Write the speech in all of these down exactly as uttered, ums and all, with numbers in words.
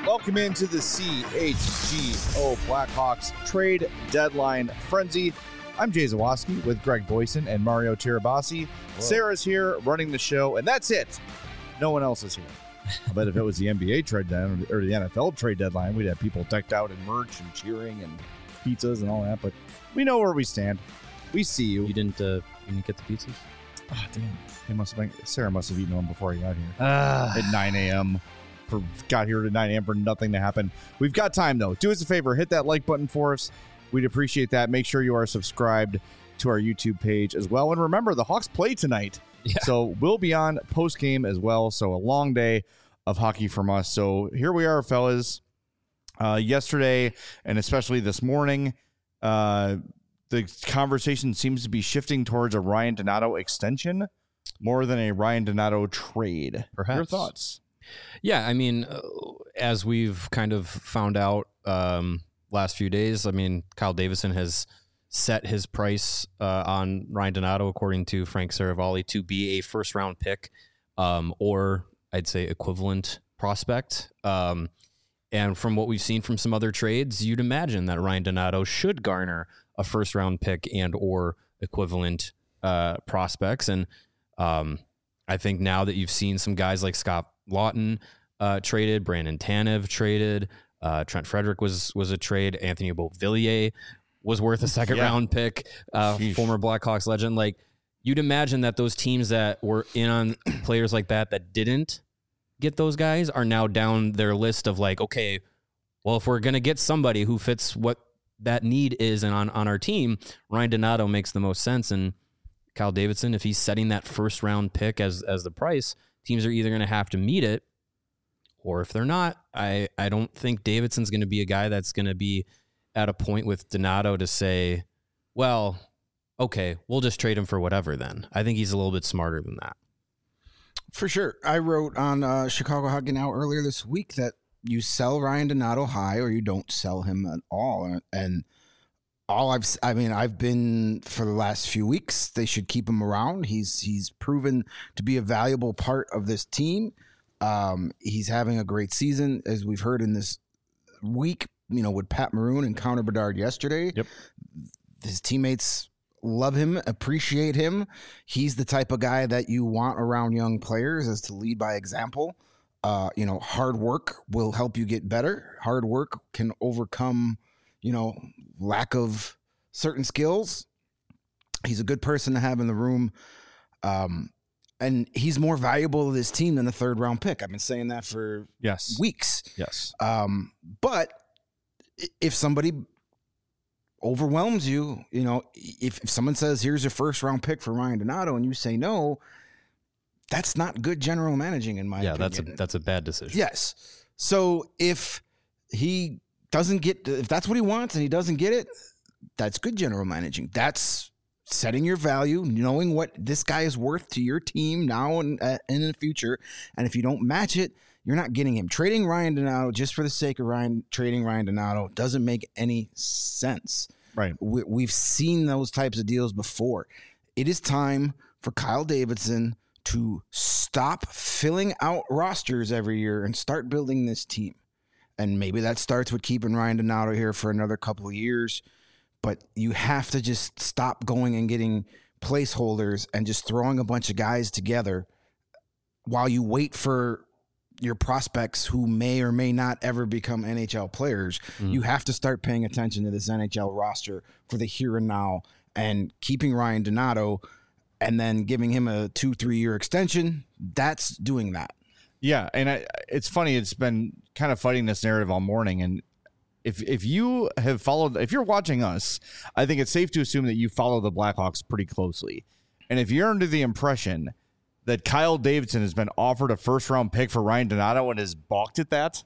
Welcome into the C H G O Blackhawks trade deadline frenzy. I'm Jay Zawoski with Greg Boyson and Mario Tirabassi. Sarah's here running the show, and that's it. No one else is here. I bet if it was the N B A trade deadline or the N F L trade deadline, we'd have people decked out in merch and cheering and pizzas and all that. But we know where we stand. We see you. You didn't, uh, you didn't get the pizzas? Oh, damn. They must have been, Sarah must have eaten one before he got here. Uh, At nine a.m. For, got here at nine a.m. for nothing to happen. We've got time, though. Do us a favor. Hit that like button for us. We'd appreciate that. Make sure you are subscribed to our YouTube page as well. And remember, the Hawks play tonight. Yeah. So we'll be on post-game as well. So a long day of hockey from us. So here we are, fellas. Uh, yesterday, and especially this morning, uh, the conversation seems to be shifting towards a Ryan Donato extension more than a Ryan Donato trade. Perhaps. Your thoughts? Yeah, I mean, uh, as we've kind of found out um, last few days, I mean, Kyle Davidson has set his price uh, on Ryan Donato, according to Frank Saravalli, to be a first-round pick um, or, I'd say, equivalent prospect. Um, and from what we've seen from some other trades, you'd imagine that Ryan Donato should garner a first-round pick and or equivalent uh, prospects. And um, I think now that you've seen some guys like Scott Lawton uh, traded, Brandon Tanev traded, uh, Trent Frederick was was a trade, Anthony Beauvillier was worth a second yeah. round pick, uh, former Blackhawks legend. Like, you'd imagine that those teams that were in on players like that that didn't get those guys are now down their list of like, okay, well, if we're gonna get somebody who fits what that need is and on on our team, Ryan Donato makes the most sense. And Kyle Davidson, if he's setting that first round pick as as the price, teams are either going to have to meet it, or if they're not, I, I don't think Davidson's going to be a guy that's going to be at a point with Donato to say, well, okay, we'll just trade him for whatever then. I think he's a little bit smarter than that. For sure. I wrote on uh, Chicago Hockey Now earlier this week that you sell Ryan Donato high or you don't sell him at all. And all I've, I mean, I've been for the last few weeks, they should keep him around. He's, he's proven to be a valuable part of this team. Um, he's having a great season, as we've heard in this week, you know, with Pat Maroon and Connor Bedard yesterday. Yep. His teammates love him, appreciate him. He's the type of guy that you want around young players, is to lead by example. Uh, you know, hard work will help you get better. Hard work can overcome, you know, lack of certain skills. He's a good person to have in the room. Um, and he's more valuable to this team than a third round pick. I've been saying that for Yes. weeks. Yes. Um, but if somebody overwhelms you, you know, if, if someone says, here's your first round pick for Ryan Donato, and you say no, that's not good general managing, in my Yeah, opinion. that's a, that's a bad decision. Yes. So if he doesn't get, if that's what he wants and he doesn't get it, that's good general managing. That's setting your value, knowing what this guy is worth to your team now and, uh, and in the future. And if you don't match it, you're not getting him. Trading Ryan Donato just for the sake of Ryan trading Ryan Donato doesn't make any sense. Right. We, we've seen those types of deals before. It is time for Kyle Davidson to stop filling out rosters every year and start building this team. And maybe that starts with keeping Ryan Donato here for another couple of years. But you have to just stop going and getting placeholders and just throwing a bunch of guys together while you wait for your prospects who may or may not ever become N H L players. Mm. You have to start paying attention to this N H L roster for the here and now, and keeping Ryan Donato and then giving him a two, three year extension. That's doing that. Yeah. And I, it's funny. It's been kind of fighting this narrative all morning. And if, if you have followed, if you're watching us, I think it's safe to assume that you follow the Blackhawks pretty closely. And if you're under the impression that Kyle Davidson has been offered a first round pick for Ryan Donato and has balked at that,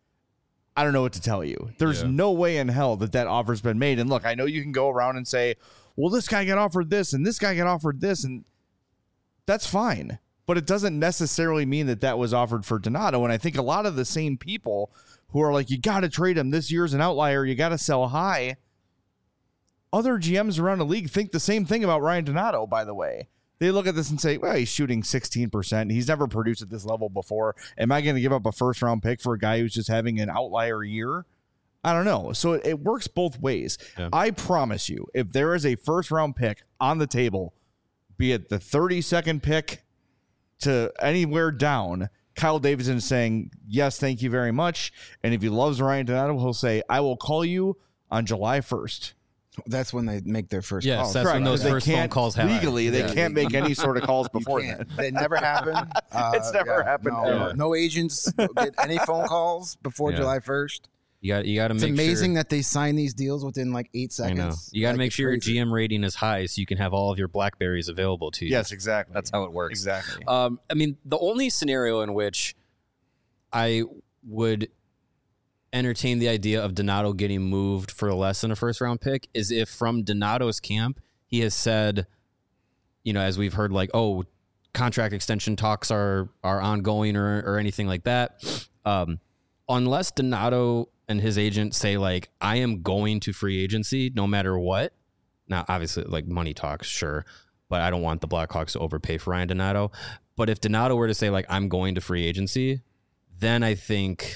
I don't know what to tell you. There's yeah. no way in hell that that offer's been made. And look, I know you can go around and say, well, this guy got offered this and this guy got offered this, and that's fine. But it doesn't necessarily mean that that was offered for Donato. And I think a lot of the same people who are like, you got to trade him, this year's an outlier, you got to sell high, other G Ms around the league think the same thing about Ryan Donato, by the way. They look at this and say, well, he's shooting sixteen percent. He's never produced at this level before. Am I going to give up a first round pick for a guy who's just having an outlier year? I don't know. So it, it works both ways. Yeah. I promise you, if there is a first round pick on the table, be it the thirty-second pick to anywhere down, Kyle Davidson is saying, yes, thank you very much. And if he loves Ryan Donato, he'll say, I will call you on July first. That's when they make their first yes, calls. Yes, that's Correct. when those first phone calls happen. Legally, they yeah. can't make any sort of calls before that. They never happen. Uh, it's never yeah, happened. No, yeah. no agents get any phone calls before yeah. July first. You got you got to make. It's amazing sure, that they sign these deals within like eight seconds. I know. You got to like, make sure crazy. your G M rating is high so you can have all of your Blackberries available to you. Yes, exactly. That's how it works. Exactly. Um, I mean, the only scenario in which I would entertain the idea of Donato getting moved for less than a first round pick is if from Donato's camp he has said, you know, as we've heard, like, oh, contract extension talks are are ongoing or or anything like that. Um, unless Donato and his agent say, like, I am going to free agency no matter what. Now, obviously, like, money talks, sure, but I don't want the Blackhawks to overpay for Ryan Donato. But if Donato were to say, like, I'm going to free agency, then I think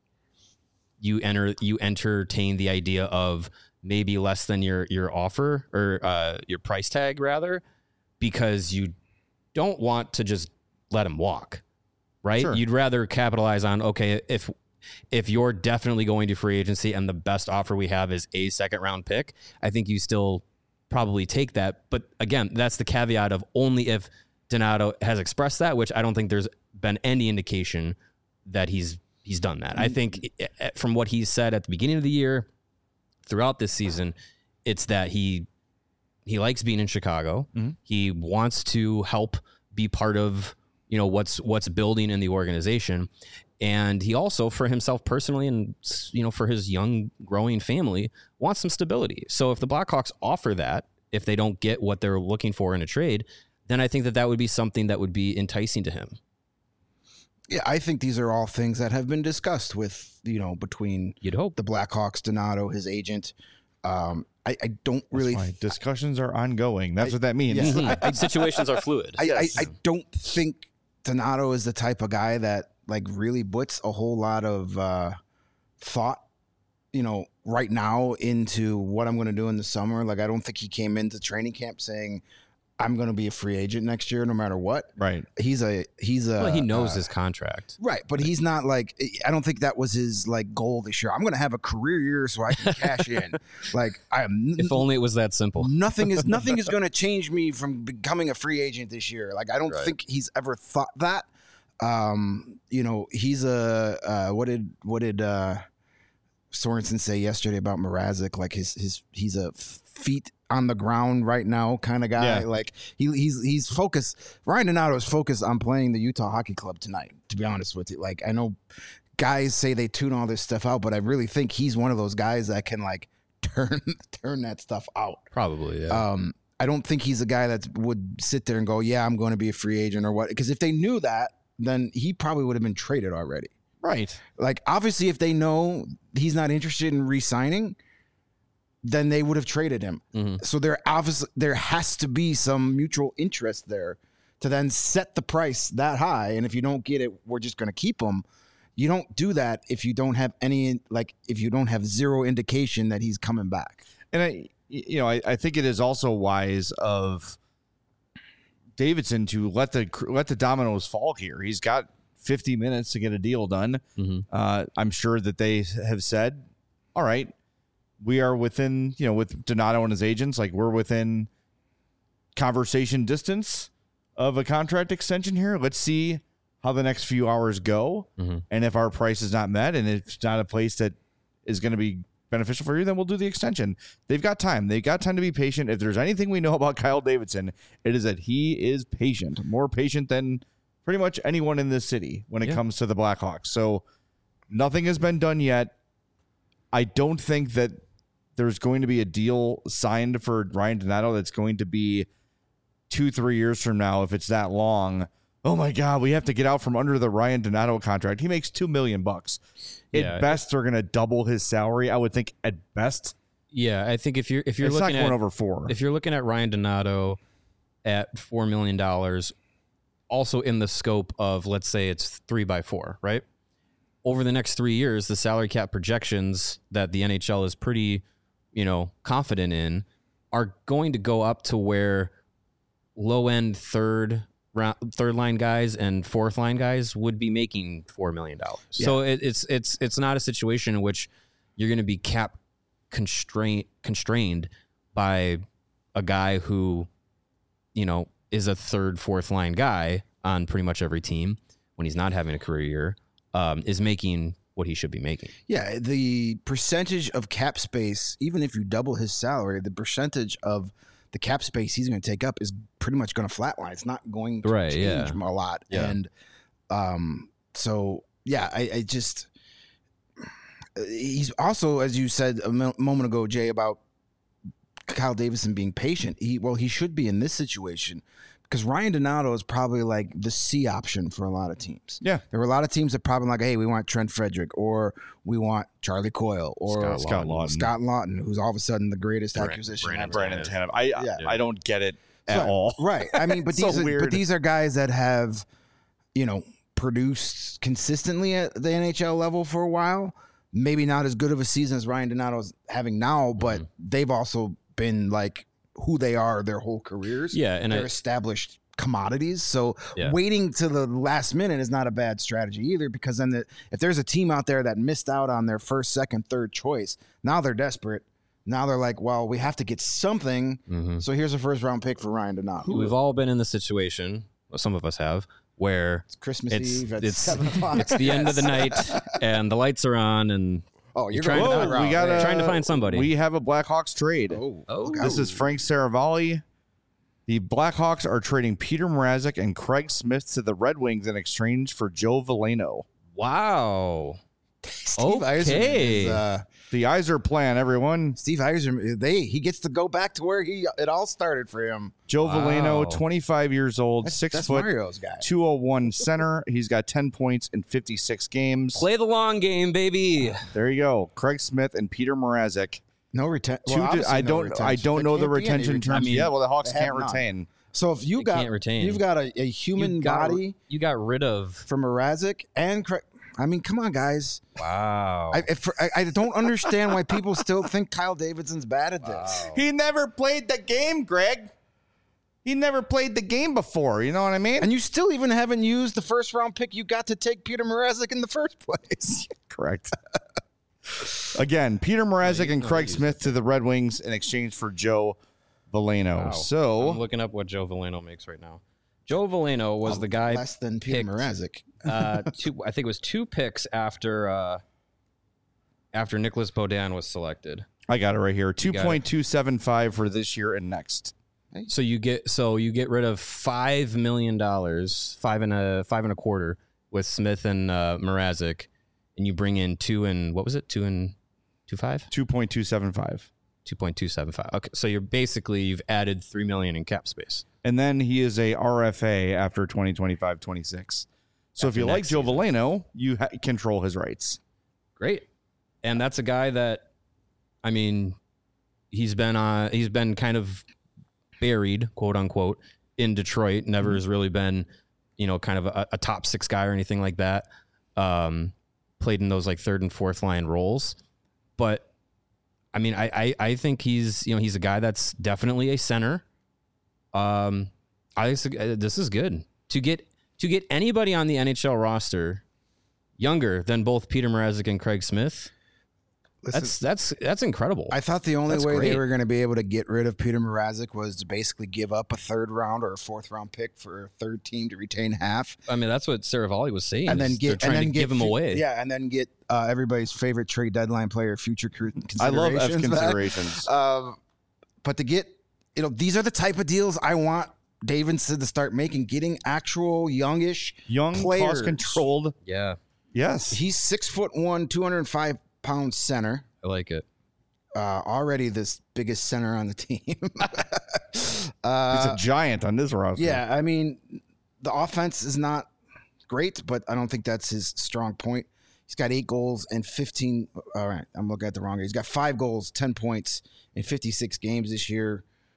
you enter you entertain the idea of maybe less than your your offer or uh, your price tag, rather, because you don't want to just let him walk, right? Sure. You'd rather capitalize on, okay, if if you're definitely going to free agency and the best offer we have is a second round pick, I think you still probably take that. But again, that's the caveat of only if Donato has expressed that, which I don't think there's been any indication that he's he's done that. I think from what he's said at the beginning of the year, throughout this season, it's that he he likes being in Chicago. Mm-hmm. He wants to help be part of, you know, what's what's building in the organization. And he also, for himself personally and, you know, for his young growing family, wants some stability. So if the Blackhawks offer that, if they don't get what they're looking for in a trade, then I think that that would be something that would be enticing to him. Yeah, I think these are all things that have been discussed with, you know, between You'd hope. the Blackhawks, Donato, his agent. Um, I, I don't really. Th- Discussions are ongoing. That's I, what that means. Yeah. Mm-hmm. Situations are fluid. I, yes. I, I don't think Donato is the type of guy that like really puts a whole lot of uh, thought, you know, right now into what I'm going to do in the summer. Like, I don't think he came into training camp saying, I'm going to be a free agent next year, no matter what. Right. He's a, he's a, well, he knows uh, his contract. Right. But he's not like, I don't think that was his like goal this year. I'm going to have a career year so I can cash in. Like, I am. If only it was that simple. Nothing is, nothing is going to change me from becoming a free agent this year. Like, I don't right. think he's ever thought that. Um, you know, he's a, uh, what did, what did, uh, Sorensen say yesterday about Mrazek? Like his, his, he's a feet on the ground right now kind of guy. Yeah. Like he, he's, he's focused. Ryan Donato is focused on playing the Utah Hockey Club tonight, to be honest with you. Like, I know guys say they tune all this stuff out, but I really think he's one of those guys that can like turn, turn that stuff out. Probably. Yeah. Um, I don't think he's a guy that would sit there and go, yeah, I'm going to be a free agent or what. Because if they knew that, then he probably would have been traded already. Right. Like, obviously, if they know he's not interested in re-signing, then they would have traded him. Mm-hmm. So there obviously there has to be some mutual interest there to then set the price that high. And if you don't get it, we're just going to keep him. You don't do that if you don't have any, like, if you don't have zero indication that he's coming back. And I, you know, I, I think it is also wise of Davidson to let the let the dominoes fall here. He's got fifty minutes to get a deal done. Mm-hmm. Uh, I'm sure that they have said, all right, we are within, you know, with Donato and his agents, like we're within conversation distance of a contract extension here. Let's see how the next few hours go. Mm-hmm. And if our price is not met and it's not a place that is going to be beneficial for you, then we'll do the extension. They've got time. They've got time to be patient. If there's anything we know about Kyle Davidson, it is that he is patient, more patient than pretty much anyone in this city when it yeah. comes to the Blackhawks. So nothing has been done yet. I don't think that there's going to be a deal signed for Ryan Donato that's going to be two, three years from now. If it's that long, oh my God, we have to get out from under the Ryan Donato contract. He makes two million bucks. Yeah, at best, they're going to double his salary. I would think at best. Yeah, I think if you're if you're it's looking not going at over four. If you're looking at Ryan Donato at four million dollars, also in the scope of, let's say it's three by four, right? Over the next three years, the salary cap projections that the N H L is pretty, you know, confident in are going to go up to where low end third round, third line guys and fourth line guys would be making four million dollars. Yeah. So it, it's it's it's not a situation in which you're going to be cap constrained constrained by a guy who, you know, is a third, fourth line guy on pretty much every team when he's not having a career year, um, is making what he should be making. Yeah, the percentage of cap space, even if you double his salary, the percentage of the cap space he's going to take up is pretty much going to flatline. It's not going to right, change yeah. a lot. Yeah. And um, so, yeah, I, I just he's also, as you said a moment ago, Jay, about Kyle Davidson being patient. He well, he should be in this situation because Ryan Donato is probably like the C option for a lot of teams. Yeah, there were a lot of teams that probably like, hey, we want Trent Frederick, or we want Charlie Coyle, or Scott, Scott Lawton, Scott Lawton, who's all of a sudden the greatest Brandon, acquisition. Brandon, Brandon Tanev. I yeah. I, I don't get it at right, all. Right. I mean, but So these are, weird. but these are guys that have, you know, produced consistently at the N H L level for a while. Maybe not as good of a season as Ryan Donato's having now, but mm-hmm. they've also been like who they are their whole careers. Yeah, and they're I, established commodities. So yeah. waiting to the last minute is not a bad strategy either, because then the, if there's a team out there that missed out on their first, second, third choice, now they're desperate. Now they're like, well, we have to get something. Mm-hmm. So here's a first round pick for Ryan Donato. We've all been in the situation, well, some of us have, where it's Christmas it's, Eve at it's, seven o'clock. It's the end of the night and the lights are on and oh, you're, you're trying, going to, that we gotta, you're trying to find somebody. We have a Blackhawks trade. Oh, oh. This is Frank Saravalli. The Blackhawks are trading Peter Mrazek and Craig Smith to the Red Wings in exchange for Joe Veleno. Wow. Steve okay. Yzerman is, uh, the Yzer plan, everyone. Steve Yzerman, they he gets to go back to where he it all started for him. Joe Wow. Veleno, twenty-five years old, That's, six that's foot, Mario's guy. two oh one center. He's got ten points in fifty-six games. Play the long game, baby. There you go. Craig Smith and Peter Mrazek. No retention. Two Well, di- I no don't. retention. I don't There know the can't be any retention terms. I mean, yeah, well, the Hawks they have can't none. retain. So if you They got can't retain. you've got a, a human you got, body You got rid of. from Mrazek and Craig. I mean, come on, guys. Wow. I, if, I I don't understand why people still think Kyle Davidson's bad at this. He never played the game, Greg. He never played the game before. You know what I mean? And you still even haven't used the first round pick you got to take Peter Mrazek in the first place. Correct. Again, Peter Mrazek you- and no, Craig you- Smith to the Red Wings in exchange for Joe Veleno. Wow. So I'm looking up what Joe Veleno makes right now. Joe Veleno was the guy Less than Peter picked, Mrazek. uh, two, I think it was two picks after uh, after Nicholas Baudin was selected. I got it right here. Two got it. point two seven five for this year and next. So you get so you get rid of five million dollars, five and a five and a quarter with Smith and uh, Mrazek, and you bring in two and what was it? Two and two five? Two point two seven five. Two point two seven five. Okay, so you're basically you've added three million in cap space. And then he is a R F A after twenty twenty-five twenty-six. So After if you like next Joe season. Veleno, you ha- control his rights. Great, and that's a guy that, I mean, he's been uh he's been kind of buried, quote unquote, in Detroit. Never Mm-hmm. has really been, you know, kind of a, a top six guy or anything like that. Um, played in those like third and fourth line roles, but I mean, I, I I think he's you know he's a guy that's definitely a center. Um, I think this is good to get to get anybody on the N H L roster younger than both Peter Mrazek and Craig Smith. Listen, That's that's that's incredible. I thought the only That's way great. they were going to be able to get rid of Peter Mrazek was to basically give up a third round or a fourth round pick for a third team to retain half, I mean, that's what Saravalli was saying. and then is get they're trying and then to get give him fu- away. Yeah, and then get uh, everybody's favorite trade deadline player, future cr- I love F considerations back. considerations. Um, but to get, you know, these are the type of deals I want Davidson to start making, getting actual youngish Young, players. cost controlled. Yeah, Yes. He's six foot one, two hundred five pound center. I like it. Uh, already this biggest center on the team. He's uh, a giant on this roster. yeah, I mean, the offense is not great, but I don't think that's his strong point. He's got eight goals and fifteen. All right, I'm looking at the wrong. He's got five goals, ten points in fifty-six games this year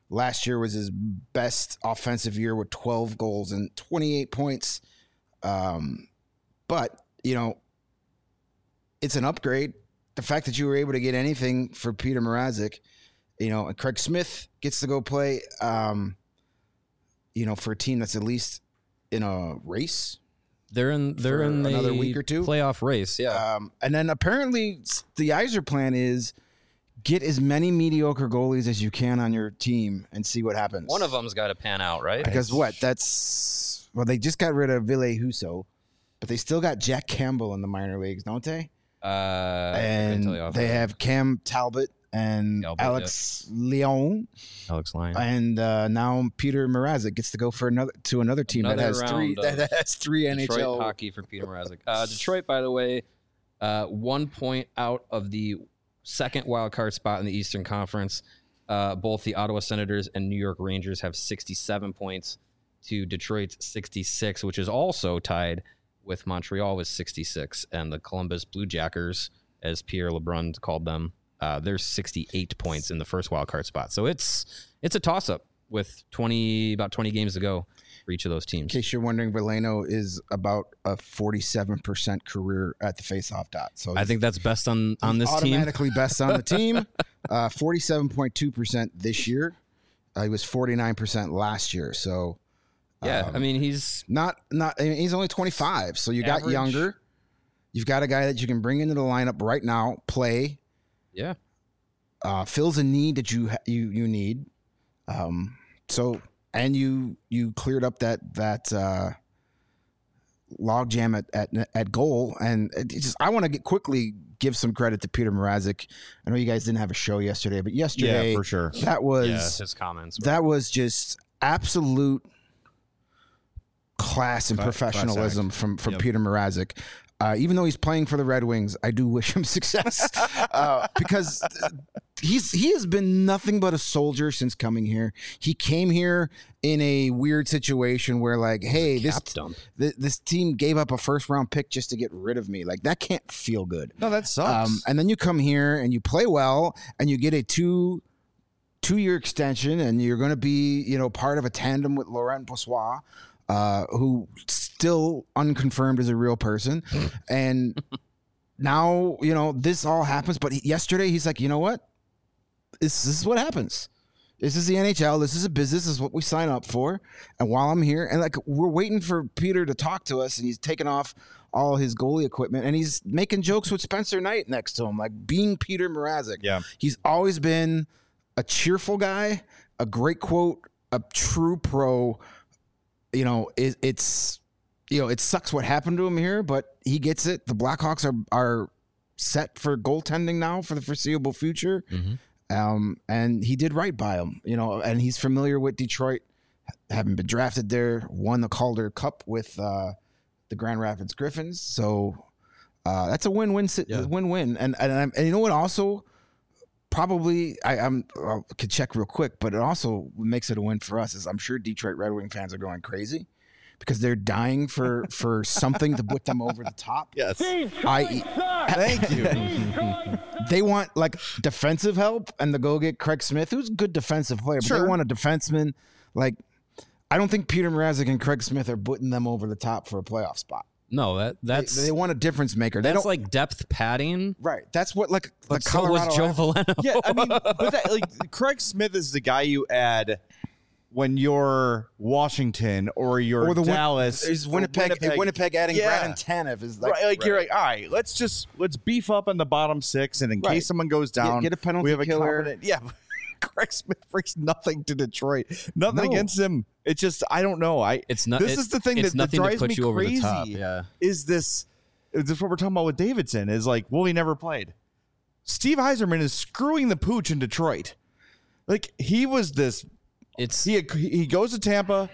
Last year was his best offensive year with twelve goals and twenty-eight points. Um, but, you know, it's an upgrade. The fact that you were able to get anything for Peter Mrazek, you know, and Craig Smith gets to go play, um, you know, for a team that's at least in a race. They're in they're For in the another week or two? playoff race. Yeah. Um, and then apparently the Yzer plan is get as many mediocre goalies as you can on your team and see what happens. One of them's got to pan out, right? Because what? That's well, they just got rid of Ville Husso, but they still got Jack Campbell in the minor leagues, don't they? Uh, I couldn't And tell you off they the- have Cam Talbot and Talbot, Alex Leon, Alex Lyon. and uh, now Peter Mrazek gets to go for another to another team that Another has three round of that has three Detroit N H L. hockey for Peter Mrazek. Uh, Detroit, by the way, uh, one point out of the second wild card spot in the Eastern Conference. Uh, both the Ottawa Senators and New York Rangers have sixty-seven points to Detroit's sixty-six, which is also tied with Montreal with sixty-six, and the Columbus Blue Jackers, as Pierre LeBrun called them, uh, there's sixty-eight points in the first wild card spot. So it's it's a toss up with twenty about twenty games to go for each of those teams. In case you're wondering, Veleno is about a forty-seven percent career at the faceoff dot. So I think that's best on on he's this team. automatically best on the team. Uh, forty-seven point two percent this year. Uh, he was forty-nine percent last year. So Yeah, um, I mean he's not not. I mean, he's only twenty-five. So you got Average. younger. You've got a guy that you can bring into the lineup right now, play, yeah. uh, fills a need that you ha- you you need. Um, so and you you cleared up that that uh, log jam at, at at goal, and it just I want to get quickly give some credit to Peter Mrazek. I know you guys didn't have a show yesterday, but yesterday Yeah, for sure. that was Yeah, his comments. that was just absolute class and Cla- professionalism class from from Yep. Peter Mrazek. Uh, even though he's playing for the Red Wings, I do wish him success uh, because he's he has been nothing but a soldier since coming here. He came here in a weird situation where, like, hey, this cap dump. th- this team gave up a first round pick just to get rid of me. Like, that can't feel good. No, that sucks. Um, and then you come here and you play well, and you get a two two year extension, and you're going to be, you know, part of a tandem with Laurent Brossoit, uh, who still unconfirmed as a real person. And now, you know, this all happens. But he, yesterday, he's like, you know what? This, this is what happens. This is the N H L. This is a business. This is what we sign up for. And while I'm here, and like we're waiting for Peter to talk to us, and he's taking off all his goalie equipment, and he's making jokes with Spencer Knight next to him, like being Peter Mrazek. Yeah. He's always been a cheerful guy, a great quote, a true pro. You know, it, it's, you know, it sucks what happened to him here, but he gets it. The Blackhawks are are set for goaltending now for the foreseeable future. Mm-hmm. Um, and he did right by him, you know, and he's familiar with Detroit, having been drafted there, won the Calder Cup with uh, the Grand Rapids Griffins. So uh, that's a win-win, si- Yeah. win-win. And and, I'm, and you know what? Also, probably I, I'm I could check real quick, but it also makes it a win for us. Is I'm sure Detroit Red Wing fans are going crazy because they're dying for for something to put them over the top. yes. I Thank you. they want like defensive help and to go get Craig Smith, who's a good defensive player, but Sure. they want a defenseman. Like, I don't think Peter Mrazek and Craig Smith are putting them over the top for a playoff spot. No, that They, that's they want a difference maker. They that's don't like depth padding. right. That's what like But the so Colorado. was Joe Valeno. Yeah, I mean, but that, like Craig Smith is the guy you add when you're Washington or you're or the Win- Dallas. is or Winnipeg, Winnipeg. Winnipeg adding Yeah. Brandon Tanev is like right, like you're like, all right, let's just let's beef up on the bottom six, and in Right. case someone goes down, get a penalty we have a killer. confident. Yeah, Craig Smith brings nothing to Detroit. Nothing No. against him. It's just I don't know. I It's not. This it- is the thing it's that, that nothing drives to put me you over crazy. the top. Yeah. Is this? Is this what we're talking about with Davidson? Is like, well, he never played. Steve Yzerman is screwing the pooch in Detroit. Like he was this. It's He he goes to Tampa.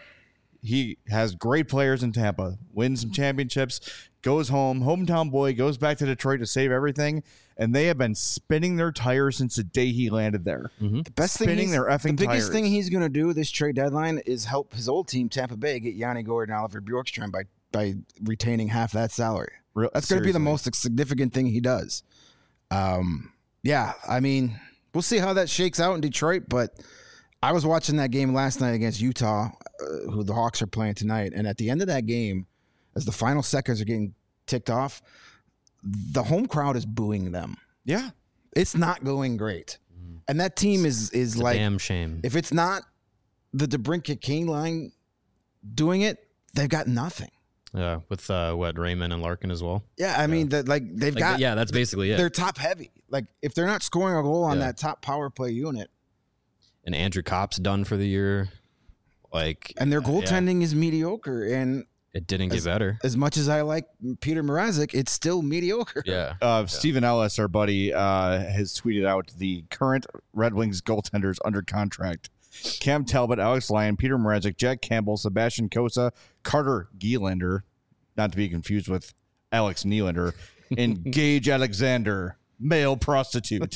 He has great players in Tampa. Wins some championships. Goes home. Hometown boy goes back to Detroit to save everything. And they have been spinning their tires since the day he landed there. the best thing. spinning he's- their effing the biggest tires. thing he's going to do this trade deadline is help his old team Tampa Bay get Yanni Gord and Oliver Bjorkstrand by by retaining half that salary. Real- That's going to be the seriously. most significant thing he does. Um, yeah, I mean, we'll see how that shakes out in Detroit, but I was watching that game last night against Utah, uh, who the Hawks are playing tonight. And at the end of that game, as the final seconds are getting ticked off, the home crowd is booing them. Yeah. It's not going great. And that team is is It's a like, damn shame. if it's not the DeBrincat King line doing it, they've got nothing. Yeah, with uh, what Raymond and Larkin as well. Yeah, I mean, that like they've Like, got yeah, that's basically it. they're top heavy. Like if they're not scoring a goal on Yeah. that top power play unit, And Andrew Kopp's done for the year. Like, and their yeah, goaltending is mediocre, and it didn't get better. as much as I like Peter Mrazek, it's still mediocre. Yeah. Uh, Stephen Ellis, our buddy, uh, has tweeted out the current Red Wings goaltenders under contract: Cam Talbot, Alex Lyon, Peter Mrazek, Jack Campbell, Sebastian Cossa, Carter Gielander, not to be confused with Alex Nylander, and Gage Alexander, male prostitute.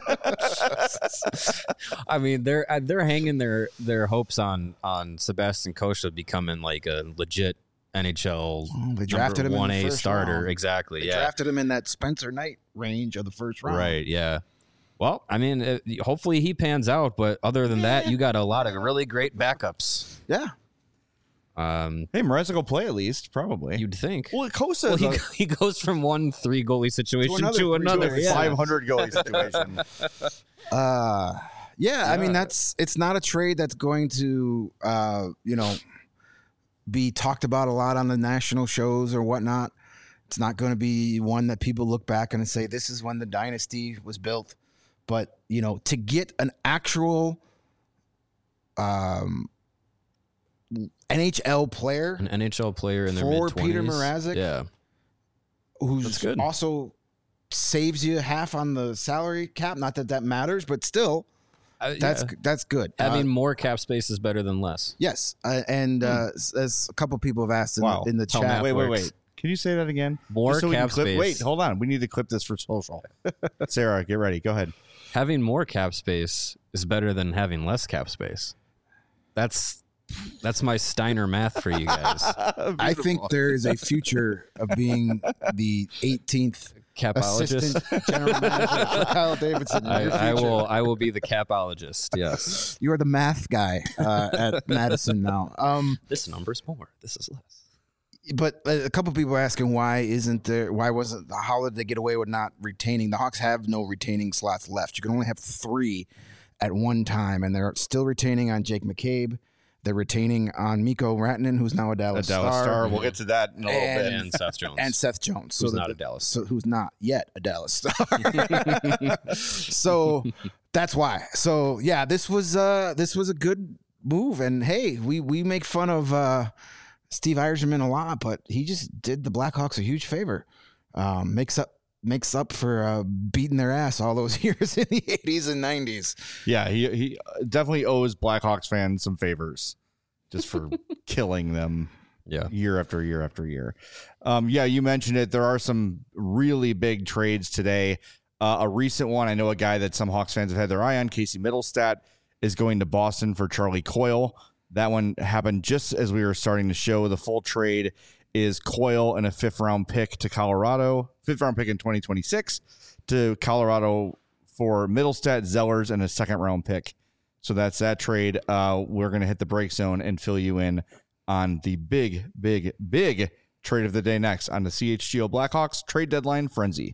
I mean, they're uh, they're hanging their their hopes on on Sebastian Cossa becoming like a legit N H L Oh, they drafted him in the one A first starter. round. Exactly. They yeah. drafted him in that Spencer Knight range of the first round. Right. Yeah. Well, I mean, uh, hopefully he pans out, but other than that, you got a lot of really great backups. Yeah. Um, Hey, Mrazek will play at least, probably. you'd think. well, Cossa Well, is he, a he goes from one three goalie situation To to another another. three goalie. yeah. five hundred goalie situation. Uh, yeah, I mean Yeah. that's it's not a trade that's going to uh, you know be talked about a lot on the national shows or whatnot. It's not going to be one that people look back and say this is when the dynasty was built. But you know, to get an actual um, N H L player An N H L player in their For mid-twenties. Peter Mrazek? Yeah. who's That's good. also saves you half on the salary cap. Not that that matters, but still, Uh, that's yeah. that's good. Having Uh, more cap space is better than less. yes, uh, and uh, s- as a couple people have asked in, Wow. the, in the Tell chat, Wait, wait, works. wait. Can you say that again? More Just so we can cap clip- space. Wait, hold on. We need to clip this for social. Sarah, get ready. Go ahead. Having more cap space is better than having less cap space. That's that's my Steiner math for you guys. I think there is a future of being the eighteenth Capologist. assistant general manager for Kyle Davidson. in I, your I future. will I will be the capologist. Yes. You are the math guy uh, at Madison now. Um, This number's more. This is less. but a couple people are asking why isn't there? Why wasn't how did they get away with not retaining? The Hawks have no retaining slots left. You can only have three at one time, and they're still retaining on Jake McCabe. They're retaining on Mikko Rantanen, who's now a A Dallas, Dallas Star, Star. We'll get to that in a little And- bit. And Seth Jones. and Seth Jones, Who's that not the- a Dallas. so who's not yet a Dallas Star. So that's why. So yeah, this was uh this was a good move, and hey, we we make fun of uh Steve Yzerman a lot, but he just did the Blackhawks a huge favor. Um, makes up makes up for uh, beating their ass all those years in the eighties and nineties. Yeah, he he definitely owes Blackhawks fans some favors just for killing them Yeah. year after year after year. Um, yeah, you mentioned it. There are some really big trades today. Uh, a recent one, I know a guy that some Hawks fans have had their eye on, Casey Middlestat, is going to Boston for Charlie Coyle. That one happened just as we were starting to show. The full trade is Coyle and a fifth round pick to Colorado, fifth round pick in twenty twenty-six to Colorado for Middlestat, Zellers, and a second round pick. So that's that trade. Uh, we're going to hit the break zone and fill you in on the big, big, big trade of the day next on the C H G O Blackhawks trade deadline frenzy.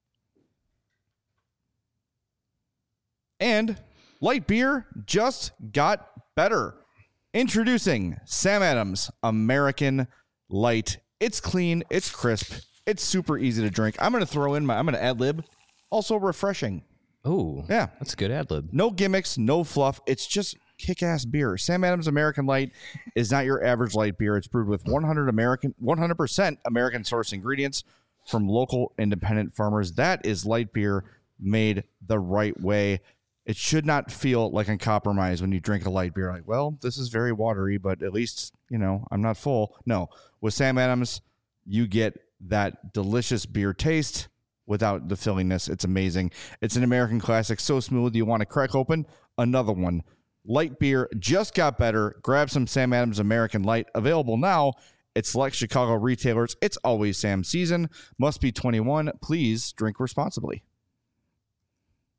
And light beer just got better. Introducing Sam Adams American Light. It's clean, it's crisp, it's super easy to drink. I'm going to throw in my, I'm going to ad lib. Also refreshing. Oh, Yeah. that's a good ad lib. No gimmicks, no fluff. It's just kick-ass beer. Sam Adams American Light is not your average light beer. It's brewed with one hundred American, one hundred percent American source ingredients from local independent farmers. That is light beer made the right way. It should not feel like a compromise when you drink a light beer. Like, well, this is very watery, but at least, you know, I'm not full. No, with Sam Adams, you get that delicious beer taste without the fillingness. It's amazing. It's an American classic, so smooth you want to crack open another one. Light beer just got better. Grab some Sam Adams American Light. Available now at select Chicago retailers. It's always Sam season. Must be twenty-one. Please drink responsibly.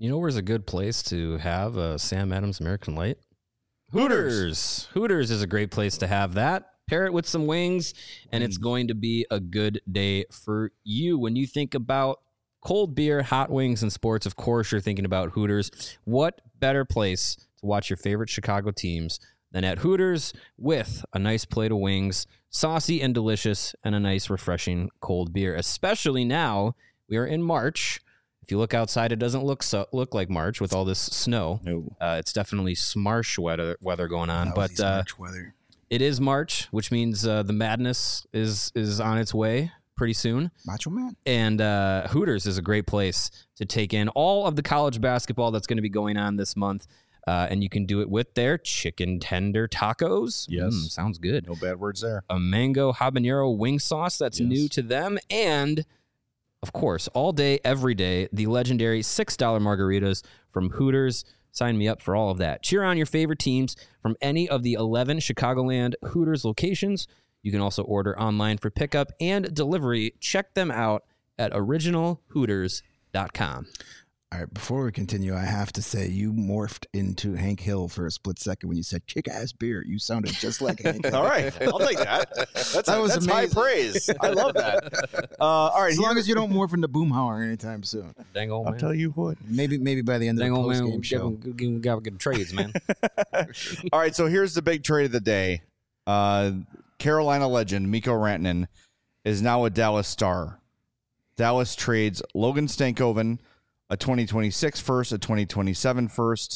You know where's a good place to have a Sam Adams American Light? Hooters. Hooters is a great place to have that. Pair it with some wings, and it's going to be a good day for you. When you think about cold beer, hot wings, and sports, of course, you're thinking about Hooters. What better place to watch your favorite Chicago teams than at Hooters with a nice plate of wings, saucy and delicious, and a nice, refreshing cold beer, especially now we are in March. If you look outside, it doesn't look so, look like March with all this snow. No. Uh, it's definitely smarsh weather, weather going on. Lousy But uh, March weather. it is March, which means uh, the madness is is on its way pretty soon. Macho Man. And uh, Hooters is a great place to take in all of the college basketball that's going to be going on this month. Uh, and you can do it with their chicken tender tacos. Yes. Mm, sounds good. No bad words there. A mango habanero wing sauce that's Yes. new to them. And, of course, all day, every day, the legendary six dollar margaritas from Hooters. Sign me up for all of that. Cheer on your favorite teams from any of the eleven Chicagoland Hooters locations. You can also order online for pickup and delivery. Check them out at original hooters dot com. All right, before we continue, I have to say you morphed into Hank Hill for a split second when you said kick-ass beer. You sounded just like Hank Hill. All right, I'll take that. That's, That was that's high amazing. praise. I love that. Uh, all right, As here- long as you don't morph into Boomhauer anytime soon. Dang old I'll man. tell you what. Maybe maybe by the end of Dang the old man. post-game We show. got to get, get trades, man. All right, so here's the big trade of the day. Uh, Carolina legend Mikko Rantanen is now a Dallas Star. Dallas trades Logan Stankoven, a twenty twenty-six first, a twenty twenty-seven first,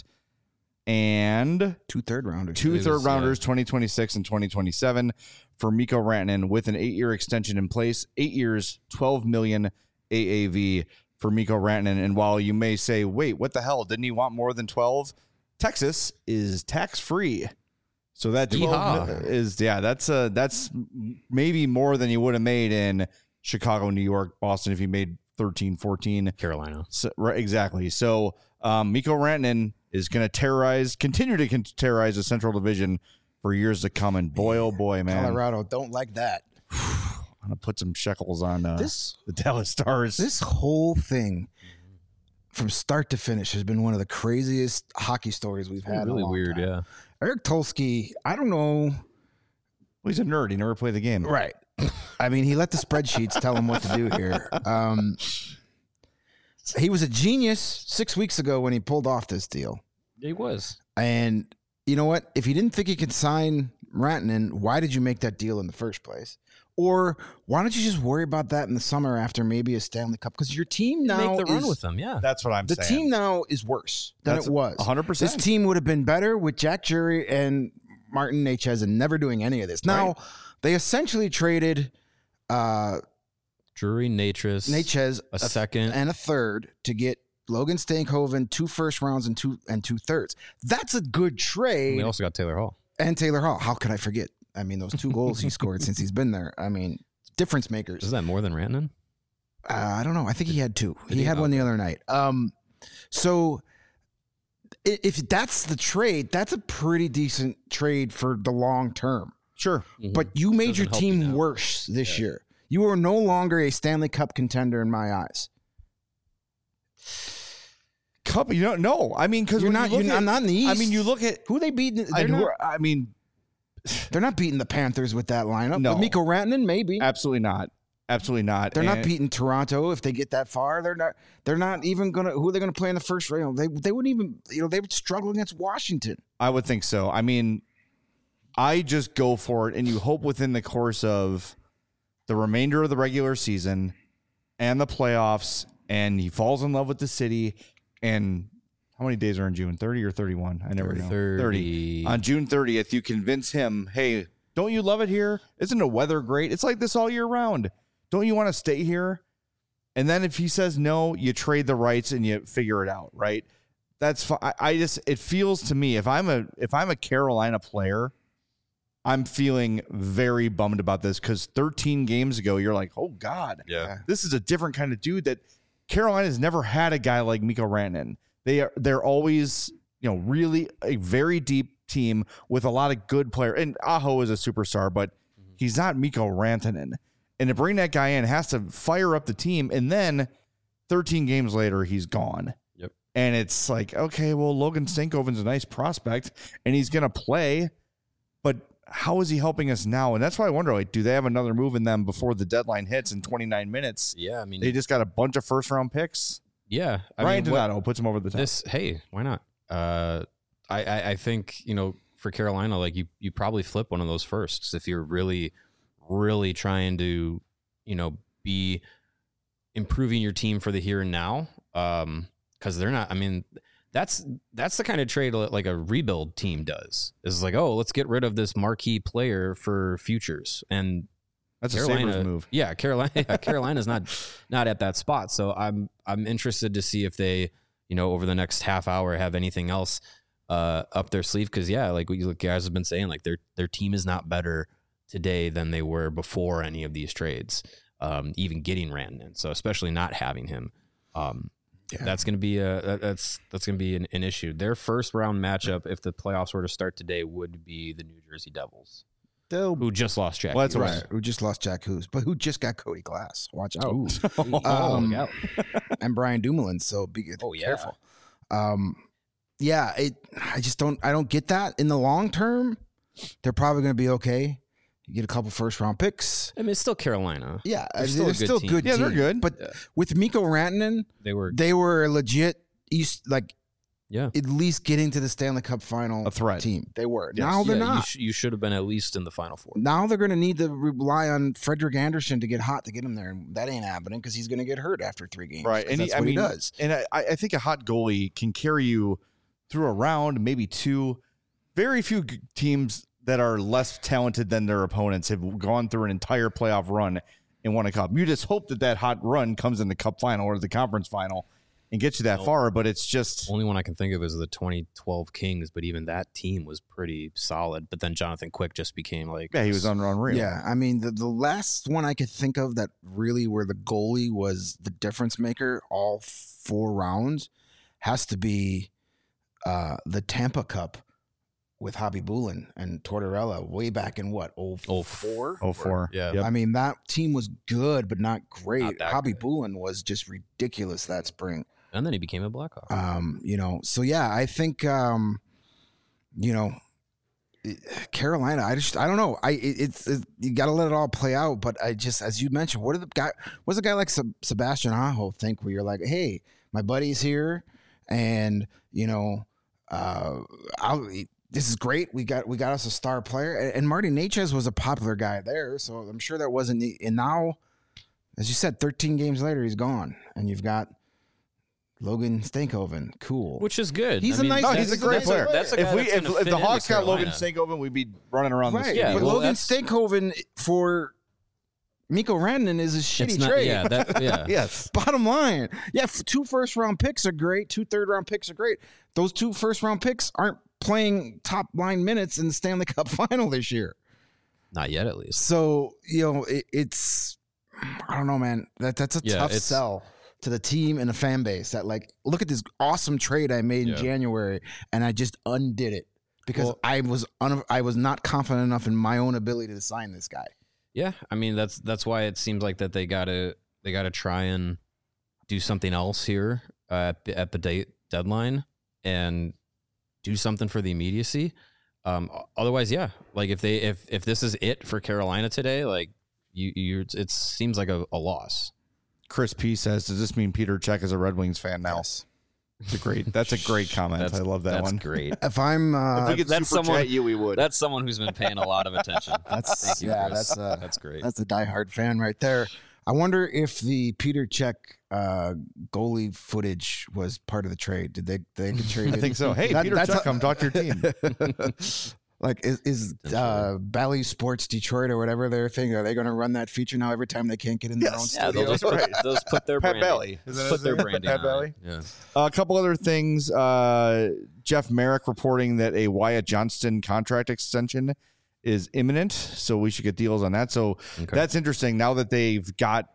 and Two third rounders. two It was, third rounders, uh, twenty twenty-six and twenty twenty-seven, for Mikko Rantanen with an eight-year extension in place. Eight years, twelve million A A V for Mikko Rantanen. And while you may say, wait, what the hell? Didn't he want more than twelve? Texas is tax-free. So that twelve Yeehaw. is, yeah, that's uh, that's maybe more than you would have made in Chicago, New York, Boston if you made thirteen, fourteen. Carolina. So, right, exactly. So um, Mikko Rantanen is going to terrorize, continue to con- terrorize the Central Division for years to come. And boy, oh boy, man, Colorado don't like that. I'm going to put some shekels on uh, This the Dallas Stars. this whole thing from start to finish has been one of the craziest hockey stories we've had. in a Really long weird, time. yeah. Eric Tulsky, I don't know. Well, he's a nerd. He never played the game. Right. I mean, he let the spreadsheets tell him what to do here. Um, he was a genius six weeks ago when he pulled off this deal. He was. And you know what? If you didn't think he could sign Rantanen, why did you make that deal in the first place? Or why don't you just worry about that in the summer after maybe a Stanley Cup? Because your team now Make the run is, with them, yeah. That's what I'm the saying. team now is worse than That's it was. one hundred percent. This team would have been better with Jack Jury and Martin Nechez and never doing any of this. Now, Right. they essentially traded uh, Drury, Natris, Nechez a second. and a third to get Logan Stankoven, two first rounds and two and two thirds. That's a good And trade. we also got Taylor Hall. And Taylor Hall. How could I forget? I mean, those two goals he scored since he's been there. I mean, difference makers. Is that more than Rantanen? Uh, I don't know. I think he had two. Did He he? had one the Okay. other night. Um, so i- if that's the trade, that's a pretty decent trade for the long term. Sure. But you made your Doesn't help you team now. worse this year. You are no longer a Stanley Cup contender in my eyes. Cup, you don't know. I mean, because You're when not. you You're look not, at, not in the East. I mean, you look at. who they beating. I, They're know- not, I mean, they're not beating the Panthers with that lineup. No. With Mikko Rantanen, maybe. absolutely not. Absolutely not. They're not And- beating Toronto if they get that far. They're not. They're not even gonna. Who are they gonna play in the first round? They they wouldn't even. You know, they would struggle against Washington. I would think so. I mean, I just go for it, and you hope within the course of the remainder of the regular season and the playoffs, and he falls in love with the city. And how many days are in June? thirty or thirty-one? I never know. thirty. On June thirtieth, you convince him, hey, don't you love it here? Isn't the weather great? It's like this all year round. Don't you want to stay here? And then if he says no, you trade the rights and you figure it out, right? That's fine. I, I just it feels to me if I'm a if I'm a Carolina player, I'm feeling very bummed about this because thirteen games ago you're like, oh God, Yeah. this is a different kind of dude that Carolina's never had a guy like Mikko Rantanen. They are they're always you know really a very deep team with a lot of good players. And Aho is a superstar, but he's not Mikko Rantanen. And to bring that guy in has to fire up the team, and then thirteen games later he's gone. Yep. And it's like, okay, well, Logan Stankoven's a nice prospect and he's going to play, but how is he helping us now? And that's why I wonder, like, do they have another move in them before the deadline hits in twenty-nine minutes? Yeah, I mean, They just got a bunch of first round picks. yeah. I Ryan mean, what- Donato puts him over the top. This, hey, why not? Uh, I, I, I think, you know, for Carolina, like you, you probably flip one of those firsts if you're really, really trying to, you know, be improving your team for the here and now. Um, because they're not. I mean, that's that's the kind of trade like a rebuild team does. Is like, oh, let's get rid of this marquee player for futures. And That's Carolina, a Sabres move. Yeah, Carolina. Yeah, Carolina's not not at that spot. So I'm I'm interested to see if they, you know, over the next half hour have anything else uh, up their sleeve. Because yeah, like what you guys have been saying, like their their team is not better today than they were before any of these trades. Um, even getting Rantanen, so especially not having him, um, yeah. that's going to be a that, that's that's going to be an, an issue. Their first round matchup, if the playoffs were to start today, would be the New Jersey Devils, They'll, who just lost Jack. Well, that's right. right. Who just lost Jack Hughes, but who just got Cody Glass. Watch out. Ooh. Um, Oh, and Brian Dumoulin. So be Oh, yeah. careful. Um, yeah, it. I just don't. I don't get that. In the long term, they're probably going to be okay. You get a couple first round picks. I mean, it's still Carolina. Yeah, They're they're still a still, good good. team. Yeah, they're team. good. But Yeah. with Mikko Rantanen, They were, they were a legit East, like yeah. at least getting to the Stanley Cup final A threat. team. They were. Yes. Now they're Yeah, not. You, sh- you should have been at least in the Final Four. Now they're going to need to rely on Frederick Anderson to get hot to get him there, and that ain't happening because he's going to get hurt after three games. Right. 'Cause And that's he, I what mean, he does. And I, I think a hot goalie can carry you through a round, maybe two. Very few g- teams that are less talented than their opponents have gone through an entire playoff run and won a cup. You just hope that that hot run comes in the cup final or the conference final and gets you that far. But it's just Only one I can think of is the twenty twelve Kings, but even that team was pretty solid. But then Jonathan Quick just became like, yeah, he was un- unreal. Yeah, I mean, the, the last one I could think of that really where the goalie was the difference maker all four rounds has to be uh, the Tampa Cup with Hobby Bulin and Tortorella way back in what, oh four? Oh four. Yeah. Yep. I mean, that team was good, but not great. Not that Hobby great. Bulin was just ridiculous that spring. and then he became a Blackhawk. Um, you know, so yeah, I think, um, you know, Carolina, I just, I don't know. I, it, it's, it, you got to let it all play out. But I just, as you mentioned, what do the guy, what does a guy like Seb- Sebastian Aho think where you're like, hey, my buddy's here and, you know, uh, I'll, this is great. We got, we got us a star player. And, and Marty Necas was a popular guy there. So I'm sure that wasn't, and now, as you said, thirteen games later, he's gone. And you've got Logan Stankoven. Cool. Which is good. He's I a mean, nice- No, that's- he's a great that's player. That's a if guy we that's if, gonna if fit the into Hawks got Logan Carolina. Stankoven, we'd be running around Right. this Yeah, but studio. well, Logan that's- Stankoven for Mikko Rantanen is a shitty It's not, trade. yeah, that, yeah. Yes. Bottom line. Yeah, f- two first round picks are great. Two third round picks are great. Those two first round picks aren't playing top line minutes in the Stanley Cup final this year. Not yet, at least. So, you know, it, it's, I don't know, man. That That's a Yeah, tough it's- sell to the team and the fan base that, like, look at this awesome trade I made Yeah. in January and I just undid it because Well- I was un- I was not confident enough in my own ability to sign this guy. Yeah, I mean that's that's why it seems like that they gotta they gotta try and do something else here uh, at the, at the date deadline and do something for the immediacy. Um, otherwise, yeah, like if they if if this is it for Carolina today, like you you it seems like a, a loss. Chris P says, "Does this mean Peter Cech is a Red Wings fan now?" Yes. It's a great. That's a great comment. That's, I love that that's one. great. If I'm, uh, If we could That's super someone- chat you, we would. That's someone who's been paying a lot of attention. That's- Thank you, yeah, Chris. that's, uh, that's great. that's a diehard fan right there. I wonder if the Peter Cech uh, goalie footage was part of the trade. Did they they get I traded? think so. Hey, That- Peter that's Cech, a- come talk to your team. Like is, is uh, Bally Sports Detroit or whatever their thing? Are they going to run that feature now every time they can't get in their Yes. own yeah, studio? they'll just put, Right. they'll just put their Pat branding. Bally. Is that Put his their name? branding Pat on Bally? it. Yeah. a couple other things. Uh, Jeff Merrick reporting that a Wyatt Johnston contract extension is imminent, so we should get deals on that. So Okay. that's interesting. Now that they've got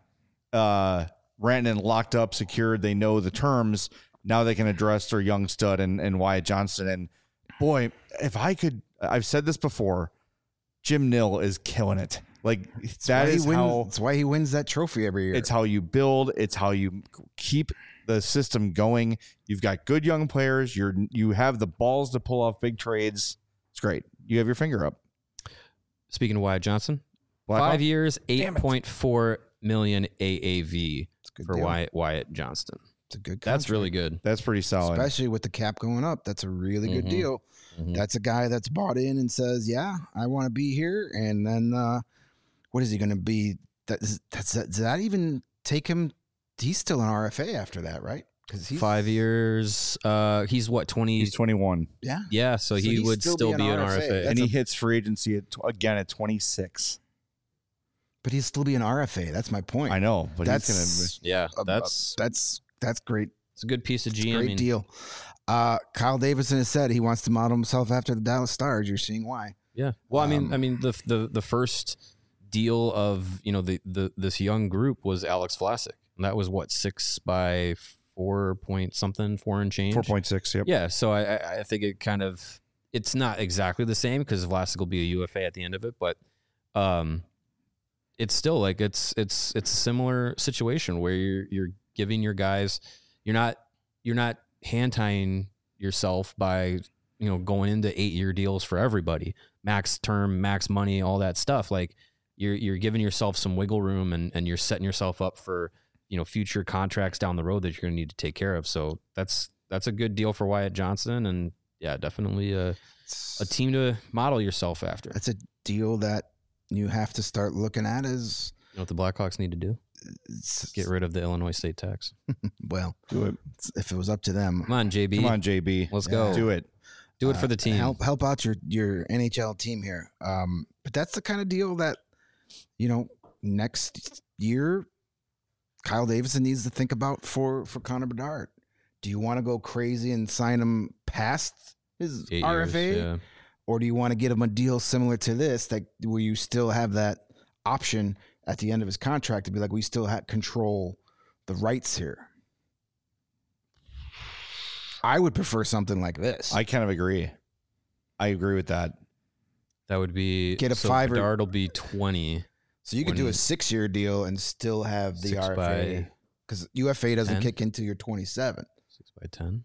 uh, Rantanen locked up, secured, they know the terms. Now they can address their young stud and, and Wyatt Johnston. And boy, if I could, I've said this before. Jim Nill is killing it. Like that Why he is wins, how That's why he wins that trophy every year. it's how you build. It's how you keep the system going. You've got good young players. You're you have the balls to pull off big trades. It's great. You have your finger up. Speaking of Wyatt Johnson, Blackhawk? five years, eight point four million A A V for deal. Wyatt Wyatt Johnston. It's a good That's contract. really good. That's pretty solid. Especially with the cap going up. That's a really good Mhm. deal. Mhm. That's a guy that's bought in and says, yeah, I want to be here. And then uh, what is he going to be? That, is, that's, does that even take him? He's still an R F A after that, right? Because he's Five years. Uh, he's what twenty? He's twenty-one, Yeah. Yeah, so, So he he'd would still still, be be an an R F A. R F A. That's and he a- hits free agency at, again at twenty-six. But he'll still be an R F A. That's my point. I know, but That's he's Yeah, a- that's that's that's great. it's a good piece of It's a GMing. great deal. Uh, Kyle Davidson has said he wants to model himself after the Dallas Stars. You're seeing why. Yeah. Well, I mean, Um, I mean, the the the first deal of you know the the this young group was Alex Vlasic, and that was what six by four point something, four and change. four point six. Yep. Yeah. So I I- I think it kind of it's not exactly the same because Vlasic will be a U F A at the end of it, but um, it's still like it's it's it's a similar situation where you're you're giving your guys you're not you're not hand tying yourself by you know going into eight year deals for everybody, max term, max money, all that stuff. Like you're you're giving yourself some wiggle room and and you're setting yourself up for you know future contracts down the road that you're going to need to take care of. So that's that's a good deal for Wyatt Johnson, and yeah, definitely a a team to model yourself after. That's a deal that you have to start looking at as You know what the Blackhawks need to do? it's- Get rid of the Illinois state tax. well, Do it. if it was up to them. Come on, J B. Come on, J B. Let's Yeah. go. Do it. Do it for the Uh, team. Help help out your your N H L team here. Um, but that's the kind of deal that you know next year Kyle Davidson needs to think about for for Connor Bedard. Do you want to go crazy and sign him past his Eight R F A, years, yeah. or do you want to get him a deal similar to this that where you still have that option at the end of his contract to be like we still have control the rights here? I would prefer something like this. I kind of agree. I agree with that. That would be Get a so five or- Bedard will be twenty. So you could do a when- six-year deal and still have the Six R F A by because U F A doesn't ten? kick into your twenty-seven. Six by ten.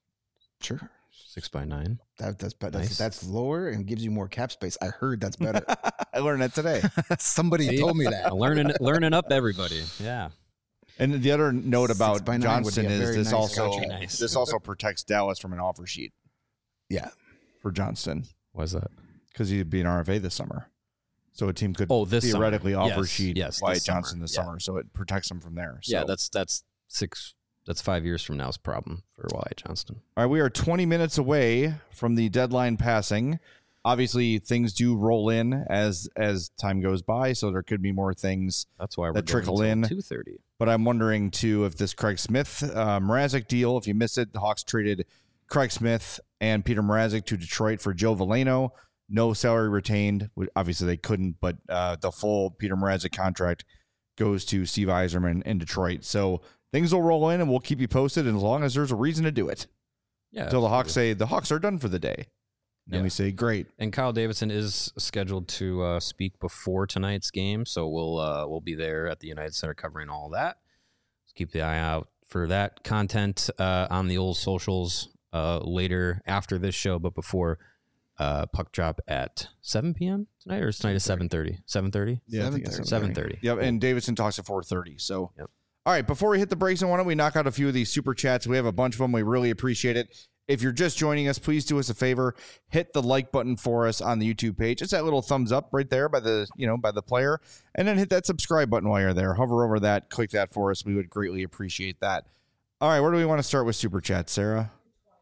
Sure, Six by nine. that, that's but that's Nice. that's lower and gives you more cap space. I heard that's better. I learned that today. Somebody See? told me that. learning learning up everybody. Yeah. And the other note Six about by nine would be Johnson a is very this nice also contract. Nice. this also protects Dallas from an offer sheet Yeah, for Johnston Why's that? because he'd be an R F A this summer. So a team could Oh, this summer. theoretically offer Yes, sheet yes, Wyatt this summer. Johnson this Yeah. summer, so it protects him from there. So. Yeah, that's that's six. That's five years from now's problem for Wyatt Johnston. All right, we are twenty minutes away from the deadline passing. Obviously, things do roll in as as time goes by, so there could be more things. That's why we're That trickle in. two thirty. But I'm wondering too if this Craig Smith uh, Mrazek deal. If you missed it, the Hawks traded Craig Smith and Peter Mrazek to Detroit for Joe Veleno. No salary retained. Obviously, they couldn't, but uh, the full Peter Mrazek contract goes to Steve Yzerman in Detroit. So things will roll in, and we'll keep you posted as long as there's a reason to do it. Yeah. Until the Hawks absolutely. say the Hawks are done for the day. And then Yeah. we say, great. And Kyle Davidson is scheduled to uh, speak before tonight's game, so we'll uh, we'll be there at the United Center covering all that. So keep the eye out for that content uh, on the old socials uh, later after this show, but before uh, puck drop at seven p.m. tonight, or tonight is seven thirty. seven thirty. Yeah, I think it's seven thirty. Yep, and Davidson talks at four thirty. So, Yep. All right, before we hit the breaks, why don't we knock out a few of these super chats? We have a bunch of them. We really appreciate it. If you're just joining us, please do us a favor. Hit the like button for us on the YouTube page. It's that little thumbs up right there by the, you know, by the player. And then hit that subscribe button while you're there. Hover over that, click that for us. We would greatly appreciate that. All right, where do we want to start with super chat, Sarah?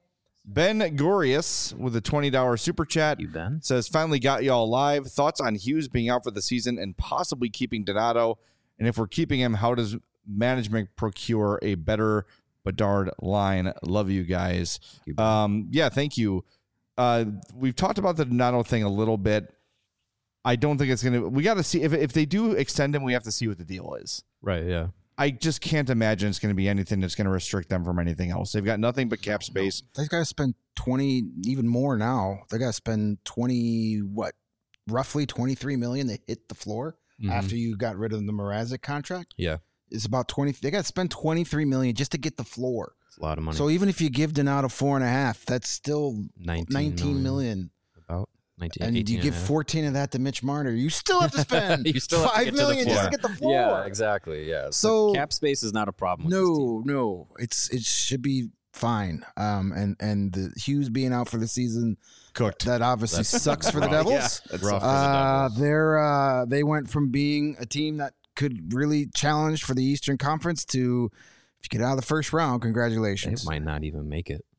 Ben Gorius with a twenty dollars super chat. You, Ben? Says, finally got y'all live. Thoughts on Hughes being out for the season and possibly keeping Donato? And if we're keeping him, how does management procure a better Bedard line? Love you guys. You, Ben. Um, yeah, thank you. Uh, we've talked about the Donato thing a little bit. I don't think it's going to, we got to see if, if they do extend him, we have to see what the deal is. Right, yeah. I just can't imagine it's going to be anything that's going to restrict them from anything else. They've got nothing but cap space. they got to spend twenty, even more now. They got to spend twenty, what, roughly twenty-three million to hit the floor Mhm. after you got rid of the Mrazek contract. Yeah. is about twenty. They got to spend twenty-three million just to get the floor. It's a lot of money. So even if you give Donato four and a half, that's still nineteen, nineteen million. About nineteen, And you give and fourteen of that to Mitch Marner. You still have to spend You still have to five get to the million just floor. to get the floor. Yeah, exactly. Yeah. So- cap space is not a problem. With this team. No, no, it's it should be fine. Um, and and the Hughes being out for the season, Cooked. that obviously That's sucks for the rough. Devils. That's rough for the Uh, Devils. they're uh, they went from being a team that could really challenge for the Eastern Conference to, if you get out of the first round, They congratulations. might not even make it.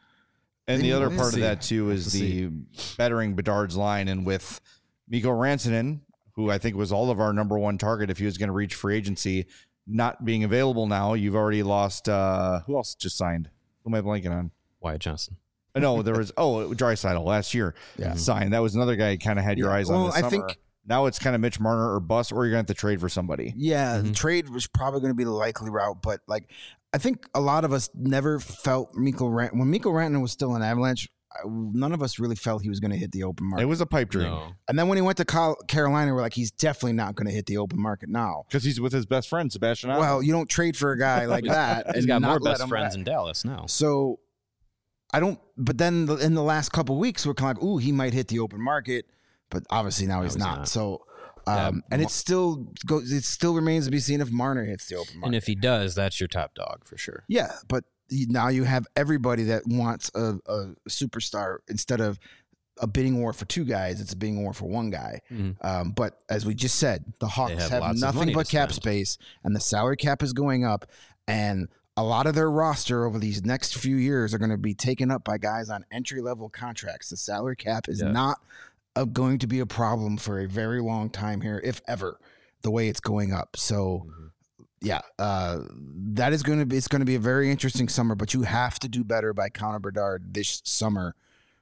And the other We'll part see. of that too is We'll the bettering Bedard's line, and with Mikko Rantanen, who I think was all of our number one target if he was going to reach free agency, not being available now, you've already lost. Uh, who else just signed? Who am I blanking on? Wyatt Johnson. Uh, No, there was oh Draisaitl last year. Yeah. signed. That was another guy you kind of had your Yeah, eyes well, on. This I summer. think- now it's kind of Mitch Marner or bust, or you're going to have to trade for somebody. Yeah, the Mhm. trade was probably going to be the likely route, but like I think a lot of us never felt Mikko Rant when Mikko Rantanen was still in Avalanche. I- None of us really felt he was going to hit the open It market. was a pipe dream No. And then when he went to Col- Carolina, we're like, he's definitely not going to hit the open market now. because he's with his best friend Sebastian. Aho. Well, you don't trade for a guy like that. He's and got not more let best him friends back. in Dallas now. So I don't. But then the, in the last couple of weeks, we're kind of like, ooh, he might hit the open market, but obviously now he's, he's not. not. So. Yeah, Um, and it still goes. It still remains to be seen if Marner hits the open market. And if he does, that's your top dog for sure. Yeah, but you- now you have everybody that wants a, a superstar instead of a bidding war for two guys. It's a bidding war for one guy. Mhm. Um, but as we just said, the Hawks have have, lots of nothing money but to cap spend. space, and the salary cap is going up. And a lot of their roster over these next few years are going to be taken up by guys on entry level contracts. The salary cap is Yeah. not a, going to be a problem for a very long time here, if ever, the way it's going up. So. Mhm. Yeah, uh, that is going to be. It's going to be a very interesting summer, but you have to do better by Connor Bedard this summer,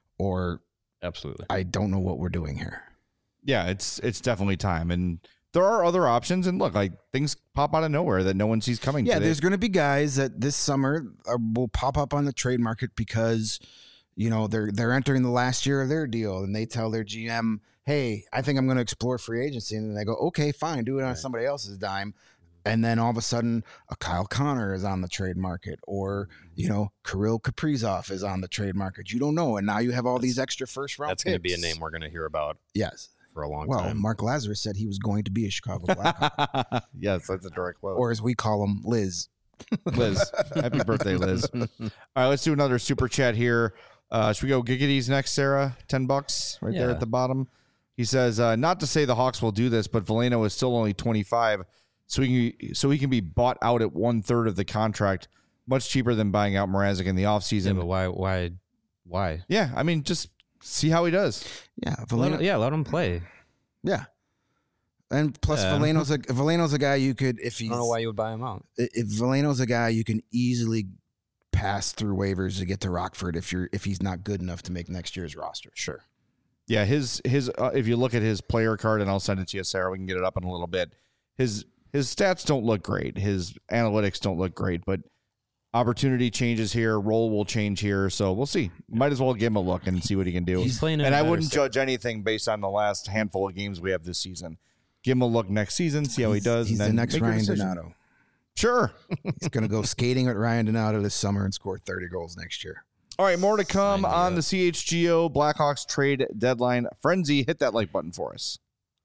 or Absolutely. I don't know what we're doing here. yeah, it's it's definitely time, and there are other options. And look, like things pop out of nowhere that no one sees coming. Yeah, today. there's going to be guys that this summer are, will pop up on the trade market because you know they're they're entering the last year of their deal, and they tell their G M, "Hey, I think I'm going to explore free agency," and then they go, "Okay, fine, do it on Right. somebody else's dime." And then all of a sudden, a Kyle Connor is on the trade market, or you know, Kirill Kaprizov is on the trade market. You don't know, and now you have all these extra first round. That's going to be a picks. name we're going to hear about Yes. for a long Well, time. Mark Lazarus said he was going to be a Chicago Blackhawk, yes, that's a direct quote. or as we call him, Liz. Liz, happy birthday, Liz. All right, let's do another super chat here. Uh, should we go Giggity's next, Sarah? Ten bucks right there Yeah. at the bottom. He says, uh, not to say the Hawks will do this, but Veleno is still only twenty-five, so he can, so he can be bought out at one third of the contract, much cheaper than buying out Mrazek in the yeah, offseason. but why? Why? Why? Yeah, I mean, just see how he does. Yeah, Let Veleno, him- yeah, let him play. yeah. And plus, Yeah. Veleno's a Veleno's a guy you could, if I he's don't know why you would buy him out. if Veleno's a guy you can easily pass through waivers to get to Rockford if you're if he's not good enough to make next year's roster. Sure. Yeah, his his uh, if you look at his player card, and I'll send it to you, Sarah. We can get it up in a little bit. His his stats don't look great. His analytics don't look great, but opportunity changes here. Role will change here, so we'll see. Might as well give him a look and see what he can do. He's playing in and a I better wouldn't state. judge anything based on the last handful of games we have this season. Give him a look next season, see how he He's- does. He's and the then next make your Ryan decision. Donato. Sure. He's going to go skating at Ryan Donato this summer and score thirty goals next year. All right, more to come Sign me on up. the C H G O Blackhawks trade deadline frenzy. Hit that like button for us.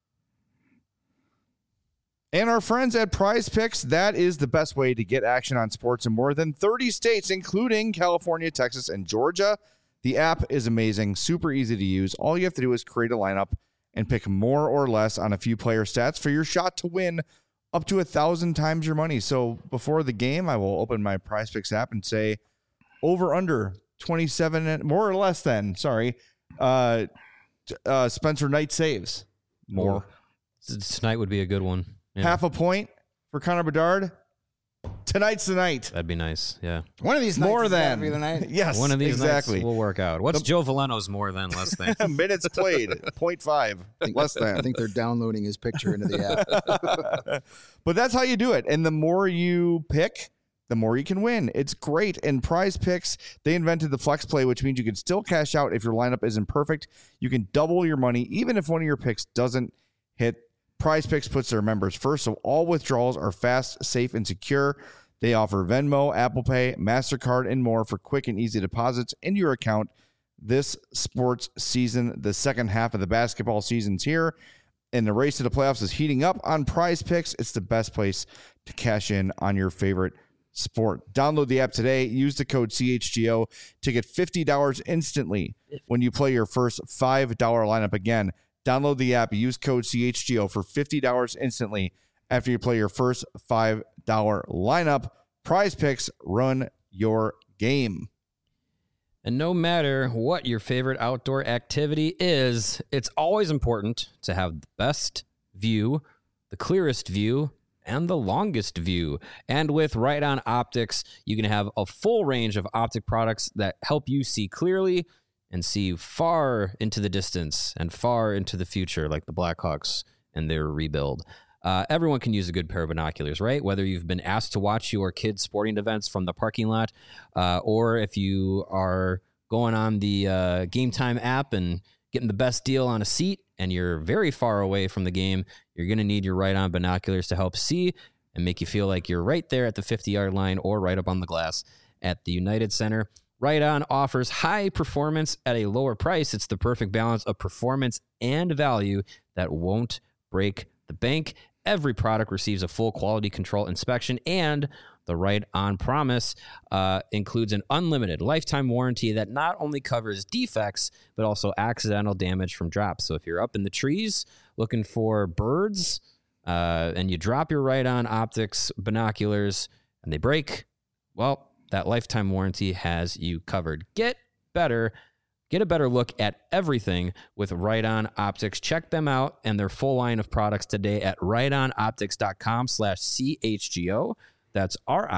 And our friends at Prize Picks, that is the best way to get action on sports in more than thirty states, including California, Texas, and Georgia. The app is amazing, super easy to use. All you have to do is create a lineup and pick more or less on a few player stats for your shot to win up to a thousand times your money. So before the game, I will open my Prize Picks app and say over under twenty-seven, and more or less than, sorry, uh, t- uh, Spencer Knight saves. More. T- Tonight would be a good one. Yeah, Half a point for Connor Bedard. Tonight's the night. that'd be nice. Yeah. One of these nights More has gotta than. be the night. Yes, One of these exactly. nights will work out. What's Joe Veleno's more than, less than? Minutes played, point five, less I than. think they're downloading his picture into the app. But that's how you do it. And the more you pick, the more you can win. It's great. And Prize Picks, they invented the flex play, which means you can still cash out if your lineup isn't perfect. You can double your money, even if one of your picks doesn't hit Prize Picks puts their members first, so all withdrawals are fast, safe, and secure. They offer Venmo, Apple Pay, MasterCard, and more for quick and easy deposits into your account this sports season. The second half of the basketball season's here, and the race to the playoffs is heating up on Prize Picks. It's the best place to cash in on your favorite sport. Download the app today. Use the code C H G O to get fifty dollars instantly when you play your first five dollar lineup. Again, download the app. Use code C H G O for fifty dollars instantly after you play your first five dollar lineup. Prize Picks, run your game. And no matter what your favorite outdoor activity is, it's always important to have the best view, the clearest view, and the longest view. And with Right On Optics, you can have a full range of optic products that help you see clearly and see far into the distance and far into the future, like the Blackhawks and their rebuild. Uh, everyone can use a good pair of binoculars, right? Whether you've been asked to watch your kids' sporting events from the parking lot, uh, or if you are going on the uh, Game Time app and getting the best deal on a seat and you're very far away from the game, you're going to need your Right On binoculars to help see and make you feel like you're right there at the fifty-yard line or right up on the glass at the United Center. Right On offers high performance at a lower price. It's the perfect balance of performance and value that won't break the bank. Every product receives a full quality control inspection, and the Right On promise uh, includes an unlimited lifetime warranty that not only covers defects, but also accidental damage from drops. So if you're up in the trees looking for birds uh, and you drop your Right On Optics binoculars and they break, well, that lifetime warranty has you covered. Get better. Get a better look at everything with Right On Optics. Check them out and their full line of products today at rightonoptics.com slash CHGO. That's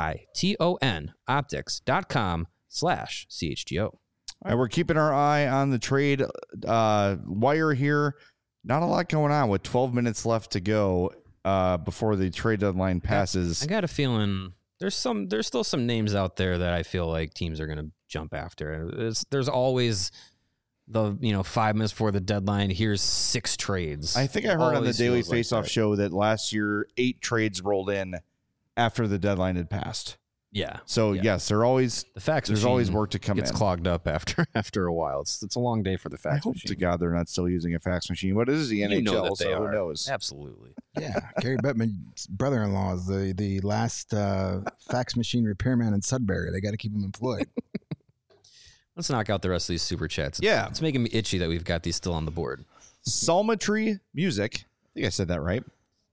R-I-T-O-N optics.com slash CHGO. All right, we're keeping our eye on the trade uh, wire here. Not a lot going on with twelve minutes left to go uh, before the trade deadline passes. I got a feeling there's some there's still some names out there that I feel like teams are going to jump after. It's, there's always the, you know, five minutes before the deadline, here's six trades. I think I heard Always on the Daily feels like Faceoff that. show that last year eight trades rolled in after the deadline had passed. Yeah. So Yeah. yes, there always The fax there's machine always work to come gets in. clogged up after after a while. It's it's a long day for the I fax hope machine. to God they're not still using a fax machine. What is the N H L? You know that they so are. who knows? Absolutely. Yeah, Gary Bettman's brother-in-law is the the last uh, fax machine repairman in Sudbury. They got to keep him employed. Let's knock out the rest of these super chats. It's, Yeah. It's making me itchy that we've got these still on the board. Psalmetry Music, I think I said that right,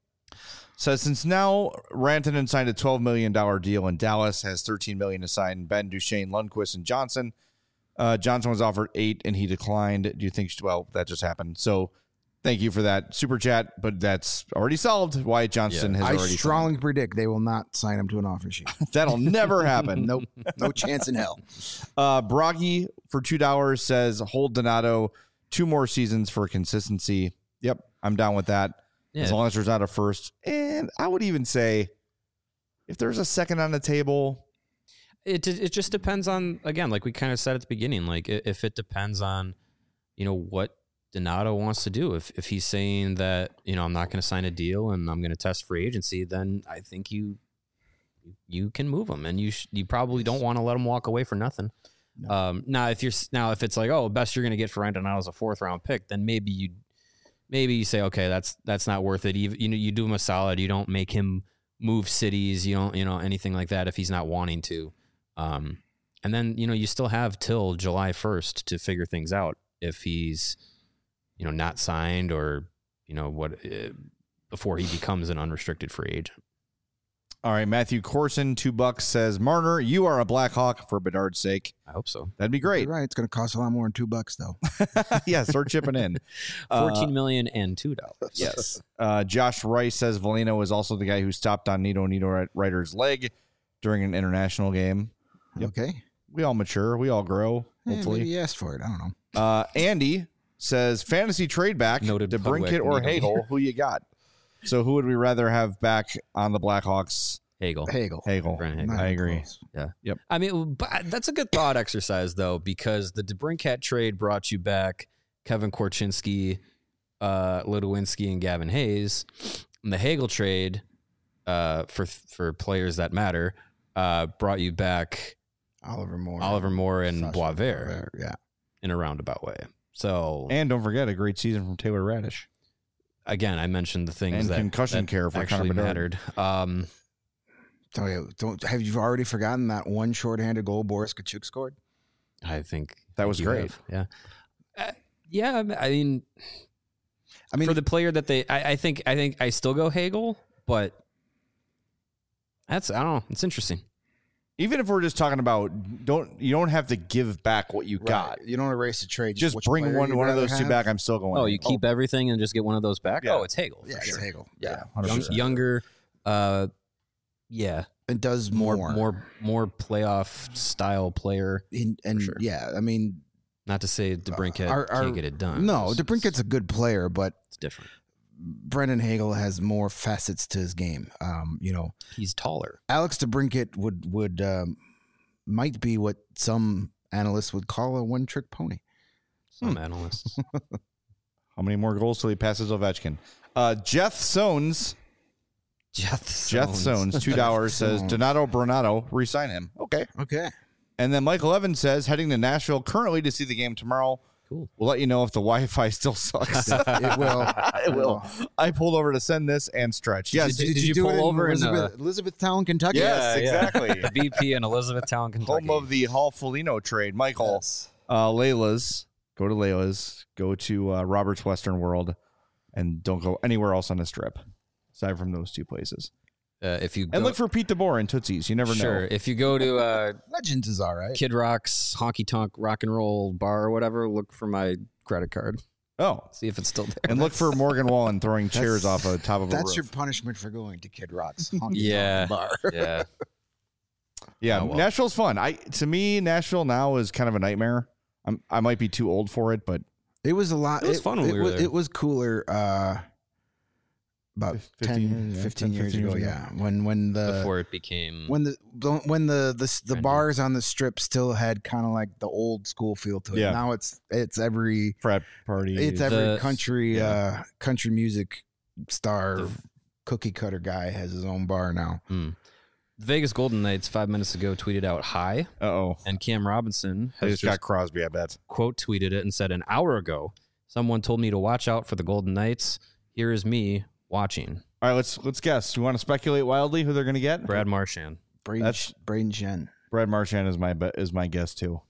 says since now Rantanen signed a twelve million dollars deal in Dallas, has thirteen million dollars to sign Ben, Duchesne, Lundqvist, and Johnson. Uh, Johnson was offered eight and he declined. Do you think, well, that just happened. So thank you for that super chat, but that's already solved. Wyatt Johnston Yeah. has I already strongly predict they will not sign him to an offer sheet. signed. That'll never happen. Nope, no chance in hell. Uh, Broggy for two dollars says hold Donato two more seasons for consistency. Yep, I'm down with that. Yeah. As long as there's not a first. And I would even say if there's a second on the table, It it just depends on, again, like we kind of said at the beginning, like i- if it depends on, you know, what Donato wants to do. If if he's saying that, you know, I'm not going to sign a deal and I'm going to test free agency, then I think you you can move him, and you sh- you probably don't want to let him walk away for nothing. No. Um, now if you're s- now if it's like, oh, best you're going to get for Ryan Donato is a fourth round pick, then maybe you maybe you say, okay, that's that's not worth it. Even, you know, you do him a solid. You don't make him move cities. You don't, you know, anything like that if he's not wanting to. Um, and then, you know, you still have till July first to figure things out if he's, you know, not signed or, you know, what, uh, before he becomes an unrestricted free agent. all right, Matthew Corson, two bucks, says, Marner, you are a Blackhawk for Bedard's sake. I hope so. That'd be great. You're right. It's going to cost a lot more than two bucks, though. Yeah, start chipping in. Fourteen Uh, million and two dollars. Yes. Uh, Josh Rice says Valino is also the guy who stopped on Nito Nito Ryder's leg during an international game. Yep. Okay. We all mature. We all grow, Yeah, hopefully. maybe he asked for it. I don't know. Uh, Andy says fantasy trade back Noted to public Brinkett or meeting. Hagel. Who you got? So who would we rather have back on the Blackhawks? Hagel. Hagel. Hagel. Brent Hagel. Not I even agree. close. I mean, but that's a good thought exercise, though, because the DeBrincat trade brought you back Kevin Korchinski, uh, Ludwinski and Gavin Hayes. And the Hagel trade uh, for for players that matter uh, brought you back Oliver Moore, Oliver Moore and Sasha Boisvert Boisvert, yeah. in a roundabout way. So And don't forget a great season from Taylor Radish. again, I mentioned the things And that concussion that care for actually Connor Bedard. mattered. Um, Oh, yeah. Don't have you already forgotten that one shorthanded goal Boris Kachuk scored? I think That was you great. have, Yeah, uh, yeah. I mean, I mean, for the player that they, I, I think, I think I still go Hagel, but that's I don't know. It's interesting. Even if we're just talking about don't you don't have to give back what you got. right. You don't erase the trade. Just which bring player one you'd one of rather those two have. back. I'm still going. Oh, you keep everything and just get one of those back. Yeah. Oh, it's Hagel. Yeah, for it's sure. Hagel. Yeah, Yeah, one hundred Young, percent. younger. Uh, yeah, it does more, more, more, more playoff style player. In, and sure. yeah, I mean, Not to say DeBrincat Our- our- can't get it done. no, It's- DeBrincat's a good player, but it's different. Brendan Hagel has more facets to his game. Um, you know, He's taller. Alex DeBrincat would would um, might be what some analysts would call a one trick pony. Some analysts. How many more goals till he passes Ovechkin? Uh, Jeff Sones. Jeff Jeff Sones. Sones, two dollars says Sones. Donato Bernardo, re-sign him. Okay. Okay. And then Michael Evans says heading to Nashville currently to see the game tomorrow. Cool. We'll let you know if the Wi-Fi still sucks. It will. it will. I pulled over to send this and stretch. Yes. Did- did you do pull it in over in, Elizabeth, Elizabethtown, Kentucky? Yes, Yeah, yeah. exactly. B P in Elizabethtown, Kentucky. Home of the Hall Folino trade. Michael, Yes. uh, Layla's. Go to Layla's. Go to uh, Robert's Western World. And don't go anywhere else on the strip aside from those two places. Uh, if you And go, look for Pete DeBoer and Tootsie's. You never sure. know. If you go to uh, Legends is all right. Kid Rock's honky tonk rock and roll bar or whatever, look for my credit card. Oh. See if it's still there. And look for Morgan Wallen throwing chairs off the top of a That's roof. your punishment for going to Kid Rock's honky Yeah. tonk bar. yeah. Yeah, Oh, well. Nashville's fun. I to me, Nashville now is kind of a nightmare. I'm I might be too old for it, but It was a lot. It was fun when it we were was, there. It was cooler. Uh, about fifteen ten, years, yeah, fifteen ten, years fifteen ago. years Yeah, when when the Before it became. when the the- when the the, the Trendy. bars on the strip still had kind of like the old school feel to it. Yeah. Now it's it's every frat party. it's every The- country yeah. uh country music star The- cookie cutter guy has his own bar now. Hmm. Vegas Golden Knights five minutes ago tweeted out hi, Uh oh. and Cam Robinson They has just just got Crosby, I bet. quote tweeted it and said, an hour ago, someone told me to watch out for the Golden Knights. Here is me watching. All right, let's let's guess. Do you want to speculate wildly who they're going to get? Brad Marchand. Braden, That's- Braden Shen. Brad Marchand is my bet is my guess too.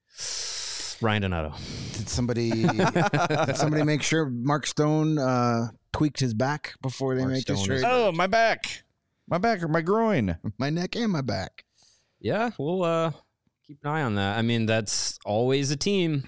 Ryan Donato. Did somebody did somebody make sure Mark Stone uh, tweaked his back before they Mark make this Stone trade? is- Oh, my back, my back or my groin. My neck and my back. Yeah, we'll uh, keep an eye on that. I mean, that's always a team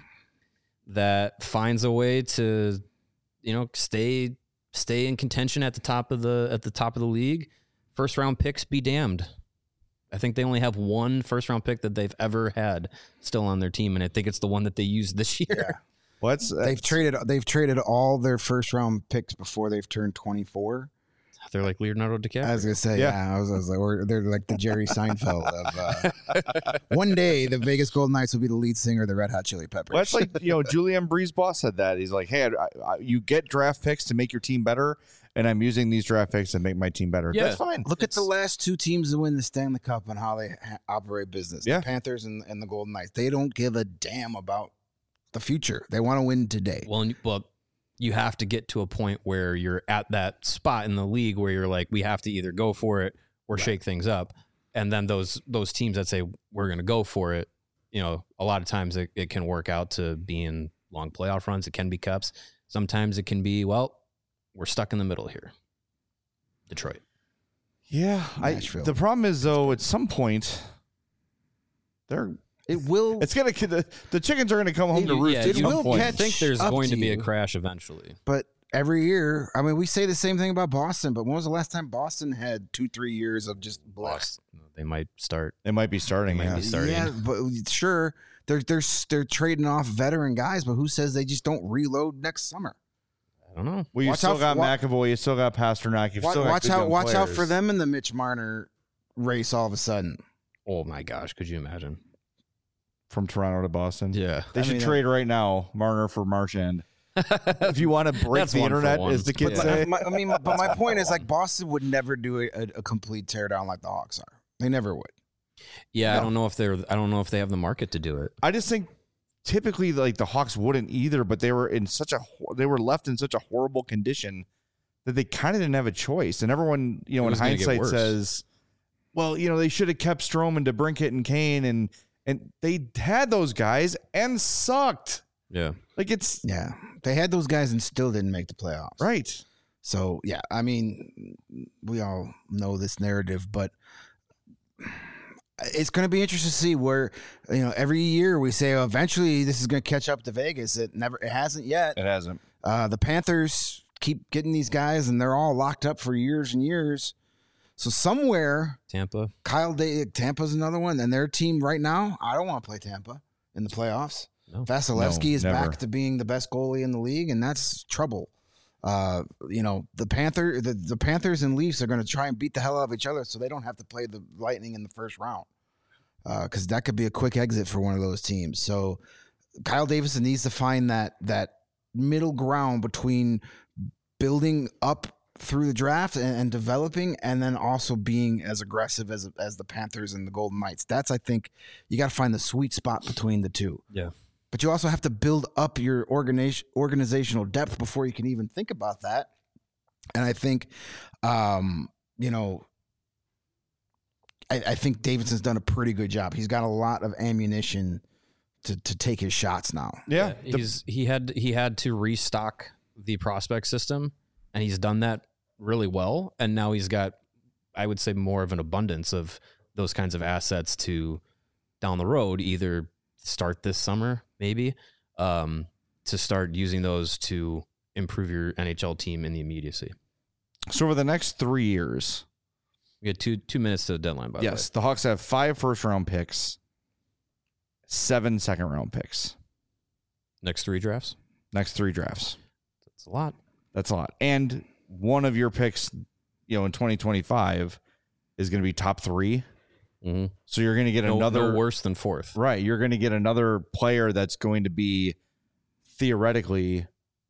that finds a way to, you know, stay stay in contention at the top of the at the top of the league. First round picks be damned. I think they only have one first round pick that they've ever had still on their team, and I think it's the one that they used this year. What's They've traded they've traded all their first round picks before they've turned twenty-four. They're like Leonardo DiCaprio. I was gonna say, Yeah. yeah, I, was, I was like, or they're like the Jerry Seinfeld of. Uh, one day, the Vegas Golden Knights will be the lead singer of the Red Hot Chili Peppers. Well, that's like, you know, Julian Breeze boss said that. He's like, hey, I, I, you get draft picks to make your team better, and I'm using these draft picks to make my team better. Yeah. That's fine. Look at the last two teams that win the Stanley Cup and how they ha- operate business. Yeah. The Panthers and, and the Golden Knights. They don't give a damn about the future. They want to win today. Well, and- well, you have to get to a point where you're at that spot in the league where you're like, we have to either go for it or shake things up. And then those those teams that say we're going to go for it, you know, a lot of times it, it can work out to being long playoff runs. It can be cups. Sometimes it can be, well, we're stuck in the middle here. Detroit. Yeah, I, Nashville. the problem is though, at some point, they're It will. it's gonna the, the chickens are gonna come home to roost. Yeah, at it you some will point. catch I think there's up going to to be a you. crash eventually. But every year, I mean, we say the same thing about Boston. But when was the last time Boston had two, three years of just blast? They might start. They might be starting. They might Yeah. be starting. Yeah, but sure, they're they're they're trading off veteran guys, but who says they just don't reload next summer? I don't know. Well, you Watch still out got for- wa- McAvoy. You still got Pasternak. You've Watch, still got watch good out! young Watch out for players. them in the Mitch Marner race. All of a sudden, Oh my gosh, could you imagine? from Toronto to Boston. Yeah. They I should mean, trade right now, Marner for Marchand. if you want to break That's the one for internet, one. as the kids But say. my, I mean, but my point is like Boston would never do a, a, a complete teardown like the Hawks are. They never would. Yeah, No. I don't know if they're. I don't know if they have the market to do it. I just think typically like the Hawks wouldn't either, but they were in such a hor- they were left in such a horrible condition that they kind of didn't have a choice. And everyone, you know, It in was gonna get hindsight worse. says, well, you know, they should have kept Stroman, DeBrincat, and Kane, and and they had those guys and sucked. Yeah. Like it's Yeah, they had those guys and still didn't make the playoffs. right. So yeah, I mean, we all know this narrative, but it's going to be interesting to see where, you know, every year we say, oh, eventually this is going to catch up to Vegas. It never, it hasn't yet. It hasn't. Uh, the Panthers keep getting these guys, and they're all locked up for years and years. So somewhere, Tampa. Kyle Day, Tampa's another one, and their team right now, I don't want to play Tampa in the playoffs. No. Vasilevsky No, is never. back to being the best goalie in the league, and that's trouble. Uh, you know, the Panther, the, the Panthers and Leafs are going to try and beat the hell out of each other, so they don't have to play the Lightning in the first round, because that could be a quick exit for one of those teams. So Kyle Davidson needs to find that that middle ground between building up through the draft and, and developing, and then also being as aggressive as as the Panthers and the Golden Knights. That's, I think, you got to find the sweet spot between the two. Yeah. But you also have to build up your organization, organizational depth before you can even think about that. And I think, um, you know, I, I think Davidson's done a pretty good job. He's got a lot of ammunition to to take his shots now. Yeah. the- he's he had he had to restock the prospect system, and he's done that really well. And now he's got, I would say, more of an abundance of those kinds of assets to down the road, either start this summer, maybe, um, to start using those to improve your N H L team in the immediacy. so over the next three years, We had two two minutes to the deadline, by yes, the Hawks have five first round picks, seven second round picks. the way. Next three drafts. Next three drafts. That's a lot. That's a lot. And one of your picks, you know, in twenty twenty-five is going to be top three. Mm-hmm. So you're going to get No, another no worse than fourth. right. You're going to get another player that's going to be theoretically,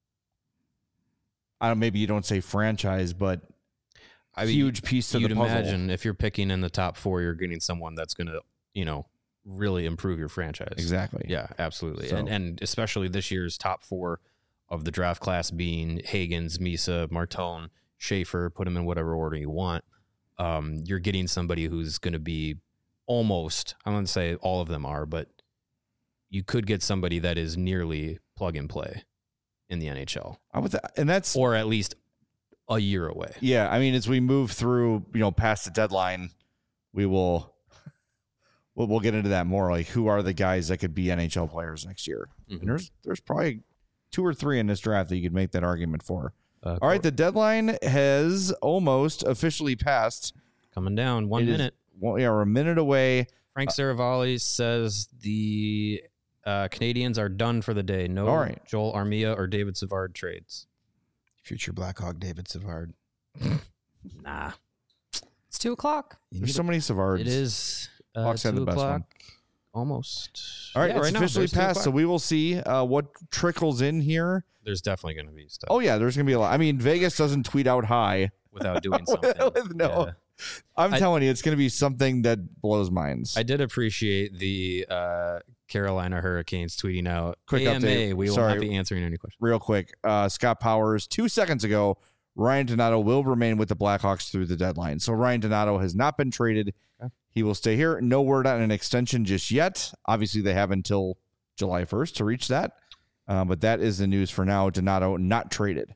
I don't. Maybe you don't say franchise, but I mean, huge piece to the You'd puzzle. imagine if you're picking in the top four, you're getting someone that's going to, you know, really improve your franchise. Exactly. Yeah, absolutely. So- And and especially this year's top four of the draft class being Hagens, Misa, Martone, Schaefer, put them in whatever order you want. Um, you're getting somebody who's going to be almost, I wouldn't say all of them are, but you could get somebody that is nearly plug and play in the N H L, I would, and that's or at least a year away. yeah. I mean, as we move through, you know, past the deadline, we will. We'll, we'll get into that more. Like, who are the guys that could be N H L players next year? Mhm. And there's there's probably two or three in this draft that you could make that argument for. Uh, All right, the deadline has almost officially passed. coming down one It is- minute. Well, yeah, we're a minute away. Frank Saravalli says the uh, Canadians are done for the day. No All right. Joel Armia or David Savard trades. Future Blackhawk David Savard. Nah, It's two o'clock. You There's need so many Savards. it is uh, Hawks have the two best one. o'clock. Almost. All right, Yeah, it's right now, officially there's two passed, so o'clock. we will see uh, what trickles in here. There's definitely going to be stuff Oh yeah, there's gonna be a lot. I mean, Vegas doesn't tweet out high. without doing something. With no- Yeah. I'm I- telling you, it's gonna be something that blows minds. I did appreciate the uh, Carolina Hurricanes tweeting out, Quick A M A, update. we will Sorry. not be answering any questions. Real quick, uh, Scott Powers two seconds ago. Ryan Donato will remain with the Blackhawks through the deadline. So Ryan Donato has not been traded. Okay. He will stay here. No word on an extension just yet. Obviously, they have until July first to reach that. Uh, but that is the news for now. Donato not traded.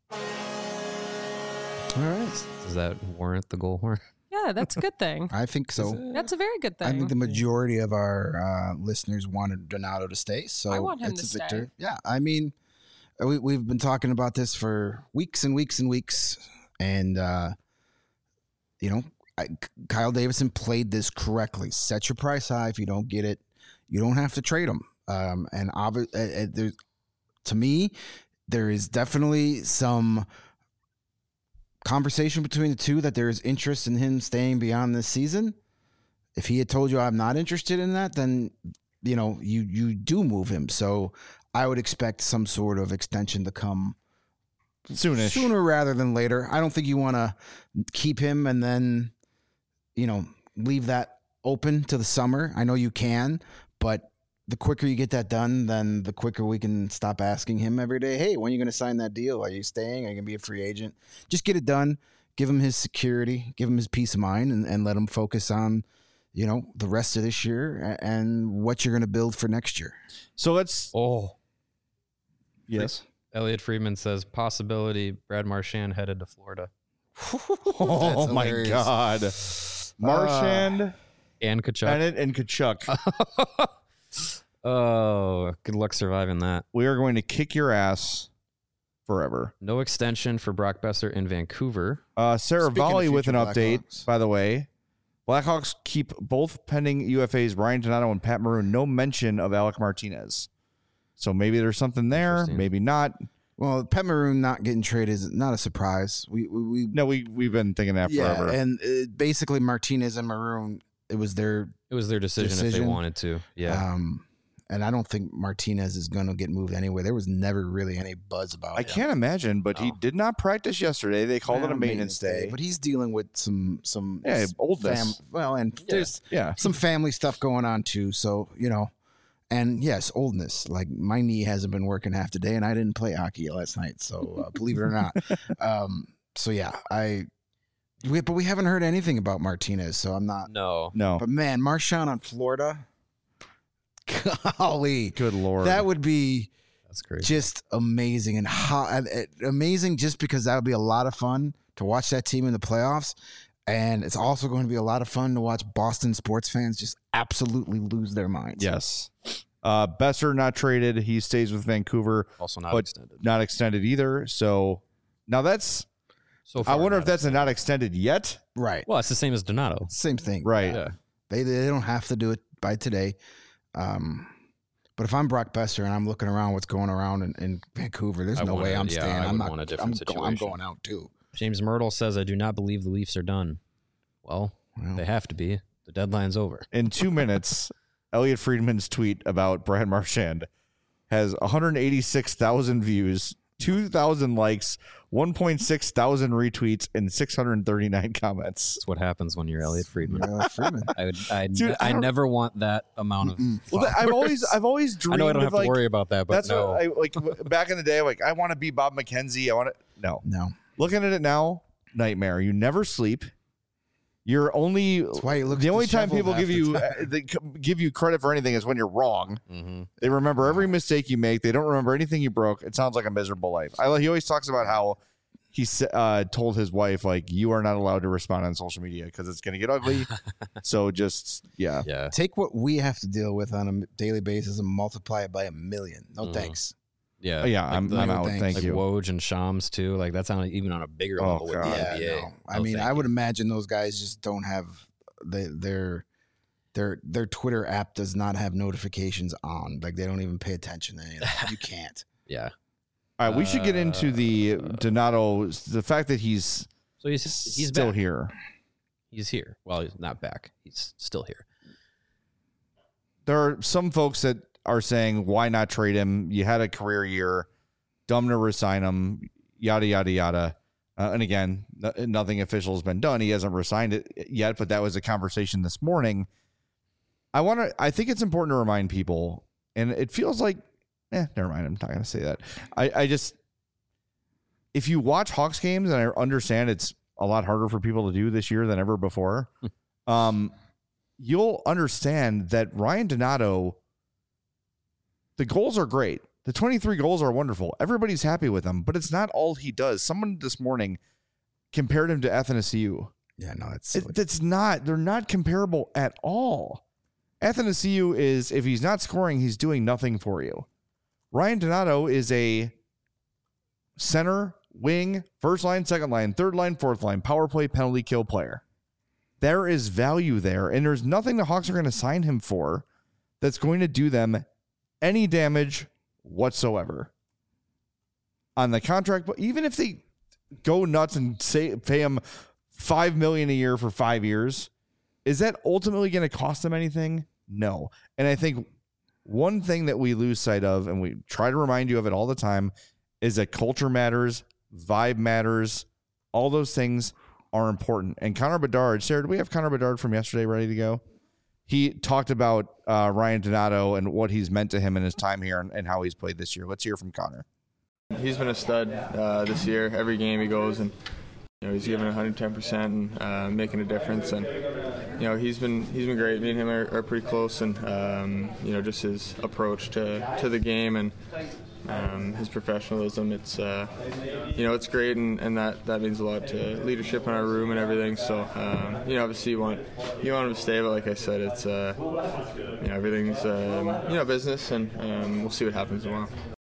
All right. Does that warrant the goal horn? Yeah, that's a good thing. I think so. That's a very good thing. I think the majority of our uh, listeners wanted Donato to stay, so I want him it's to a victory. stay. Yeah, I mean, we, we've been talking about this for weeks and weeks and weeks, and uh, you know, I, Kyle Davidson played this correctly. Set your price high. If you don't get it, you don't have to trade him. Um, and obvi- uh, uh, there's, to me, there is definitely some conversation between the two that there is interest in him staying beyond this season. If he had told you I'm not interested in that, then you know you you do move him. So I would expect some sort of extension to come Soonish. sooner rather than later. I don't think you want to keep him and then, you know, leave that open to the summer. I know you can, but the quicker you get that done, then the quicker we can stop asking him every day, hey, when are you going to sign that deal? Are you staying? Are you going to be a free agent? Just get it done. Give him his security. Give him his peace of mind and, and let him focus on, you know, the rest of this year and what you're going to build for next year. So let's. Oh, Yes. Elliot Friedman says possibility Brad Marchand headed to Florida Oh my hilarious. God. Marchand, and Kachuk. Bennett, and Kachuk. Oh, good luck surviving that. We are going to kick your ass forever. No extension for Brock Besser in Vancouver. Uh, Sarah Speaking of Volley with an future update, Blackhawks. by the way. Blackhawks keep both pending U F As, Ryan Donato and Pat Maroon. No mention of Alec Martinez. So maybe there's something there, Interesting. maybe not. Well, Pat Maroon not getting traded is not a surprise. We we, we No, we, we've been thinking that yeah, forever. and uh, basically Martinez and Maroon, it was their It was their decision, if they Decision. wanted to. Yeah. um, and I don't think Martinez is going to get moved anyway. There was never really any buzz about I it. can't imagine, but he No. did not practice yesterday. They called it Well, a maintenance day. but he's dealing with some some Yeah, s- oldness. well, and there's Yeah. some family stuff going on too. So you know, and yes, oldness. Like my knee hasn't been working half the day, and I didn't play hockey last night. So uh, believe it or not, um, so yeah, I. We, but we haven't heard anything about Martinez, so I'm not. no. No. But man, Marchand on Florida, golly, Good Lord. that would be That's crazy. just amazing and how and, and amazing just because that would be a lot of fun to watch that team in the playoffs. And it's also going to be a lot of fun to watch Boston sports fans just absolutely lose their minds. Yes. Uh, Besser not traded. He stays with Vancouver, Also not but extended. not extended either. So now that's, So I far, wonder not if that's a not extended yet. Right. Well, it's the same as Donato. Same thing. Right. Yeah. They, they don't have to do it by today. Um, but if I'm Brock Besser and I'm looking around what's going around in, in Vancouver, there's I no wanna- way I'm yeah, staying. I I'm would not. want a I'm, different go- I'm situation. going out too. James Myrtle says, I do not believe the Leafs are done. Well, Well, they have to be. The deadline's over. In two minutes, Elliot Friedman's tweet about Brad Marchand has one hundred eighty-six thousand views, two thousand likes, one point six thousand retweets, and six hundred thirty-nine comments. That's what happens when you're Elliot Friedman. uh, Freeman. I would. I, Dude, I I don't- never want that amount of. Mm-mm. Well, I've always, I've always I dreamed know I don't of have like, to worry about that, but that's no. what I like back in the day. Like, I want to be Bob McKenzie. I want to, no. No. Looking at it now, nightmare. You never sleep. You're only That's why he looks the only time disheveled people half give the you time. uh, they c- give you credit for anything is when you're wrong. hmm They remember every mistake you make. They don't remember anything you broke. It sounds like a miserable life. I, he always talks about how he s- uh, told his wife, like, you are not allowed to respond on social media because it's going to get ugly. So just, yeah. Yeah. Take what we have to deal with on a daily basis and multiply it by a million. No Mhm. thanks. Yeah. Oh, yeah, Like I'm, the- I'm out. thanks. Thank like you. Woj and Shams too. Like that's on even on a bigger Oh, level with God. the Yeah, N B A. no. I No, mean, thank I would you. imagine those guys just don't have they, their their their Twitter app does not have notifications on. Like they don't even pay attention to any of that. You can't. Yeah. All right, we should get into the Uh, Donato, the fact that he's, So he's he's still back. here. He's here. Well, he's not back. He's still here. There are some folks that are saying, why not trade him? You had a career year, dumb to resign him, yada, yada, yada. Uh, and again, n- nothing official has been done. He hasn't resigned it yet, but that was a conversation this morning. I want to, I think it's important to remind people, and it feels like, eh, never mind. I'm not going to say that. I, I just, if you watch Hawks games, and I understand it's a lot harder for people to do this year than ever before, um, you'll understand that Ryan Donato, the goals are great. The twenty-three goals are wonderful. Everybody's happy with him, but it's not all he does. Someone this morning compared him to Athanasiou. Yeah, no, it's silly. It, it's not. They're not comparable at all. Athanasiou is, if he's not scoring, he's doing nothing for you. Ryan Donato is a center, wing, first line, second line, third line, fourth line, power play, penalty kill player. There is value there, and there's nothing the Hawks are going to sign him for that's going to do them any damage whatsoever on the contract. But even if they go nuts and say pay him five million dollars a year for five years, is that ultimately going to cost them anything? No. And I think one thing that we lose sight of, and we try to remind you of it all the time, is that culture matters, vibe matters, all those things are important. And Connor Bedard, Sarah, do we have Connor Bedard from yesterday ready to go? He talked about uh, Ryan Donato and what he's meant to him in his time here and, and how he's played this year. Let's hear from Connor. He's been a stud uh, this year. Every game he goes and you know he's giving one hundred ten percent and uh, making a difference. And you know he's been he's been great. Me and him are, are pretty close, and um, you know just his approach to, to the game and um, his professionalism. It's uh, you know it's great, and, and that, that means a lot to leadership in our room and everything. So um, you know obviously you want you want him to stay, but like I said, it's uh, you know everything's um, you know business, and um, we'll see what happens tomorrow.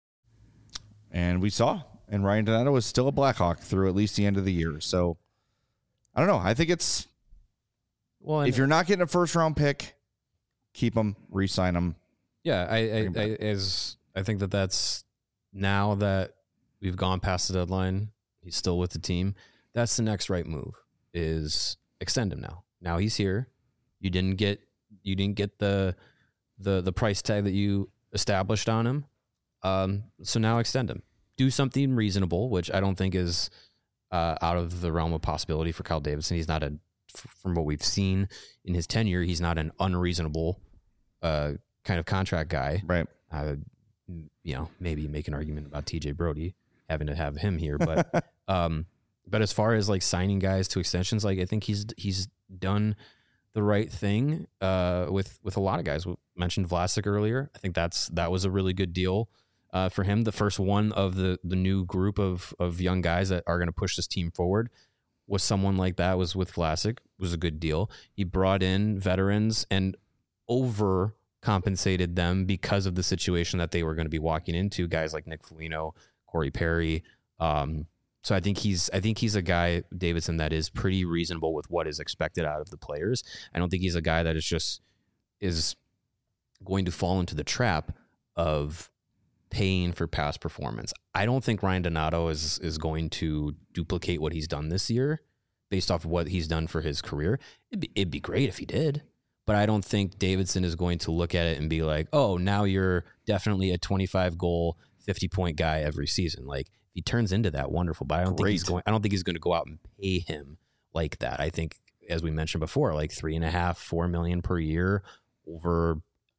And we saw. And Ryan Donato was still a Blackhawk through at least the end of the year. So, I don't know. I think it's, well, if you're not getting a first round pick, keep them, re-sign them. Yeah, I, I, I as I think that that's now that we've gone past the deadline, he's still with the team. That's the next right move is extend him now. Now he's here. You didn't get you didn't get the the the price tag that you established on him. Um, so now extend him. Do something reasonable, which I don't think is uh, out of the realm of possibility for Kyle Davidson. He's not a, from what we've seen in his tenure, he's not an unreasonable uh, kind of contract guy. Right. Uh, you know, maybe make an argument about T J Brody having to have him here, but um, but as far as like signing guys to extensions, like I think he's he's done the right thing uh, with with a lot of guys. We mentioned Vlasic earlier. I think that's that was a really good deal. Uh, for him, the first one of the the new group of of young guys that are going to push this team forward was someone like that. Was with Vlasic, was a good deal. He brought in veterans and overcompensated them because of the situation that they were going to be walking into. Guys like Nick Foligno, Corey Perry. Um, so I think he's I think he's a guy, Davidson, that is pretty reasonable with what is expected out of the players. I don't think he's a guy that is just is going to fall into the trap of paying for past performance. I don't think Ryan Donato is is going to duplicate what he's done this year based off of what he's done for his career. It'd be, it'd be great if he did, but I don't think Davidson is going to look at it and be like, oh, now you're definitely a twenty-five goal, fifty point guy every season. Like if he turns into that, wonderful, but I don't great. think he's going, I don't think he's going to go out and pay him like that. I think, as we mentioned before, like three and a half, four million per year over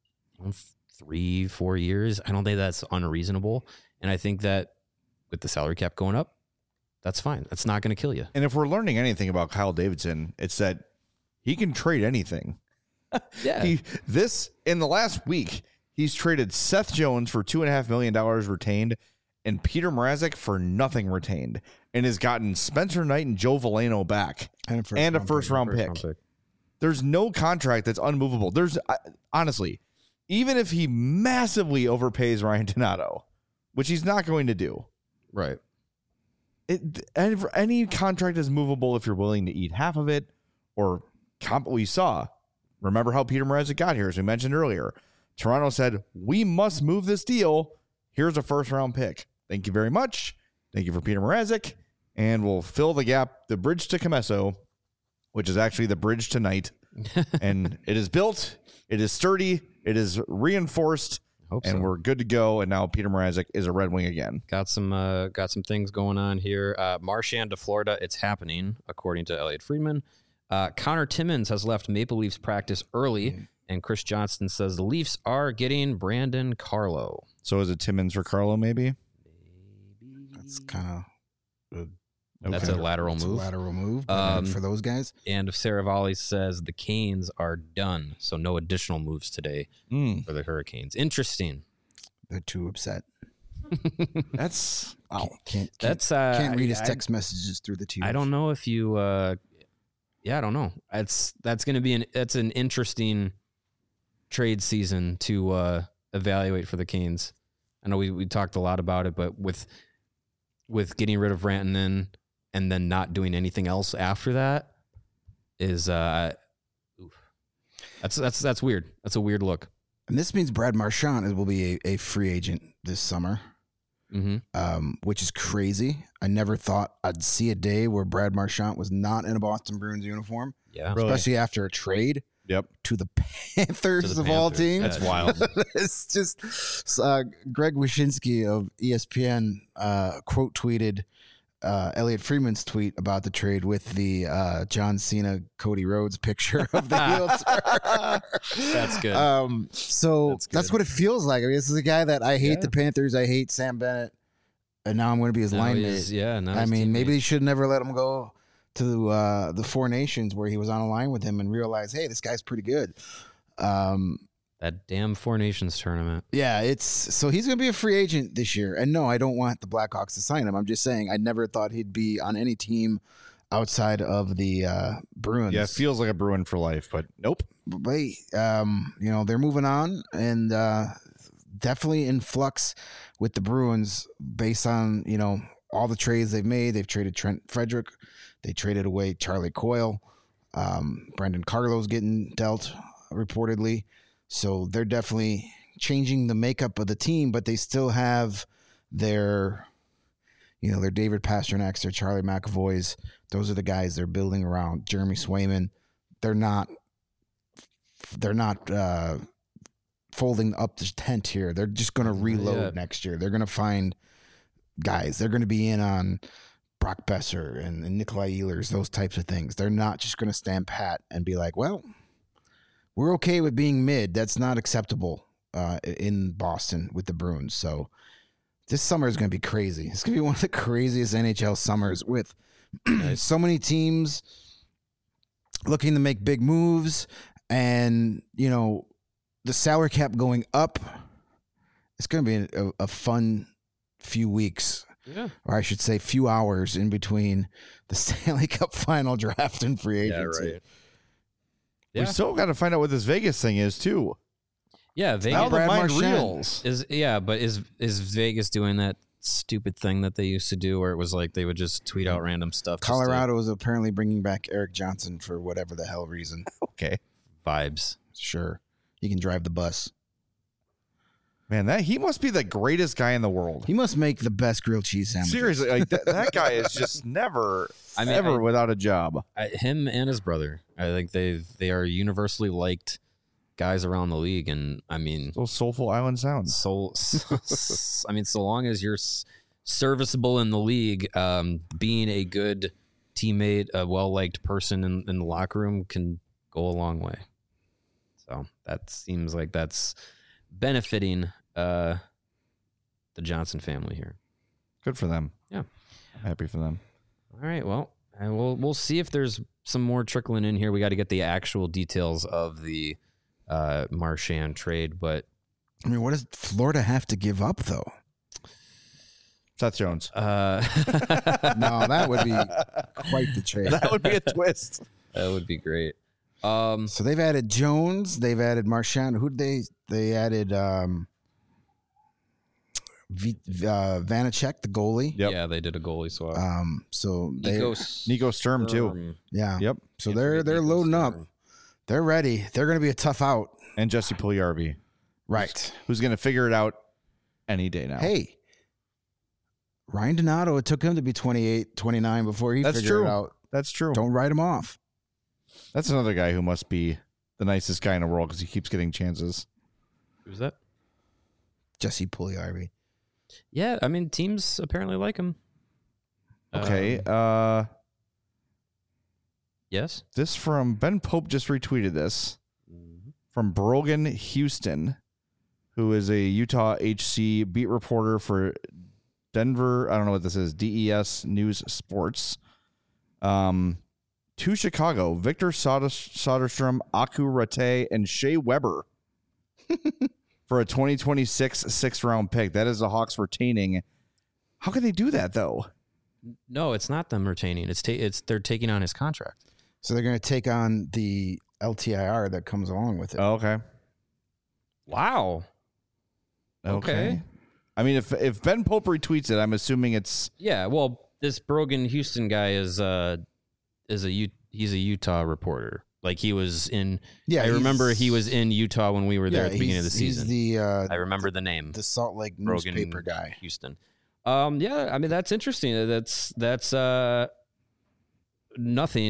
three, four years. I don't think that's unreasonable. And I think that with the salary cap going up, that's fine. That's not going to kill you. And if we're learning anything about Kyle Davidson, it's that he can trade anything. Yeah. He, this, in the last week, he's traded Seth Jones for two and a half million dollars retained and Peter Mrazek for nothing retained, and has gotten Spencer Knight and Joe Veleno back and a first, and a round, first pick. round pick. First round pick. There's no contract that's unmovable. There's honestly, even if he massively overpays Ryan Donato, which he's not going to do, right? It, any contract is movable if you're willing to eat half of it, or comp. We saw. Remember how Peter Mrazek got here, as we mentioned earlier. Toronto said, "We must move this deal. Here's a first round pick. Thank you very much. Thank you for Peter Mrazek, and we'll fill the gap, the bridge to Comesso, which is actually the bridge tonight, and it is built. It is sturdy." It is reinforced, Hope and so. We're good to go. And now Peter Mrazek is a Red Wing again. Got some uh, got some things going on here. Uh, Marchand to Florida. It's happening, according to Elliot Friedman. Uh, Connor Timmins has left Maple Leafs practice early, mm. and Chris Johnston says the Leafs are getting Brandon Carlo. So is it Timmins for Carlo, maybe? Maybe. That's kind of... Okay. That's a lateral That's move. A lateral move um, for those guys. And Saravalli says the Canes are done, so no additional moves today mm. for the Hurricanes. Interesting. They're too upset. That's wow. Can't, can't, can't, that's uh, can't read his I, text messages through the T V. I don't know if you. Uh, yeah, I don't know. That's that's going to be an that's an interesting trade season to uh, evaluate for the Canes. I know we we talked a lot about it, but with with getting rid of Rantanen and then not doing anything else after that is uh, oof. that's that's that's weird. That's a weird look. And this means Brad Marchand will be a, a free agent this summer, mm-hmm. um, which is crazy. I never thought I'd see a day where Brad Marchand was not in a Boston Bruins uniform. Yeah, especially really? after a trade. Yep. to the Panthers To the of all Panthers. teams. That's wild. It's just uh, Greg Wyshynski of E S P N uh, quote tweeted uh, Elliot Freeman's tweet about the trade with the uh, John Cena Cody Rhodes picture of the heel turn. That's good. Um, so That's that's, good. what it feels like. I mean, this is a guy that I hate Yeah. the Panthers. I hate Sam Bennett, and now I'm going to be his Now line he's- mate. Yeah, now I he's mean, maybe they teammate. should never let him go to uh, the Four Nations where he was on a line with him and realize, hey, this guy's pretty good. Um, that damn Four Nations tournament. yeah, it's so he's going to be a free agent this year. And no, I don't want the Blackhawks to sign him. I'm just saying I never thought he'd be on any team outside of the uh, Bruins. Yeah, it feels like a Bruin for life, but nope. But hey, um, you know, they're moving on and uh, definitely in flux with the Bruins based on, you know, all the trades they've made. They've traded Trent Frederick. They traded away Charlie Coyle. Um, Brendan Carlo's getting dealt reportedly. So they're definitely changing the makeup of the team, but they still have their, you know, their David Pasternak's, their Charlie McAvoy's. Those are the guys they're building around. Jeremy Swayman. They're not, they're not uh, folding up the tent here. They're just going to reload Yeah. next year. They're going to find guys. They're going to be in on Brock Besser and, and Nikolai Ehlers, those types of things. They're not just going to stand pat and be like, well, we're okay with being mid. That's not acceptable uh, in Boston with the Bruins. So this summer is going to be crazy. It's going to be one of the craziest N H L summers with so many teams looking to make big moves and, you know, the salary cap going up. It's going to be a, a fun few weeks. Yeah. Or I should say few hours in between the Stanley Cup final draft and free agency. right. We Yeah. still got to find out what this Vegas thing is too. Yeah, Vegas Now the Brad mind Marchand. reels. is yeah, but is is Vegas doing that stupid thing that they used to do where it was like they would just tweet out random stuff? just to- Colorado is apparently bringing back Eric Johnson for whatever the hell reason. Okay, vibes. Sure. He can drive the bus. man, that he must be the greatest guy in the world. He must make the best grilled cheese sandwiches. Seriously, like that, that guy is just never, I mean, ever I- without a job. I, him and his brother, I think they they are universally liked guys around the league, and I mean, Those soulful island sounds. so, I mean, so long as you're s- serviceable in the league, um, being a good teammate, a well liked person in, in the locker room can go a long way. So that seems like that's benefiting uh, the Johnson family here. Good for them. Yeah. I'm happy for them. All right, well, and we'll we'll see if there's some more trickling in here. We got to get the actual details of the uh, Marchand trade, but I mean, what does Florida have to give up, though? Seth Jones. uh, No, that would be quite the trade. That would be a twist. that would be great. Um, So they've added Jones. They've added Marchand. Who did they? They added um, v, uh, Vanacek, the goalie. Yep. Yeah, they did a goalie swap. Um, so they, Nico, Nico Sturm too. Sturm. yeah. Yep. So Can't they're forget they're Nico loading up. Sturm. They're ready. They're going to be a tough out. And Jesse Puljujarvi, Right. who's going to figure it out any day now. Hey, Ryan Donato, it took him to be twenty-eight, twenty-nine before he That's figured true. it out. That's true. Don't write him off. That's another guy who must be the nicest guy in the world because he keeps getting chances. Who's that? Jesse Puljujarvi. Yeah, I mean, teams apparently like him. Okay. Um, uh, yes. this from Ben Pope just retweeted this from Brogan Houston, who is a Utah H C beat reporter for Denver. I don't know what this is. D E S News Sports. Um, to Chicago, Victor Soder- Soderstrom, Aku Rate, and Shea Weber for a twenty twenty-six sixth round pick. That is the Hawks retaining. How can they do that though? No, it's not them retaining. It's ta- it's they're taking on his contract. So they're going to take on the L T I R that comes along with it. Oh, okay. Wow. Okay. I mean, if if Ben Pope retweets it, I'm assuming it's Yeah. Well, this Brogan Houston guy is uh is a U- he's a Utah reporter. Like he was in. Yeah, I he's- remember he was in Utah when we were there yeah, at the beginning of the he's- season. He's the uh, I remember the name. the Salt Lake Brogan newspaper guy. Houston. Um, yeah, I mean that's interesting. That's that's uh nothing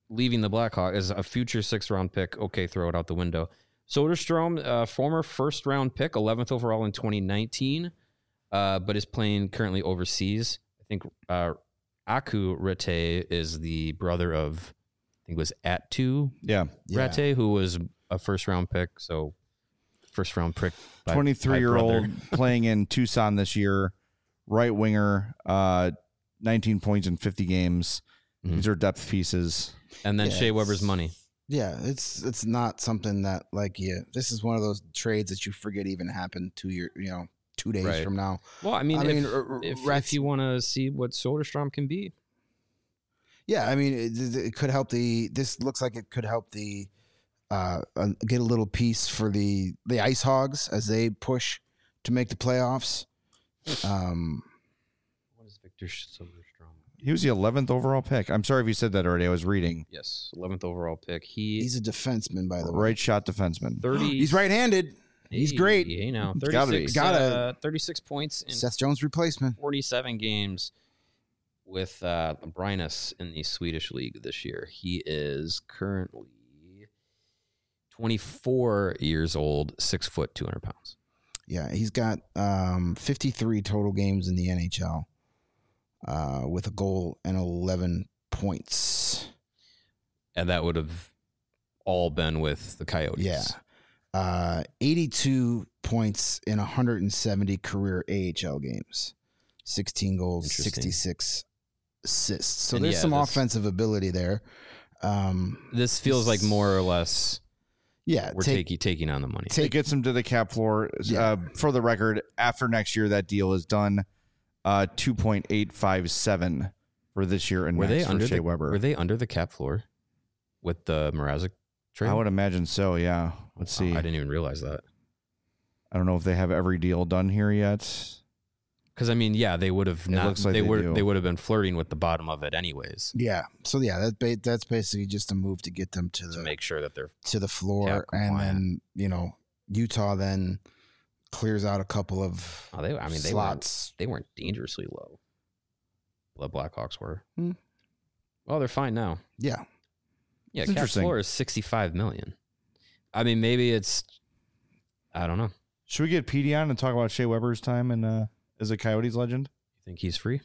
leaving the Blackhawks as a future sixth round pick. Okay, throw it out the window. Soderstrom, uh, former first round pick, eleventh overall in twenty nineteen, uh, but is playing currently overseas. I think uh, Aku Rete is the brother of, I think it was Atu Yeah. Rete, yeah. who was a first round pick. So first round pick. twenty-three year old playing in Tucson this year, right winger, uh, nineteen points in fifty games. Mm-hmm. These are depth pieces. And then yeah, Shea Weber's money. Yeah, it's it's not something that like yeah. This is one of those trades that you forget even happened two year you know two days right. from now. Well, I mean, I if, mean, if, Rats, if you want to see what Soderstrom can be, yeah, I mean, it, it could help the. This looks like it could help the uh, uh, get a little piece for the the Ice Hogs as they push to make the playoffs. Um, what is Victor Soderstrom? He was the eleventh overall pick. I'm sorry if you said that already. I was reading. Yes, eleventh overall pick. He he's a defenseman, by the way. Right shot defenseman. thirty. He's right-handed. He's hey, great. Hey, now Gotta be. thirty-six. Gotta. Uh, thirty-six points in Seth Jones replacement. forty-seven games with uh, Brynäs in the Swedish league this year. He is currently twenty-four years old, six foot, two hundred pounds. Yeah, he's got um, fifty-three total games in the N H L. Uh, with a goal and eleven points. And that would have all been with the Coyotes. Yeah. Uh, eighty-two points in one hundred seventy career A H L games. sixteen goals, sixty-six assists. So and there's yeah, some this, offensive ability there. Um, this feels like more or less yeah, we're take, taking taking on the money. It gets him to the cap floor. Yeah. Uh, for the record, after next year, that deal is done. Uh, two point eight five seven for this year and were next they for under Shea the, Weber. Were they under the cap floor with the Mrazek trade? I would imagine so. Yeah. Let's see. Oh, I didn't even realize that. I don't know if they have every deal done here yet. Because I mean, yeah, they would have not. looks like they they would do. they would have been flirting with the bottom of it anyways Yeah. So yeah, that ba- that's basically just a move to get them to the to make sure that they're to the floor, cap and compliant. then you know Utah then clears out a couple of Oh, they. I mean, they slots. weren't, they weren't dangerously low. The Blackhawks were. Hmm. Well, they're fine now. Yeah. Yeah, It's cap interesting. floor is sixty-five million. I mean, maybe it's. I don't know. Should we get Petey on and talk about Shea Weber's time and uh, as a Coyotes legend? You think he's free?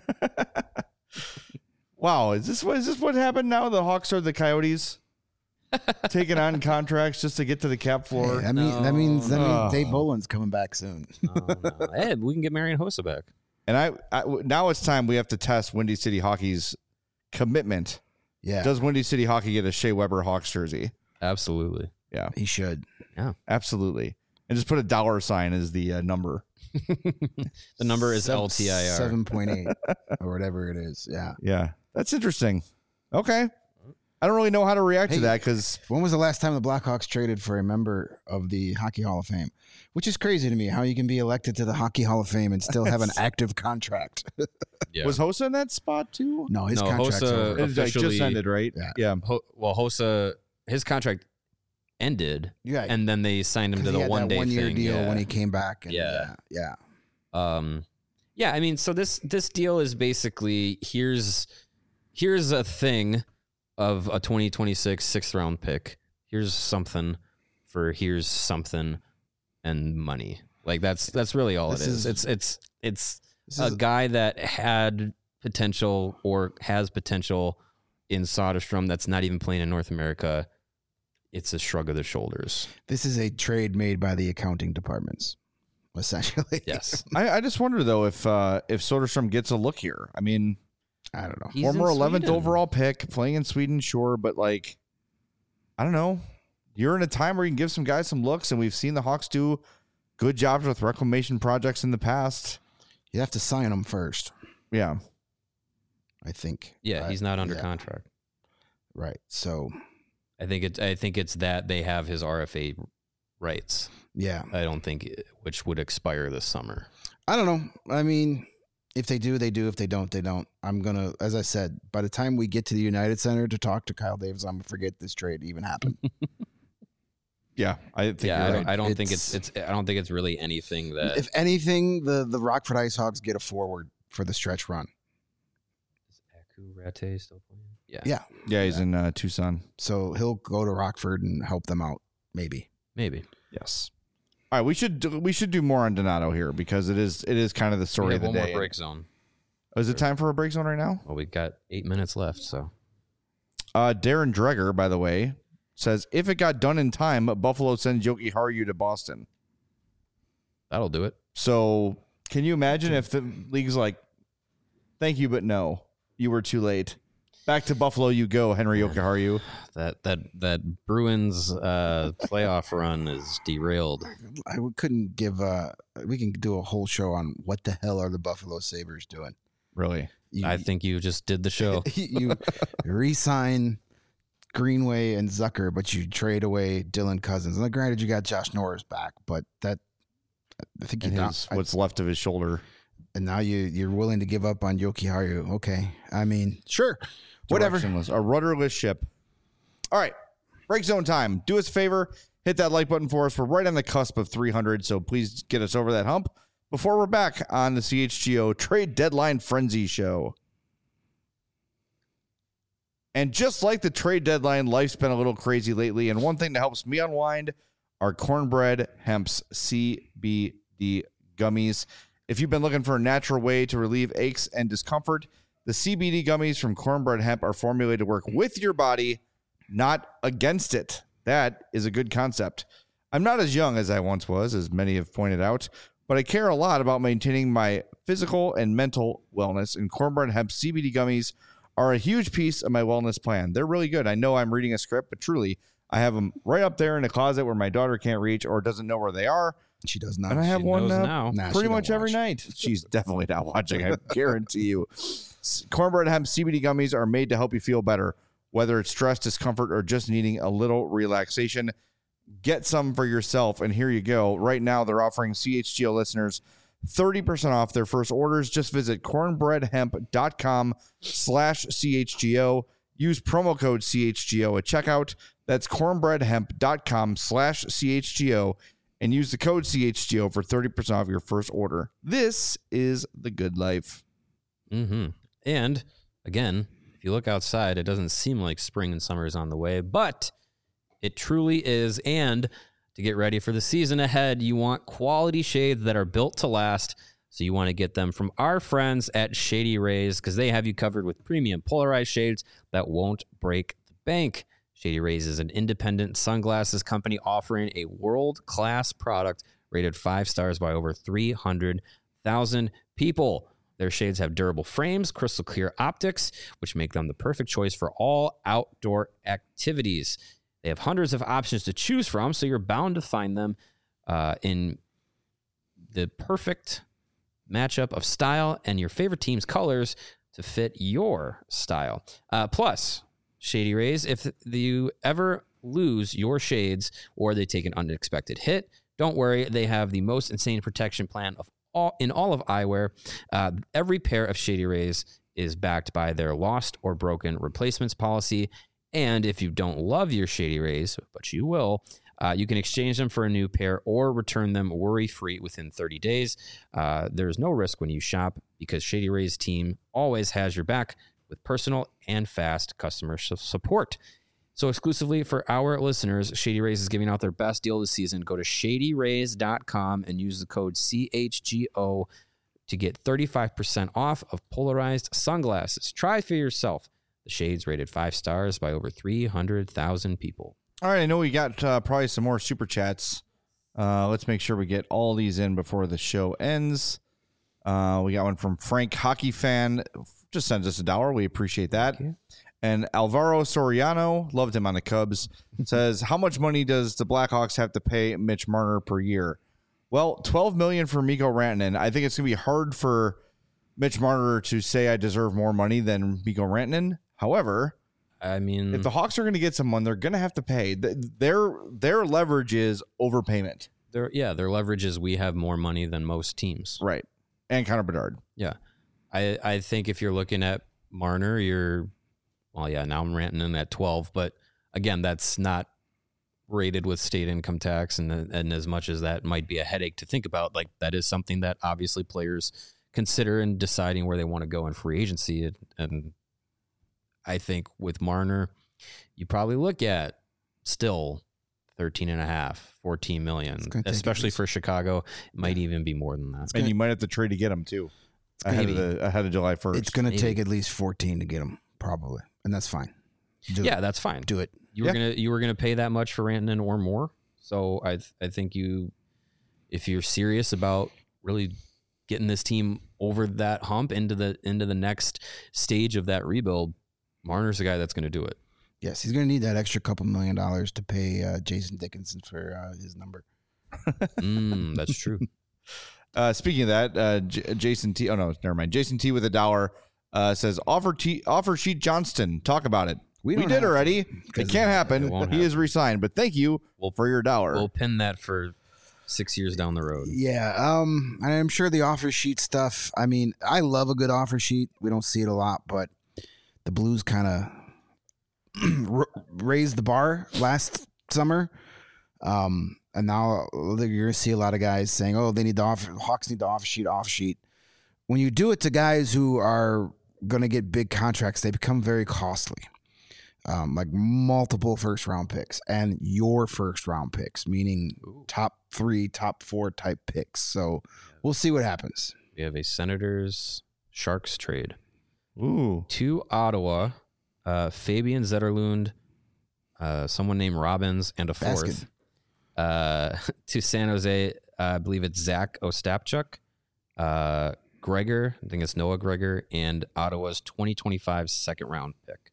Wow, is this what is this what happened now? The Hawks are the Coyotes taking on contracts just to get to the cap floor. Hey, that, mean, that means that No. means Dave Boland's coming back soon. Oh, no. Hey, we can get Marian Hossa back. And I, I now it's time we have to test Windy City Hockey's commitment. Yeah, Does Windy City Hockey get a Shea Weber Hawks jersey? Absolutely. Yeah, he should. absolutely. And just put a dollar sign as the uh, number. The number is Seven- L T I R. seven point eight or whatever it is. Yeah. Yeah, that's interesting. Okay. I don't really know how to react Hey. to that because When was the last time the Blackhawks traded for a member of the Hockey Hall of Fame? Which is crazy to me, how you can be elected to the Hockey Hall of Fame and still have an active contract. Yeah. was Hossa in that spot too? No, his No, contract's Hossa- over. It like, just Officially- ended, right? Yeah. yeah. Ho- well, Hossa, his contract ended, Yeah, and then they signed him to the one day one year thing. deal yeah. when he came back. And Yeah. yeah, yeah. Um, yeah, I mean, so this this deal is basically here's here's a thing of a twenty twenty-six sixth round pick. Here's something for here's something and money. Like that's that's really all This it is. is- It's it's it's This a is- guy that had potential or has potential in Soderstrom that's not even playing in North America. It's a shrug of the shoulders. This is a trade made by the accounting departments, essentially. Yes. I, I just wonder though if uh, if Soderstrom gets a look here. I mean, I don't know. He's former in eleventh Sweden. overall pick, playing in Sweden, sure, but like, I don't know. You're in a time where you can give some guys some looks, and we've seen the Hawks do good jobs with reclamation projects in the past. You have to sign him first, Yeah, I think. Yeah, Uh, he's not under yeah. contract. Right. So, I think it's I think it's that they have his R F A rights. yeah. I don't think it, which would expire this summer. I don't know. I mean, if they do, they do. If they don't, they don't. I'm going to, as I said, by the time we get to the United Center to talk to Kyle Davis, I'm going to forget this trade even happened. yeah. I think Yeah, you're I right. don't, I don't think it's It's- it's I don't think it's really anything that If anything, the, the Rockford Ice Hogs get a forward for the stretch run. is Aku Rate still playing. Yeah. Yeah. Yeah, he's in uh, Tucson. So he'll go to Rockford and help them out, maybe. Maybe. Yes. All right, we should do, we should do more on Donato here because it is it is kind of the We story have of the one day. more break zone. Oh, is it time for a break zone right now? Well, we've got eight minutes left, so Uh, Darren Dreger, by the way, says if it got done in time, Buffalo sends Yoki Haru to Boston. that'll do it. So can you imagine if the league's like, thank you, but no, you were too late. Back to Buffalo you go, Henry Yoki Haru. That that that Bruins uh, playoff run is derailed. I couldn't give. Uh, we can do a whole show on what the hell are the Buffalo Sabres doing. Really? You, I think you just did the show. you re-sign Greenway and Zucker, but you trade away Dylan Cousins. And granted, you got Josh Norris back, but that I think you And got. his, what's left of his shoulder. And now you you're willing to give up on Yoki Haru. Okay, I mean, sure, whatever. Directionless, a rudderless ship. All right, break zone time. Do us a favor, hit that like button for us. We're right on the cusp of three hundred, so please get us over that hump before we're back on the C H G O Trade Deadline Frenzy Show. And just like the trade deadline, life's been a little crazy lately, and one thing that helps me unwind are Cornbread Hemp's C B D gummies. If you've been looking for a natural way to relieve aches and discomfort, the C B D gummies from Cornbread Hemp are formulated to work with your body, not against it. That is a good concept. I'm not as young as I once was, as many have pointed out, but I care a lot about maintaining my physical and mental wellness, and Cornbread Hemp C B D gummies are a huge piece of my wellness plan. They're really good. I know I'm reading a script, but truly, I have them right up there in a closet where my daughter can't reach or doesn't know where they are. She does not. And I have She one knows uh, now. Nah, pretty she much don't every watch. night. She's definitely not watching, I guarantee you. S- Cornbread Hemp C B D gummies are made to help you feel better, whether it's stress, discomfort, or just needing a little relaxation. Get some for yourself, and here you go. Right now, they're offering C H G O listeners thirty percent off their first orders. Just visit cornbreadhemp.com slash CHGO. Use promo code C H G O at checkout. That's cornbreadhemp.com slash CHGO. And use the code C H G O for thirty percent off your first order. This is the good life. Mm-hmm. And again, if you look outside, it doesn't seem like spring and summer is on the way, but it truly is. And to get ready for the season ahead, you want quality shades that are built to last. So you want to get them from our friends at Shady Rays because they have you covered with premium polarized shades that won't break the bank. Shady Rays is an independent sunglasses company offering a world-class product rated five stars by over three hundred thousand people. Their shades have durable frames, crystal clear optics, which make them the perfect choice for all outdoor activities. They have hundreds of options to choose from, so you're bound to find them uh, in the perfect matchup of style and your favorite team's colors to fit your style. Uh, plus, Shady Rays, if you ever lose your shades or they take an unexpected hit, don't worry. They have the most insane protection plan of all in all of eyewear. Uh, every pair of Shady Rays is backed by their lost or broken replacements policy. And if you don't love your Shady Rays, but you will, uh, you can exchange them for a new pair or return them worry-free within thirty days. Uh, there's no risk when you shop because Shady Rays team always has your back with personal and fast customer support. So exclusively for our listeners, Shady Rays is giving out their best deal this season. Go to shady rays dot com and use the code C H G O to get thirty-five percent off of polarized sunglasses. Try for yourself. The shades rated five stars by over three hundred thousand people. All right, I know we got uh, probably some more super chats. Uh, let's make sure we get all these in before the show ends. Uh, we got one from Frank Hockey Fan. Just sends us a dollar. We appreciate that. And Alvaro Soriano, loved him on the Cubs, says, how much money does the Blackhawks have to pay Mitch Marner per year? Well, twelve million dollars for Mikko Rantanen. I think it's going to be hard for Mitch Marner to say I deserve more money than Mikko Rantanen. However, I mean, if the Hawks are going to get someone, they're going to have to pay. Their their leverage is overpayment. their yeah, their leverage is we have more money than most teams. Right. And Connor Bedard. Yeah. I I think if you're looking at Marner, you're well, yeah, now I'm ranting in at twelve, but again, that's not rated with state income tax, and and as much as that might be a headache to think about, like that is something that obviously players consider in deciding where they want to go in free agency, and, and I think with Marner, you probably look at still thirteen and a half, fourteen million, especially for Chicago. It might even be more than that. And you might have to trade to get him too. Ahead Maybe. of the ahead of July first. It's going to Maybe. take at least fourteen to get him, probably, and that's fine. Do Yeah, it. that's fine. Do it. You were Yeah. gonna you were gonna pay that much for Rantanen or more. So I th- I think you, if you're serious about really getting this team over that hump into the into the next stage of that rebuild, Marner's the guy that's going to do it. Yes, he's going to need that extra couple million dollars to pay uh, Jason Dickinson for uh, his number. Mm, that's true. Uh, speaking of that, uh, J- Jason T. Oh no, never mind. Jason T. with a dollar uh, says offer T. Offer Sheet Johnston. Talk about it. We, don't did have to, already. It 'cause can't happen. it won't He happen. is resigned, but thank you We'll- for your dollar. We'll pin that for six years down the road. Yeah, um, and I'm sure the offer sheet stuff. I mean, I love a good offer sheet. We don't see it a lot, but the Blues kind of raised the bar last summer, um, and now you're going to see a lot of guys saying, "Oh, they need the offer. Hawks need the offer sheet, offer sheet." When you do it to guys who are going to get big contracts, they become very costly. Um, like multiple first round picks and your first round picks, meaning Ooh. top three, top four type picks. So we'll see what happens. We have a Senators Sharks trade Ooh, to Ottawa, uh, Fabian Zetterlund, uh, someone named Robbins, and a fourth. Uh, to San Jose, uh, I believe it's Zach Ostapchuk, uh, Gregor, I think it's Noah Gregor, and Ottawa's twenty twenty-five second round pick.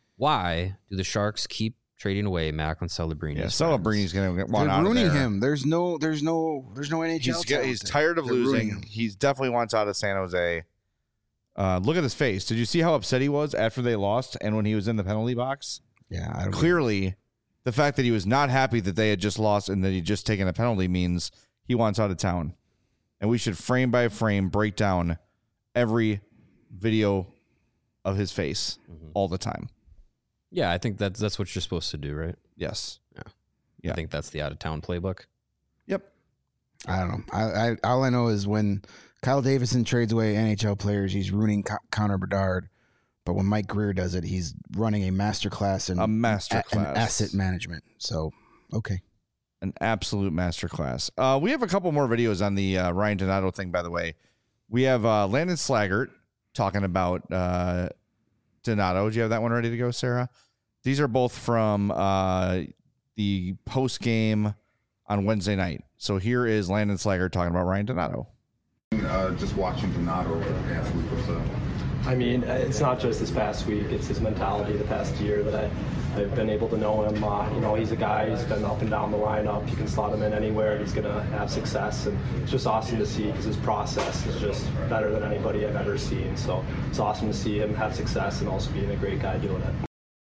Why do the Sharks keep trading away Macklin Celebrini? yeah. Celebrini's going to They're want out of ruining there. him. There's no, there's no, there's no N H L. He's got, he's talent. tired of They're ruining losing. him. He's definitely wants out of San Jose. Uh, look at his face. Did you see how upset he was after they lost and when he was in the penalty box? Yeah, I don't Clearly, the fact that he was not happy that they had just lost and that he'd just taken a penalty means he wants out of town. And we should frame by frame break down every video of his face Mhm. all the time. Yeah, I think that's that's what you're supposed to do, right? Yes. I think that's the out of town playbook. Yep. I don't know. I, I all I know is when Kyle Davison trades away N H L players, he's ruining Co- Connor Bedard. But when Mike Greer does it, he's running a masterclass in A master a- in class. asset management. So okay, An absolute masterclass. Uh, we have a couple more videos on the uh, Ryan Donato thing, by the way. We have uh, Landon Slaggert talking about uh, Donato. Do you have that one ready to go, Sarah? These are both from uh, the post game on Wednesday night. So here is Landon Slaggert talking about Ryan Donato. Uh, just watching Donato last week was uh, I mean, it's not just this past week. It's his mentality the past year that I, I've been able to know him. Uh, you know, he's a guy who's been up and down the lineup. You can slot him in anywhere. He's going to have success. And it's just awesome to see because his process is just better than anybody I've ever seen. So it's awesome to see him have success and also being a great guy doing it.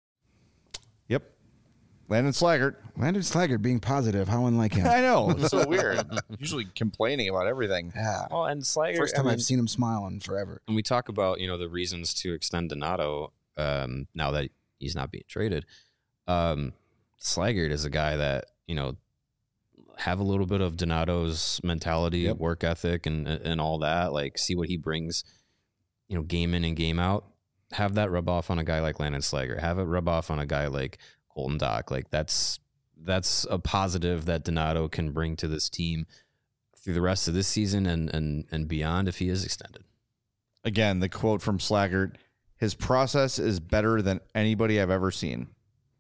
Yep. Landon Slaggert. Landon Slaggert being positive. How unlike him. I know. It's so weird. Usually complaining about everything. Yeah. Well, and Slager. First time I mean, I've seen him smiling forever. when we talk about you know the reasons to extend Donato, um, now that he's not being traded, um, Slaggert is a guy that you know have a little bit of Donato's mentality, Yep. work ethic, and and all that. Like see what he brings, you know, game in and game out. Have that rub off on a guy like Landon Slaggert. Have it rub off on a guy like Colton Dach. Like that's that's a positive that Donato can bring to this team through the rest of this season and and and beyond if he is extended. Again, the quote from Slaggert, his process is better than anybody I've ever seen.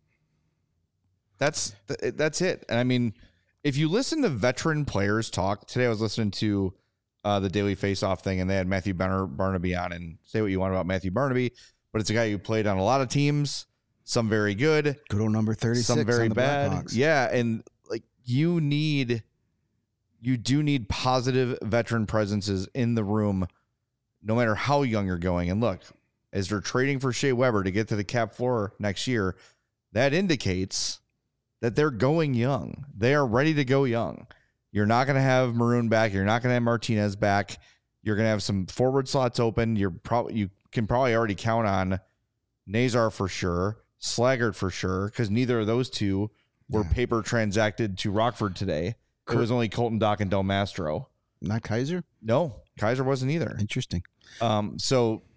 That's that's it. And I mean, if you listen to veteran players talk, today I was listening to uh, the Daily Face-Off thing, and they had Matthew Bar- Barnaby on, and say what you want about Matthew Barnaby, but it's a guy who played on a lot of teams, some very good, Good old number thirty-six. some very on the bad. Blackhawks. Yeah, and like you need, you do need positive veteran presences in the room, no matter how young you're going. And look, as they're trading for Shea Weber to get to the cap floor next year, that indicates that they're going young. They are ready to go young. You're not going to have Maroon back. You're not going to have Martinez back. You're going to have some forward slots open. You're probably you can probably already count on Nazar for sure, Slaggert for sure, because neither of those two were Yeah. paper transacted to Rockford today. It was only Colton Dach and Del Mastro. Not Kaiser. No, Kaiser wasn't either. Interesting. Um, so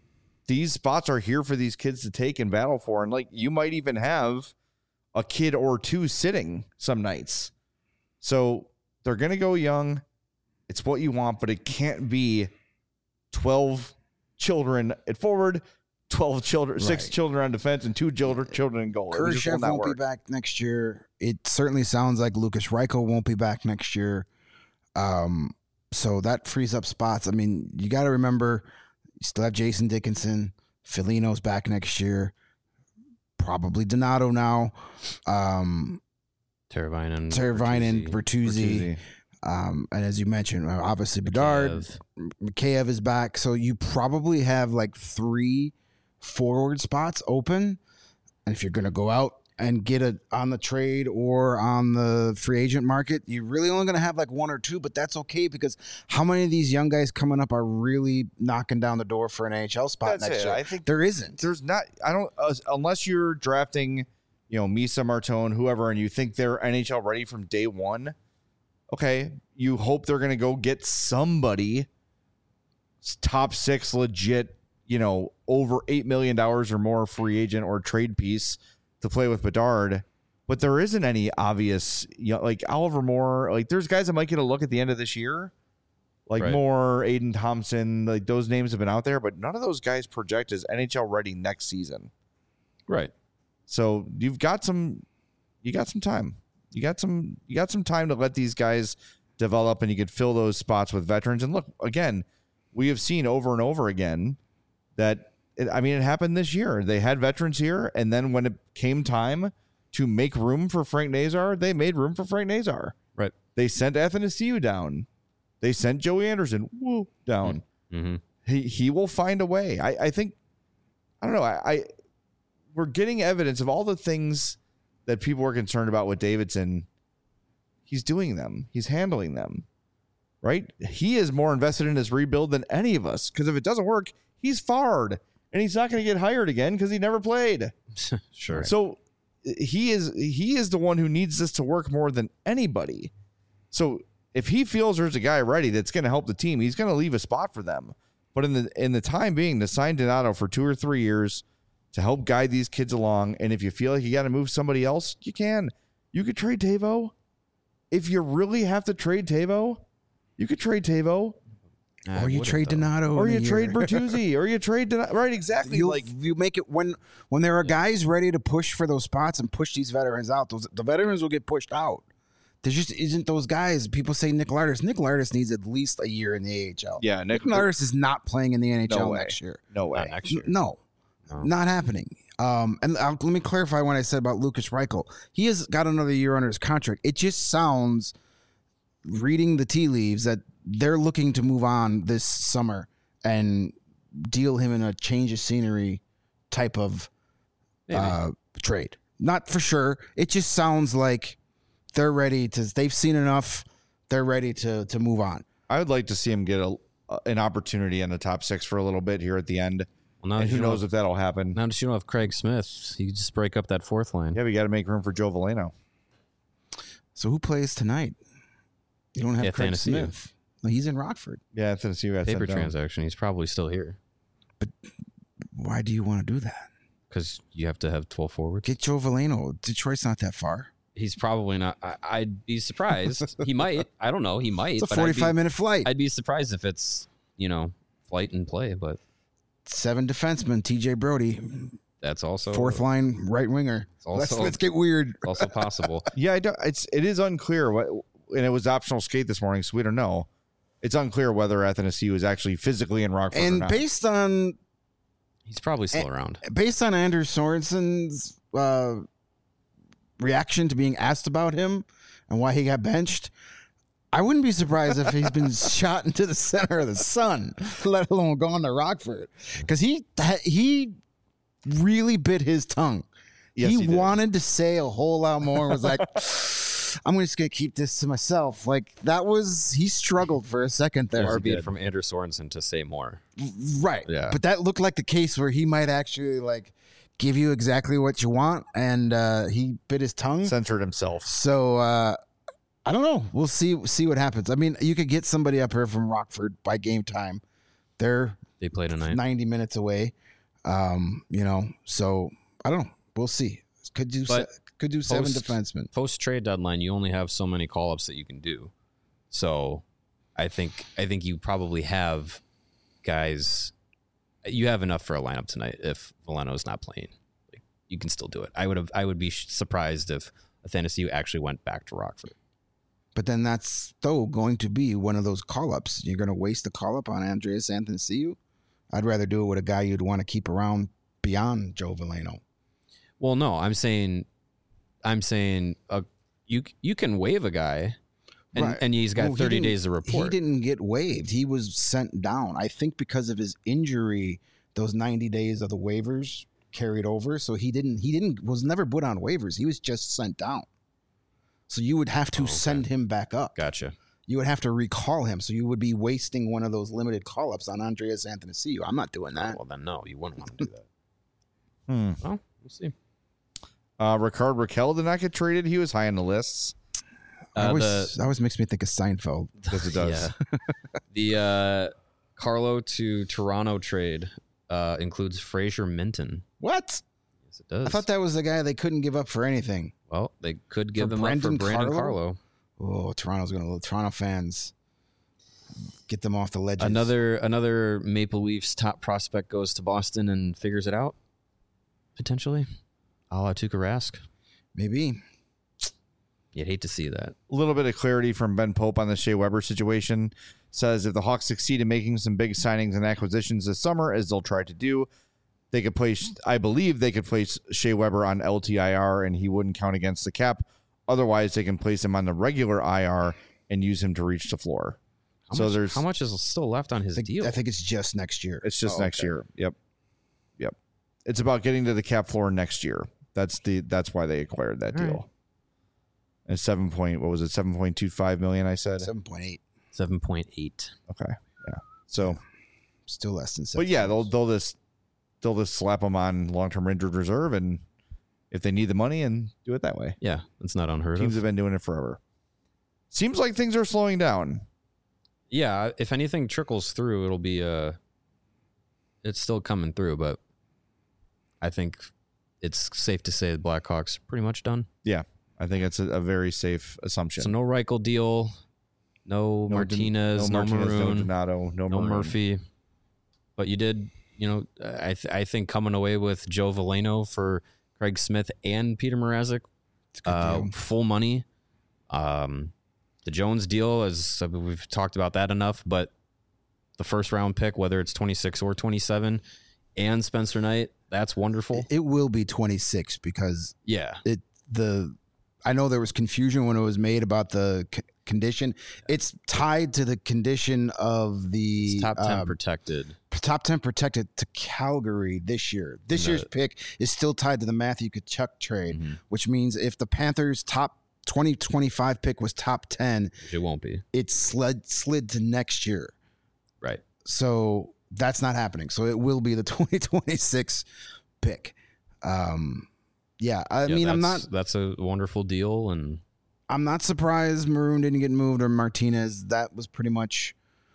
these spots are here for these kids to take and battle for. And like, you might even have a kid or two sitting some nights. So they're going to go young. It's what you want, but it can't be twelve children at forward, twelve children, right. six children on defense, and two children, children in goal. Kurashev won't be back next year. It certainly sounds like Lucas Reichel won't be back next year. Um, so that frees up spots. I mean, you got to remember, you still have Jason Dickinson. Felino's back next year. Probably Donato now. Um, Teravainen, Teravainen, Bertuzzi. Um, and as you mentioned, obviously Bedard, Mikheyev is back. So you probably have like three forward spots open. And if you're going to go out and get it on the trade or on the free agent market, you're really only going to have like one or two, but that's okay because how many of these young guys coming up are really knocking down the door for an N H L spot that's next it. year? I think there isn't. There's not, I don't, uh, unless you're drafting, you know, Misa, Martone, whoever, and you think they're N H L ready from day one. Okay, you hope they're going to go get somebody top six legit, you know, over eight million dollars or more free agent or trade piece to play with Bedard. But there isn't any obvious, you know, like Oliver Moore. Like there's guys that might get a look at the end of this year. Like right. Moore, Aiden Thompson, like those names have been out there, but none of those guys project as N H L ready next season. Right. So you've got some, you got some time. You got some you got some time to let these guys develop, and you could fill those spots with veterans. And look, again, we have seen over and over again that, it, I mean, it happened this year. They had veterans here, and then when it came time to make room for Frank Nazar, they made room for Frank Nazar. Right. They sent Athanasiou down. They sent Joey Anderson woo, down. Mm-hmm. He he will find a way. I, I think, I don't know, I, I we're getting evidence of all the things that people were concerned about with Davidson. He's doing them. He's handling them, right? He is more invested in his rebuild than any of us, because if it doesn't work, he's fired, and he's not going to get hired again because he never played. Sure. So he is he is the one who needs this to work more than anybody. So if he feels there's a guy ready that's going to help the team, he's going to leave a spot for them. But in the in the time being, to sign Donato for two or three years to help guide these kids along. And if you feel like you got to move somebody else, you can. You could trade Tavo. If you really have to trade Tavo, you could trade Tavo. Or you trade Donato. Or you trade Bertuzzi. Or you trade Donato. Right, exactly. You, like you make it when when there are guys ready to push for those spots and push these veterans out, those the veterans will get pushed out. There just isn't those guys. People say Nick Lardis. Nick Lardis needs at least a year in the A H L. Yeah, Nick, Nick Lardis is not playing in the N H L no next year. No way. Not next year. No. No. Not happening. Um, and uh, let me clarify what I said about Lucas Reichel. He has got another year under his contract. It just sounds, reading the tea leaves, that they're looking to move on this summer and deal him in a change of scenery type of uh, trade. Not for sure. It just sounds like they're ready to. They've seen enough. They're ready to to move on. I would like to see him get a, an opportunity in the top six for a little bit here at the end. Well, now and who you knows know, if that'll happen. Now that you don't have Craig Smith, you can just break up that fourth line. Yeah, we got to make room for Joe Veleno. So who plays tonight? You don't have Yeah, Craig Athanasiou. Smith. No, he's in Rockford. Yeah, Tennessee got Paper sent down. transaction. He's probably still here But why do you want to do that? because you have to have twelve forwards. Get Joe Veleno. Detroit's not that far. He's probably not. I, I'd be surprised. He might. I don't know. He might. It's a but I'd be- forty-five minute flight. I'd be surprised if it's, you know, flight and play, but Seven defensemen. T J Brody, that's also fourth line right winger. also- Let's let's get weird. also possible. Yeah, I don't, it's it is unclear what, and it was optional skate this morning, so we don't know. It's unclear whether Athanasiou is actually physically in Rockford or And not. based on He's probably still around. based on Andrew Sorensen's uh, reaction to being asked about him and why he got benched, I wouldn't be surprised if he's been shot into the center of the sun, let alone gone to Rockford, because he he really bit his tongue. Yes, he, he did. wanted to say a whole lot more. Was like, I'm just gonna keep this to myself. Like that was he struggled for a second there. Far be it from Andrew Sorensen to say more. Right. Yeah. But that looked like the case where he might actually like give you exactly what you want, and uh, he bit his tongue. Censored himself. So uh, I don't know. We'll see see what happens. I mean, you could get somebody up here from Rockford by game time. They're They play tonight. ninety minutes away. Um, you know, so I don't know. We'll see. Could do But se- could do seven post- defensemen. Post trade deadline, you only have so many call ups that you can do. So I think I think you probably have guys. You have enough for a lineup tonight if Veleno is not playing. Like, you can still do it. I would have. I would be surprised if Athanasiou actually went back to Rockford. But then that's still going to be one of those call ups. You're going to waste a call up on Andreas Athanasiou. I'd rather do it with a guy you'd want to keep around beyond Joe Veleno. Well, no, I'm saying, I'm saying, uh, you you can waive a guy, and, Right. and he's got Well, he thirty didn't- days to report. He didn't get waived. He was sent down. I think because of his injury, those ninety days of the waivers carried over. So he didn't. He didn't. Was never put on waivers. He was just sent down. So you would have to Oh, okay. send him back up. Gotcha. You would have to recall him. So you would be wasting one of those limited call ups on Andreas Athanasiou. I'm not doing that. Well, then no, you wouldn't want to do that. Hmm. Well, we'll see. Uh, Ricard Raquel did not get traded. He was high on the lists. That Uh, always, the that always makes me think of Seinfeld. Because it does. Yeah. the uh, Carlo to Toronto trade uh, includes Fraser Minton. What? Yes, it does. I thought that was the guy they couldn't give up for anything. Well, they could give For him Brendan up for Brandon Carlo? Carlo. Oh, Toronto's going to Toronto fans. Get them off the ledges. Another another Maple Leafs top prospect goes to Boston and figures it out. Potentially, a la Tuukka Rask. Maybe. You'd hate to see that. A little bit of clarity from Ben Pope on the Shea Weber situation. Says if the Hawks succeed in making some big signings and acquisitions this summer, as they'll try to do, they could place, I believe they could place Shea Weber on L T I R and he wouldn't count against the cap. Otherwise, they can place him on the regular I R and use him to reach the floor. How so much, there's how much is still left on his I think, deal? I think it's just next year. It's just Oh, next okay. year. Yep. Yep. It's about getting to the cap floor next year. That's the that's why they acquired that All deal. right. And seven point what was it, seven point two five million, I said? seven point eight. Seven point eight. Okay. Yeah. So Still less than seven. but yeah, they'll they'll just they'll just slap them on long term injured reserve and if they need the money and do it that way. Yeah, that's not unheard Teams of. have been doing it forever. Seems like things are slowing down. Yeah, if anything trickles through, it'll be uh it's still coming through, but I think it's safe to say the Blackhawks are pretty much done. Yeah. I think it's a, a very safe assumption. So no Reichel deal, no, No Martinez, no, no, Martinez, Maroon, no Donato, no, no Maroon. Murphy. But you did, you know, I th- I think coming away with Joe Veleno for Craig Smith and Peter Mrazek, It's a good uh, deal. full money. Um, the Jones deal, as we've talked about that enough, but the first round pick, whether it's twenty-six or twenty-seven, and Spencer Knight, that's wonderful. It will be twenty-six because Yeah. it the I know there was confusion when it was made about the c- condition. It's tied to the condition of the It's top ten um, protected. top ten protected to Calgary this year. This No. year's pick is still tied to the Matthew Tkachuk trade, Mhm. which means if the Panthers' top twenty twenty-five pick was top ten, It won't be. it slid slid to next year. Right. So that's not happening. So it will be the twenty twenty-six pick. Um, yeah, I Yeah, mean, I'm that's- not, That's a wonderful deal, and I'm not surprised Maroon didn't get moved or Martinez. That was pretty much.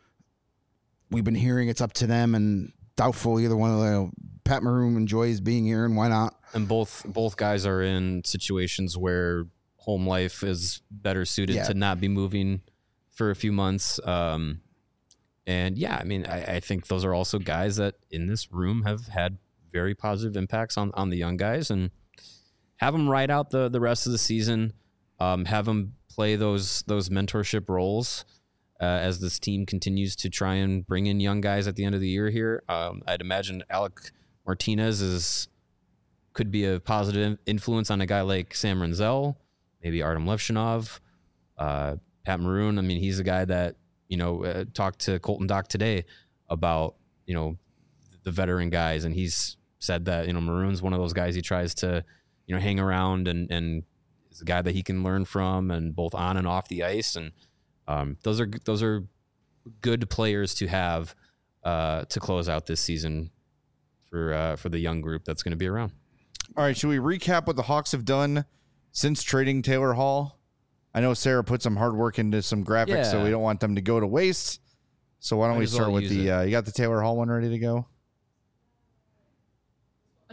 We've been hearing it's up to them, and doubtful either one of them. Pat Maroon enjoys being here, and why not? and both both guys are in situations where home life is better suited Yeah. to not be moving for a few months. Um, and yeah, I mean, I, I think those are also guys that in this room have had very positive impacts on on the young guys, and have them ride out the the rest of the season. Um, have them play those those mentorship roles uh, as this team continues to try and bring in young guys at the end of the year. Here, um, I'd imagine Alec Martinez is could be a positive influence on a guy like Sam Renzel, maybe Artem Levshinov, uh, Pat Maroon. I mean, he's a guy that you know uh, talked to Colton Dock today about you know the veteran guys, and he's said that you know Maroon's one of those guys he tries to you know hang around and and is a guy that he can learn from, and both on and off the ice, and um, those are those are good players to have uh, to close out this season for uh, for the young group that's going to be around. All right, should we recap what the Hawks have done since trading Taylor Hall? I know Sarah put some hard work into some graphics, so Yeah. we don't want them to go to waste. So why don't Might we as well start with use the? it. Uh, you got the Taylor Hall one ready to go?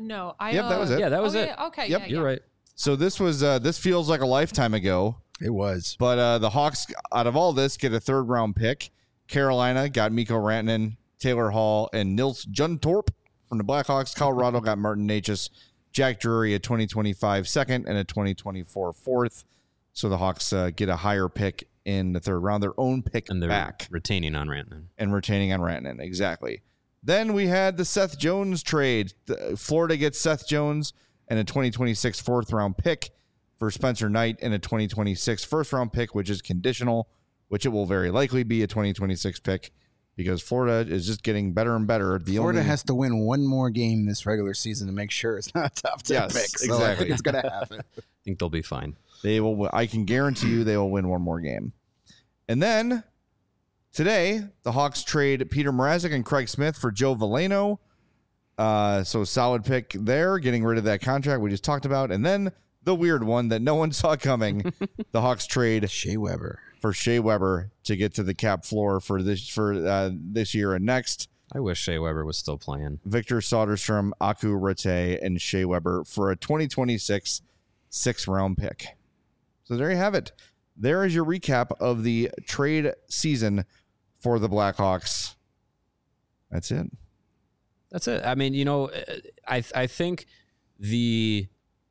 No, I. Yep, that was it. Yeah, that was okay, it. Okay, Yep, yeah, You're yeah. right. So this was uh, this feels like a lifetime ago, It was. but uh, the Hawks, out of all this, get a third round pick. Carolina got Mikko Rantanen, Taylor Hall, and Nils Juntorp from the Blackhawks. Colorado got Martin Necas, Jack Drury, a twenty twenty-five second, and a twenty twenty-four fourth. So the Hawks uh, get a higher pick in the third round, their own pick And they're back, retaining on Rantanen. and retaining on Rantanen. Exactly. Then we had the Seth Jones trade. The- Florida gets Seth Jones and a twenty twenty-six fourth round pick for Spencer Knight and a twenty twenty-six first round pick, which is conditional, which it will very likely be a twenty twenty-six pick because Florida is just getting better and better. The Florida only, has to win one more game this regular season to make sure it's not a top ten Yes, pick. So I exactly. think it's going to happen. I think they'll be fine. They will. I can guarantee you they will win one more game. And then today, the Hawks trade Peter Mrazek and Craig Smith for Joe Veleno. Uh, so solid pick there, getting rid of that contract we just talked about. And then the weird one that no one saw coming, the Hawks trade Shea Weber. for Shea Weber to get to the cap floor for this for uh, this year and next. I wish Shea Weber was still playing. Victor Soderstrom, Aku Rete, and Shea Weber for a twenty twenty-six sixth round pick. So there you have it. There is your recap of the trade season for the Blackhawks. That's it. That's it. I mean, you know, I I think the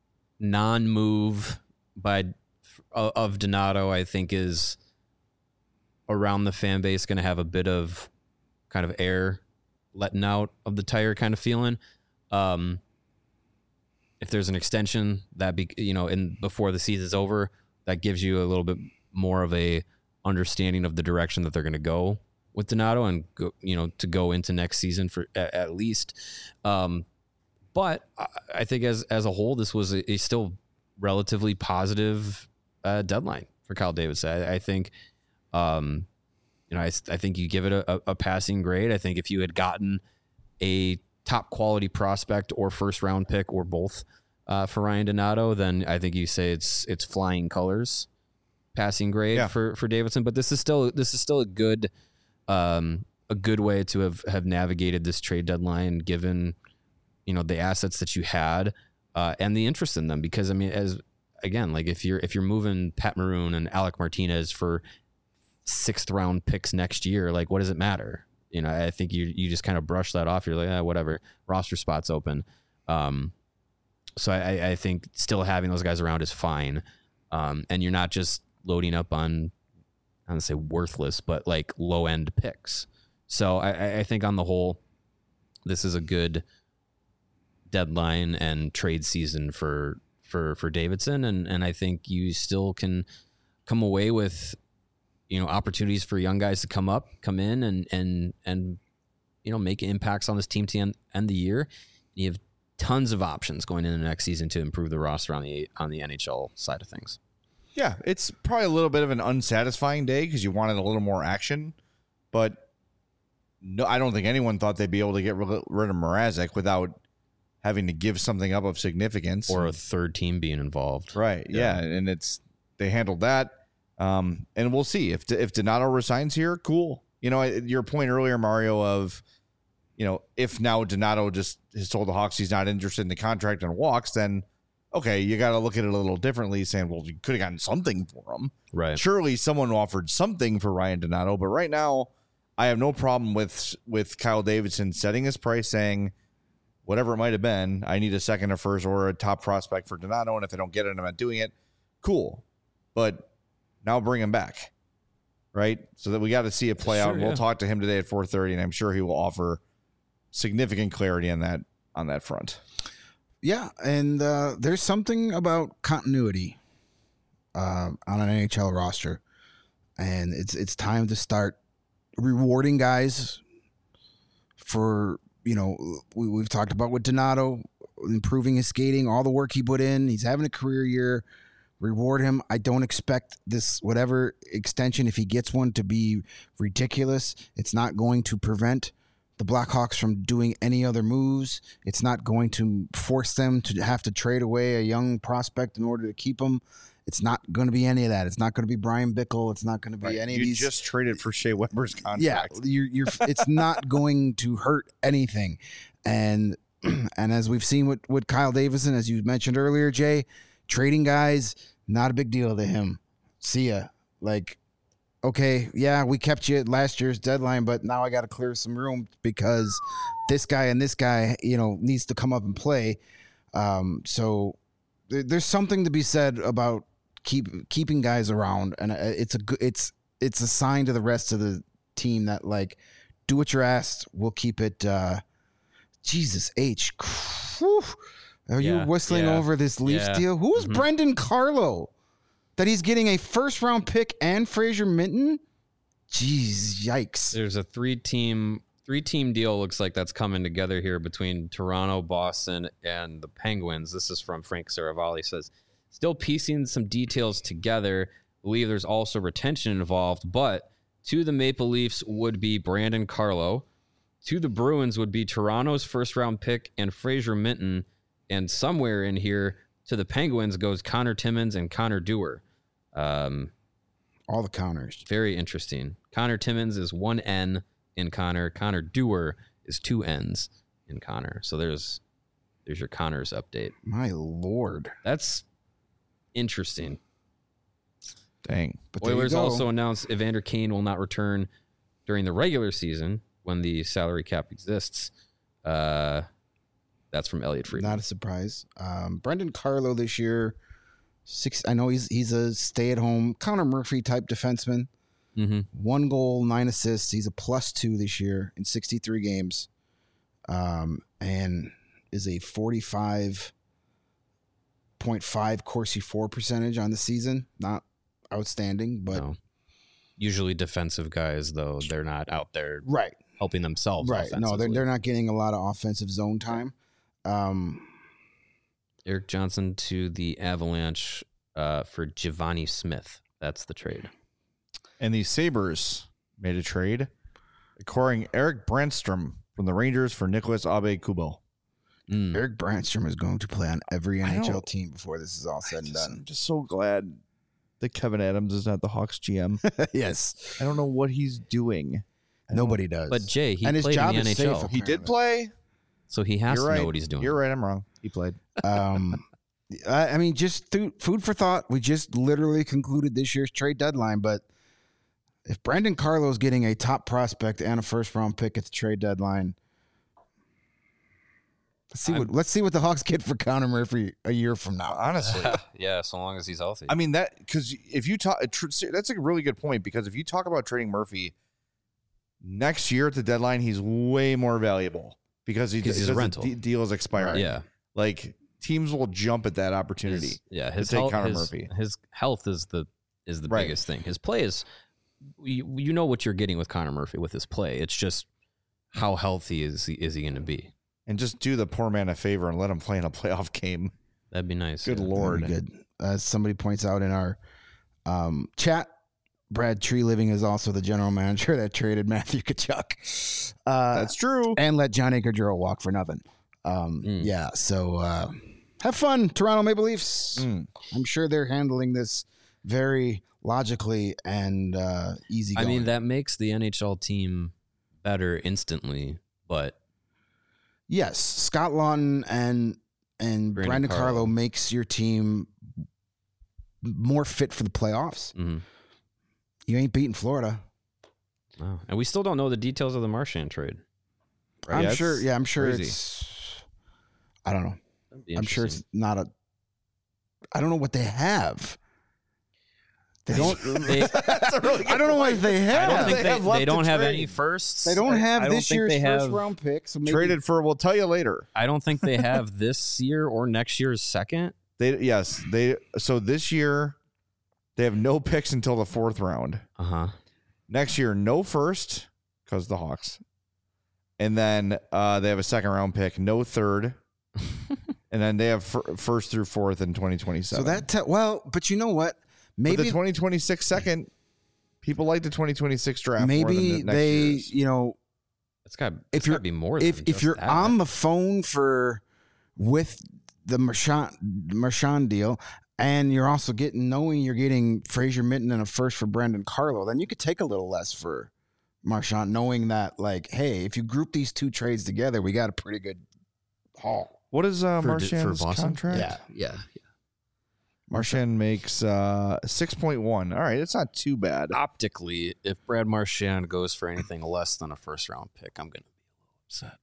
non-move by of Donato, I think, is around the fan base going to have a bit of kind of air letting out of the tire kind of feeling. Um, if there's an extension that be you know, in before the season's over, that gives you a little bit more of a understanding of the direction that they're going to go with Donato and go, you know, to go into next season for at, at least. Um, but I, I think as as a whole, this was a, a still relatively positive uh, deadline for Kyle Davidson. I, I think, um, you know, I, I think you give it a, a passing grade. I think if you had gotten a top quality prospect or first round pick or both uh, for Ryan Donato, then I think you say it's it's flying colors passing grade Yeah. for for Davidson. But this is still this is still a good um, a good way to have have navigated this trade deadline, given you know the assets that you had uh, and the interest in them. Because I mean, as again, like if you're if you're moving Pat Maroon and Alec Martinez for sixth round picks next year, like what does it matter? You know, I think you you just kind of brush that off. You're like, ah, whatever, roster spots open. Um, so I, I think still having those guys around is fine. Um, and you're not just loading up on, I don't say worthless, but like low end picks. So I, I think on the whole, this is a good deadline and trade season for for for Davidson, and and I think you still can come away with, you know, opportunities for young guys to come up, come in, and and and you know make impacts on this team to end, end the year. You have tons of options going into the next season to improve the roster on the on the N H L side of things. Yeah, it's probably a little bit of an unsatisfying day because you wanted a little more action, but no, I don't think anyone thought they'd be able to get rid of Mrazek without having to give something up of significance Or a third team being involved. Right. Yeah. yeah. And it's, they handled that. Um, and we'll see if, if Donato resigns here. Cool. You know, your point earlier, Mario, of, you know, if now Donato just has told the Hawks he's not interested in the contract and walks, then okay, you got to look at it a little differently, saying, well, you could have gotten something for him. Right. Surely someone offered something for Ryan Donato, but right now I have no problem with, with Kyle Davidson setting his price, saying, whatever it might have been, I need a second or first or a top prospect for Donato, and if I don't get it, I'm not doing it. Cool. But now bring him back, right? So that we got to see it play Sure, out. And we'll yeah. talk to him today at four thirty, and I'm sure he will offer significant clarity on that on that front. Yeah, and uh, there's something about continuity uh, on an N H L roster, and it's it's time to start rewarding guys for, you know, we, we've talked about with Donato, improving his skating, all the work he put in. He's having a career year. Reward him. I don't expect this, whatever extension, if he gets one, to be ridiculous. It's not going to prevent the Blackhawks from doing any other moves. It's not going to force them to have to trade away a young prospect in order to keep him. It's not going to be any of that. It's not going to be Brian Bickle. It's not going to be Right. any you of these. just traded for Shea Weber's contract. Yeah, you're, you're, it's not going to hurt anything. And and as we've seen with, with Kyle Davison, as you mentioned earlier, Jay, trading guys, not a big deal to him. See ya. Like, okay, yeah, we kept you at last year's deadline, but now I got to clear some room because this guy and this guy, you know, needs to come up and play. Um, so there, there's something to be said about keep keeping guys around, and it's a it's it's a sign to the rest of the team that, like, do what you're asked. We'll keep it. Uh, Jesus H. Whew. Are Yeah, you whistling yeah, over this Leafs yeah. deal? Who's Mhm. Brendan Carlo? That he's getting a first round pick and Fraser Minton? Jeez, yikes. There's a three team three team deal looks like that's coming together here between Toronto, Boston, and the Penguins. This is from Frank Saravalli. Says still piecing some details together. Believe there's also retention involved, but to the Maple Leafs would be Brandon Carlo. To the Bruins would be Toronto's first round pick and Fraser Minton. And somewhere in here to the Penguins goes Connor Timmins and Connor Dewar. Um, All the counters. very interesting. Connor Timmins is one N in Connor. Connor Dewar is two N's in Connor. So there's there's your Connors update. My Lord. That's interesting. Dang. But there you Oilers go. also announced Evander Kane will not return during the regular season when the salary cap exists. Uh, that's from Elliot Friedman. Not a surprise. Um, Brendan Carlo this year, six. I know he's he's a stay-at-home Connor Murphy type defenseman. Mm-hmm. One goal, nine assists. He's a plus two this year in sixty-three games, um, and is a forty-five point five Corsi four percentage on the season. Not outstanding, but No. Usually defensive guys, though, they're not out there right, helping themselves. right. No, they're offensively. they're not getting a lot of offensive zone time. Um, Eric Johnson to the Avalanche uh, for Giovanni Smith. That's the trade. And the Sabres made a trade, acquiring Eric Brandstrom from the Rangers for Nicholas Abe-Kubel. Mm. Eric Brandstrom is going to play on every I N H L know. team before this is all said and Just- done. I'm just so glad that Kevin Adams is not the Hawks G M. Yes, I don't know what he's doing. I don't- nobody does. But Jay, he And his played job in the is N H L, safe. He did play. so he has You're to right. know what he's doing. You're right. I'm wrong. He played. Um, I, I mean, just th- food for thought. We just literally concluded this year's trade deadline, but if Brandon Carlo's getting a top prospect and a first round pick at the trade deadline, let's see what let's see what the Hawks get for Connor Murphy a year from now. Honestly, Yeah, so long as he's healthy. I mean that because if you talk, tr- that's a really good point because if you talk about trading Murphy next year at the deadline, he's way more valuable because he 'Cause he's a because the rental. de- deal is expiring. yeah, like teams will jump at that opportunity. his, yeah. His take health, Connor his, Murphy. his health is the is the Right. biggest thing. His play is you, you know what you're getting with Connor Murphy with his play. It's just how healthy is he, is he going to be? And just do the poor man a favor and let him play in a playoff game. That'd be nice. Good yeah. lord. That'd be good. As somebody points out in our um, chat, Brad Tree Living is also the general manager that traded Matthew Tkachuk. Uh, That's true. and let Johnny Gaudreau walk for nothing. Um, Mm. Yeah, so uh, have fun, Toronto Maple Leafs. Mm. I'm sure they're handling this very logically and uh, easy. I going. mean, that makes the N H L team better instantly, but yes, Scott Lawton and and Brandon Brandon Carlo. Carlo. makes your team more fit for the playoffs. mhm. You ain't beating Florida. Wow. And we still don't know the details of the Marchand trade. I'm Yeah, sure. it's Yeah, I'm sure crazy. it's. I don't know. That'd be I'm sure it's interesting. not a. I don't know what they have. They don't. They, That's a really I don't know what they I have. don't think they they, have they left don't to have trade. any firsts. They don't have I don't this think year's they first have- round pick. So maybe Traded for. We'll tell you later. I don't think they have this year or next year's second. They yes they so this year they have no picks until the fourth round. Uh huh. Next year no first because the Hawks, and then uh, they have a second round pick, no third, and then they have fir- first through fourth in twenty twenty So seven. that te- well, but you know what? maybe Maybe the twenty twenty-six second. People like the twenty twenty-six draft. more than maybe the next they year's. you know It's got. If It's you're- got to be more. Than if if just you're that. on the phone for with the Marchand Marchand deal, and you're also getting knowing you're getting Fraser Minton and a first for Brandon Carlo, then you could take a little less for Marchand, knowing that like, hey, if you group these two trades together, we got a pretty good Hall. What is uh, For- for Marchand's Boston? contract? Yeah, yeah. Marchand makes uh, six point one. All right, it's not too bad. Optically, if Brad Marchand goes for anything less than a first round pick, I'm going to be a little upset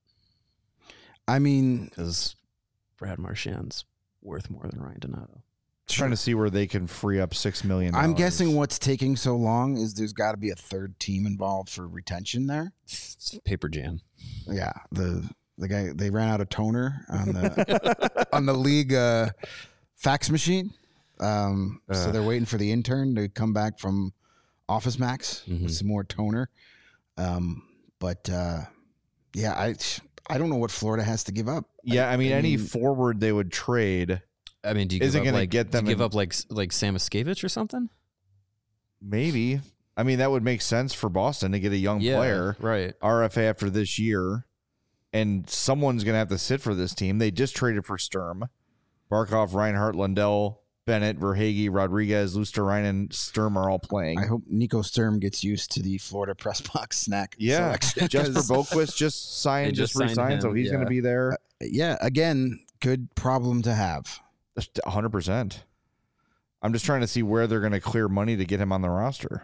I mean, because Brad Marchand's worth more than Ryan Donato. Trying to see where they can free up six million dollars. I'm guessing what's taking so long is there's got to be a third team involved for retention there. It's paper jam. Yeah, the the guy they ran out of toner on the on the league uh, fax machine, um, so Uh. they're waiting for the intern to come back from Office Max Mhm. with some more toner. Um, but uh, yeah, I I don't know what Florida has to give up. Yeah, I mean, I any mean- forward they would trade, I mean, do you Isn't give up gonna like, get do you them give in- up like like Samoskevich or something? maybe. I mean, that would make sense for Boston to get a young player, right? R F A after this year, and someone's going to have to sit for this team. They just traded for Sturm, Barkov, Reinhart, Lundell, Bennett, Verhage, Rodriguez, Luster-Reinen, Sturm are all playing. I hope Nico Sturm gets used to the Florida press box snack. Yeah, selection, Jesper 'cause- Boquist just signed, They just, just signed re-signed, so him, he's going yeah. to be there. Yeah, again, good problem to have. one hundred percent. I'm just trying to see where they're going to clear money to get him on the roster.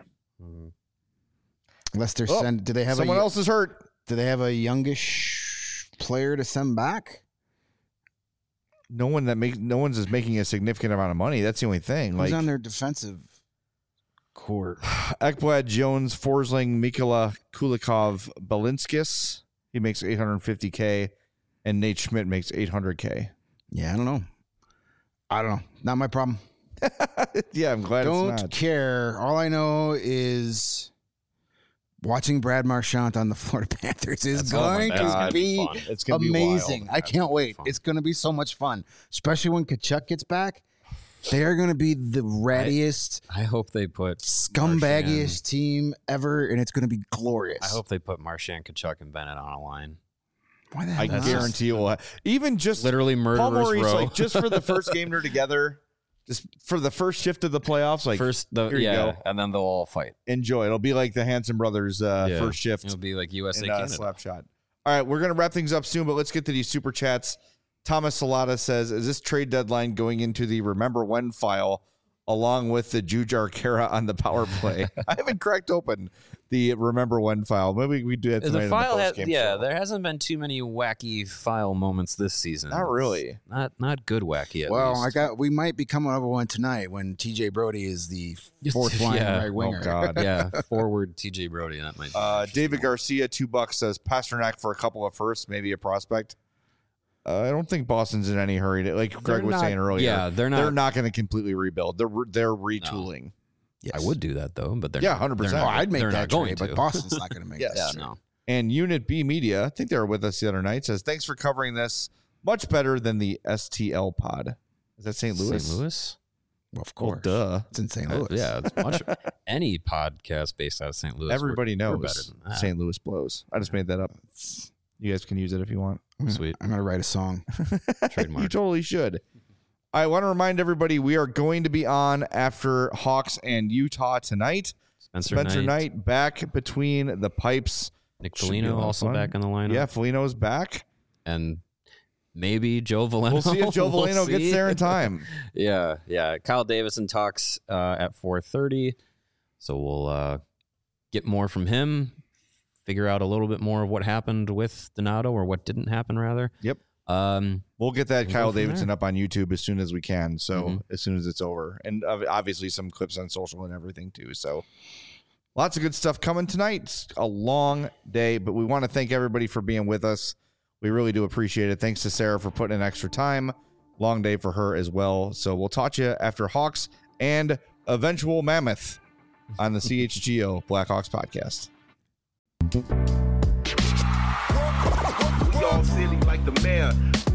Unless they're Oh, send, do they have Someone a, else is hurt. Do they have a youngish player to send back? No one that makes no one's is making a significant amount of money. That's the only thing. Who's Like on their defensive core? Ekblad, Jones, Forsling, Mikola Kulikov, Balinskis. He makes eight hundred fifty K, and Nate Schmidt makes eight hundred K. Yeah, I don't know. I don't know. Not my problem. Yeah, I'm glad Don't it's not. care. All I know is watching Brad Marchand on the Florida Panthers is Oh my going God. to be It's gonna be amazing. wild. I can't wait. fun. It's going to be so much fun, especially when Kachuk gets back. They are going to be the rattiest, I hope they put scumbaggiest Marchand- team ever, and it's going to be glorious. I hope they put Marchand, Kachuk, and Bennett on a line. Why the I hell not? guarantee it will. Ha- even just Literally Paul murderers Maurice, row. like just for the first game they're together, just for the first shift of the playoffs, like First, the, here you yeah, go. and then they'll all fight. enjoy. It'll be like the Hanson brothers uh, Yeah. first shift. It'll be like U S A in uh, Canada. slap shot. All right, we're gonna wrap things up soon, but let's get to these super chats. Thomas Salata says, "Is this trade deadline going into the remember when file along with the Jujar Kara on the power play?" I haven't cracked open the remember when file. Maybe we do that tonight. The file, in the has, post-game yeah, show. there hasn't been too many wacky file moments this season. Not really. Not not good wacky. At Well, least. I got. We might be coming up with one tonight when T J Brody is the fourth line Yeah. right winger. Oh God. yeah, forward T J Brody. That might. Be Uh, David Garcia, two bucks, says Pasternak for a couple of firsts, maybe a prospect. Uh, I don't think Boston's in any hurry. To, like Greg They're was not- saying earlier, yeah, they're not- They're not going to completely rebuild. They're re- they're retooling. I would do that though, but they're Yeah, not- one hundred percent. they're Oh, not- I'd make they're that not going trade, to. but Boston's not going to make Yes. that. Yeah, trade. no. And Unit B Media, I think they were with us the other night, says thanks for covering this much better than the S T L pod. Is that Saint Louis? Saint Louis. Well, of Well, course. duh. It's in Saint Uh, Louis. yeah, it's much. Any podcast based out of Saint Louis. Everybody we're, we're better knows than that. Saint Louis blows. I just made that up. You guys can use it if you want. Sweet. I'm going to write a song. Trademark. You totally should. I want to remind everybody we are going to be on after Hawks and Utah tonight. Spencer, Spencer Knight, Knight back between the pipes. Nick Should be a Foligno lot of also fun. back in the lineup. Yeah, Foligno's back. and maybe Joe Valeno. We'll see if Joe We'll Valeno gets see. there in time. yeah, yeah. Kyle Davison talks uh, at four thirty, so we'll uh, get more from him. Figure out a little bit more of what happened with Donato, or what didn't happen, rather. Yep. Um, We'll get that We'll Kyle go from Davidson there. up on YouTube as soon as we can. So Mhm. as soon as it's over, and ob- obviously some clips on social and everything too. So lots of good stuff coming tonight. It's a long day, but we want to thank everybody for being with us. We really do appreciate it. Thanks to Sarah for putting in extra time. Long day for her as well. So we'll talk to you after Hawks and eventual Mammoth on the C H G O Blackhawks podcast. We all silly like the mayor.